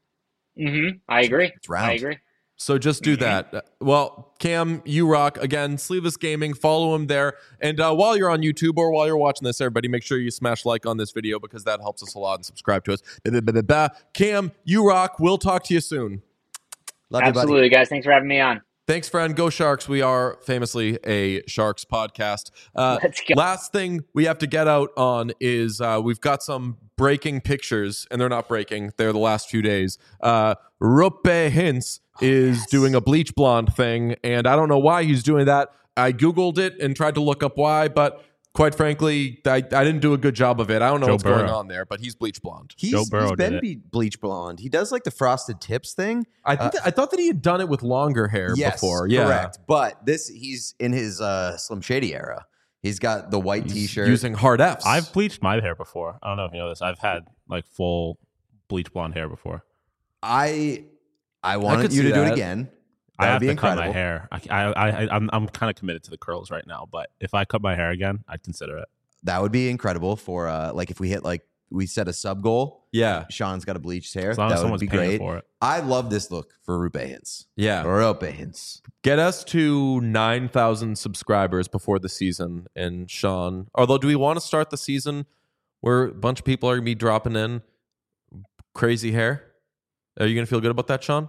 I agree. It's round. I agree. So just do that. Well, Cam, you rock. Again, Sleeveless Gaming. Follow him there. And while you're on YouTube or while you're watching this, everybody, make sure you smash like on this video because that helps us a lot, and subscribe to us. Cam, you rock. We'll talk to you soon. Love you, buddy. Absolutely, guys. Thanks for having me on. Thanks, friend. Go Sharks. We are famously a Sharks podcast. Let's go. Last thing we have to get out on is we've got some breaking pictures, and they're not breaking. They're the last few days. Rupe Hintz is doing a bleach blonde thing, and I don't know why he's doing that. I Googled it and tried to look up why, but quite frankly, I didn't do a good job of it. I don't know Joe what's going Burrow. on there, but he's bleach blonde. Joe Burrow He's been did it. bleach blonde. He does like the frosted tips thing. I thought that he had done it with longer hair Yes, before. Yeah, correct. But he's in his Slim Shady era. He's got the white T-shirt. using hard Fs. I've bleached my hair before. I don't know if you know this. I've had like full bleach blonde hair before. I could wanted you see to do it that. again. I That have would be to cut incredible. my hair. I'm kind of committed to the curls right now, but if I cut my hair again, I'd consider it. That would be incredible for like if we hit like we set a sub goal. Yeah, Sean's got a bleached hair. As long That as would someone's be paying great. for it. I love this look for Rupe Hintz. yeah. Rupe Hintz. Get us to 9,000 subscribers before the season. And Sean, although do we want to start the season where a bunch of people are going to be dropping in crazy hair? Are you going to feel good about that, Sean?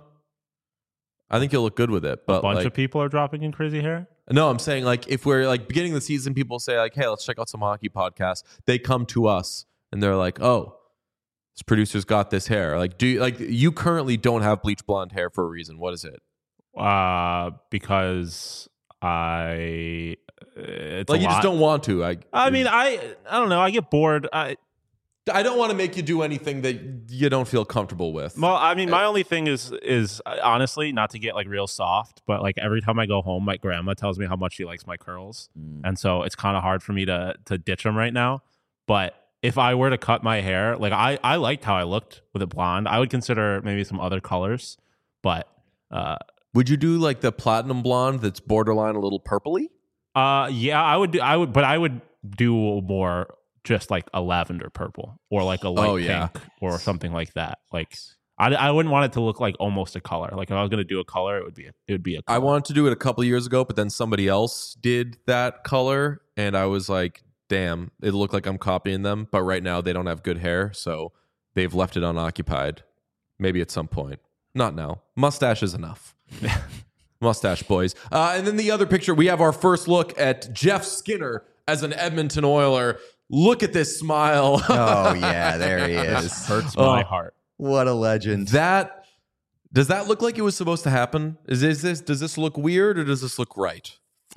I think you'll look good with it. But A bunch like, of people are dropping in crazy hair. no, I'm saying like if we're like beginning of the season, people say like, hey, let's check out some hockey podcasts. They come to us and they're like, oh, this producer's got this hair. Like, you currently don't have bleach blonde hair for a reason. What is it? Because it's Like a you lot. just don't want to. I mean, I don't know. I get bored. I don't want to make you do anything that you don't feel comfortable with. Well, I mean, my only thing is honestly not to get like real soft, but like every time I go home, my grandma tells me how much she likes my curls, and so it's kind of hard for me to ditch them right now. But if I were to cut my hair, like I liked how I looked with it blonde. I would consider maybe some other colors, but Would you do like the platinum blonde that's borderline a little purpley? yeah, I would, but I would do more just like a lavender purple or like a light yeah. pink or something like that. Like I wouldn't want it to look like almost a color. Like if I was going to do a color, it would be a color. I wanted to do it a couple years ago, but then somebody else did that color, and I was like, damn, it looked like I'm copying them. But right now they don't have good hair, so they've left it unoccupied. Maybe at some point. Not now. Mustache is enough. Mustache boys. And then the other picture, we have our first look at Jeff Skinner as an Edmonton Oiler. Look at this smile. Oh yeah, there he is. Hurts my heart. What a legend. Does that look like it was supposed to happen? Does this look weird or does this look right?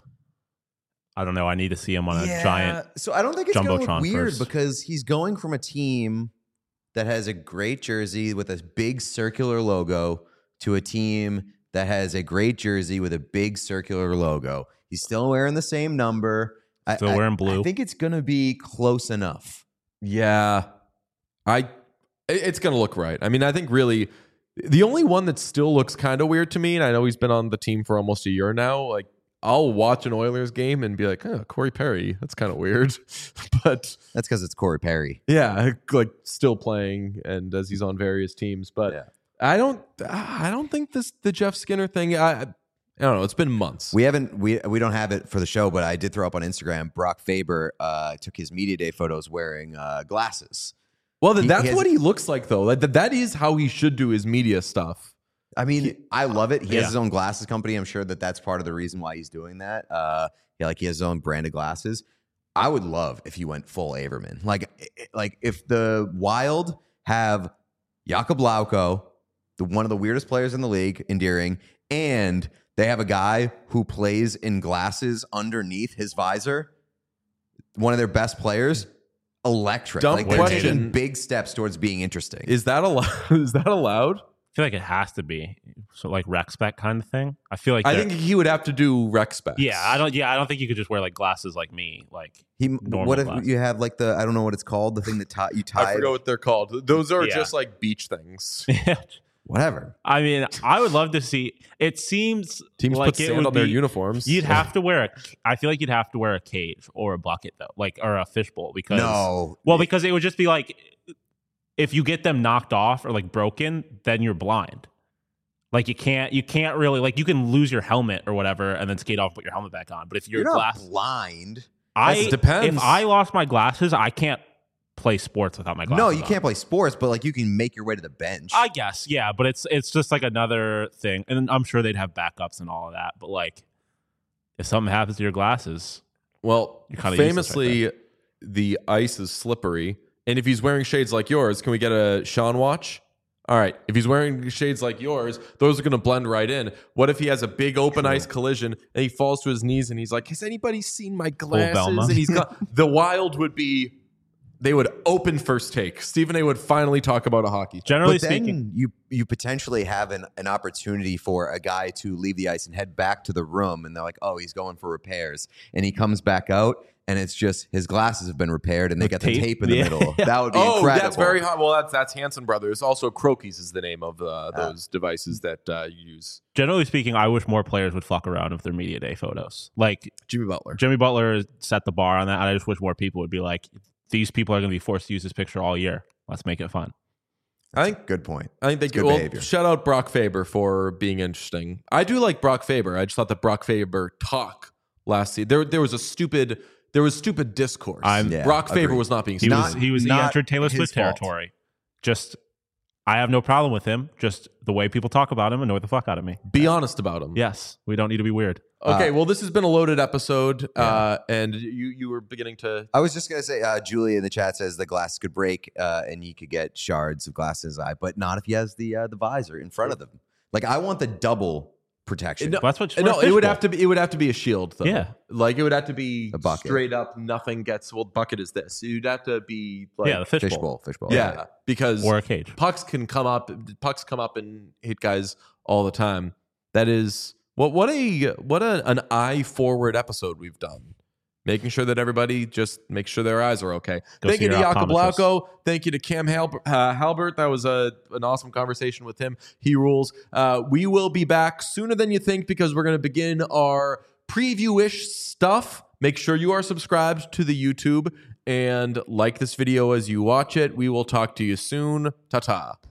I don't know. I need to see him on a giant. So I don't think it's going to look Jumbotron weird first. because he's going from a team that has a great jersey with a big circular logo to a team that has a great jersey with a big circular logo. He's still wearing the same number. Still wearing blue. I think it's going to be close enough. Yeah. It's going to look right. I mean, I think really the only one that still looks kind of weird to me, and I know he's been on the team for almost a year now, like I'll watch an Oilers game and be like, oh, Corey Perry, that's kind of weird. But That's because it's Corey Perry. yeah, like still playing and as he's on various teams. But Yeah. I don't think the Jeff Skinner thing, I don't know. It's been months. We don't have it for the show, but I did throw up on Instagram. Brock Faber took his media day photos wearing glasses. Well, He that's has- what he looks like, though. That is how he should do his media stuff. I mean, I love it. He has Yeah. his own glasses company. I'm sure that's part of the reason why he's doing that. He has his own brand of glasses. I would love if he went full Averman. Like if the Wild have Jakob Lauko, one of the weirdest players in the league, endearing, and they have a guy who plays in glasses underneath his visor, one of their best players. Electric. Dumb Like they're question. taking big steps towards being interesting. Is that allowed? Is that allowed? I feel like it has to be so like rec spec kind of thing. I feel like I they're- think he would have to do rec specs. I don't think you could just wear like glasses like me. Like normal What if glasses. you have like I don't know what it's called, the thing that you tie. I forget what they're called. Those are Yeah. just like beach things. Whatever. I mean, I would love to see. It seems Teams like put it sand would on their be- uniforms. You'd have to wear I feel like you'd have to wear a cage or a bucket though, like or a fishbowl because No. Well, because it would just be like if you get them knocked off or like broken, then you're blind. Like you can't really like you can lose your helmet or whatever and then skate off and put your helmet back on. But if You're your not glass, blind. Depends. If I lost my glasses, I can't play sports without my glasses. No, you on. can't play sports, but like you can make your way to the bench. I guess, yeah, but it's just like another thing, and I'm sure they'd have backups and all of that. But like, if something happens to your glasses, Well, You're kinda useless famously, the ice is slippery. And if he's wearing shades like yours, can we get a Sean watch? All right. If he's wearing shades like yours, those are going to blend right in. What if he has a big open ice collision and he falls to his knees and he's like, has anybody seen my glasses? Velma. And he's got the Wild would be, they would open first take. Stephen A would finally talk about a hockey. generally but then speaking, you potentially have an opportunity for a guy to leave the ice and head back to the room, and they're like, "Oh, he's going for repairs," and he comes back out, and it's just his glasses have been repaired, and they got the tape? tape in the Yeah. middle. That would be Oh, incredible. that's very hot. Well, that's Hanson Brothers. Also, Crokies is the name of those devices that you use. generally speaking, I wish more players would fuck around with their media day photos. Like Jimmy Butler. Jimmy Butler set the bar on that, and I just wish more people would be like, these people are going to be forced to use this picture all year. Let's make it fun. I think Good point. I think they It's good well, behavior. shout out Brock Faber for being interesting. I do like Brock Faber. I just thought that Brock Faber talk last season. There was stupid discourse. Yeah, Brock Faber agreed. was not being He stupid. he not entered Taylor his Swift fault. territory. Just, I have no problem with him. Just the way people talk about him annoy the fuck out of me. Be honest about him. Yes, we don't need to be weird. Okay, well, this has been a loaded episode, and you were beginning to. I was just gonna say, Julie in the chat says the glasses could break, and he could get shards of glass in his eye, but not if he has the visor in front of them. Like I want the double protection. No, That's what. No, it would have to be. It would have to be a shield, though. Yeah. like it would have to be A bucket. straight up. Nothing gets. Well, bucket is this. You'd have to be like, Yeah, the fishbowl. Fishbowl. yeah, because Or a cage. pucks come up and hit guys all the time. That is what an eye forward episode we've done. Making sure that everybody just makes sure their eyes are okay. Go Thank see you to your Jakob optometrist. Lauko. Thank you to Cam Halbert. That was an awesome conversation with him. He rules. We will be back sooner than you think because we're going to begin our preview-ish stuff Make sure you are subscribed to the YouTube and like this video as you watch it. We will talk to you soon. Ta-ta.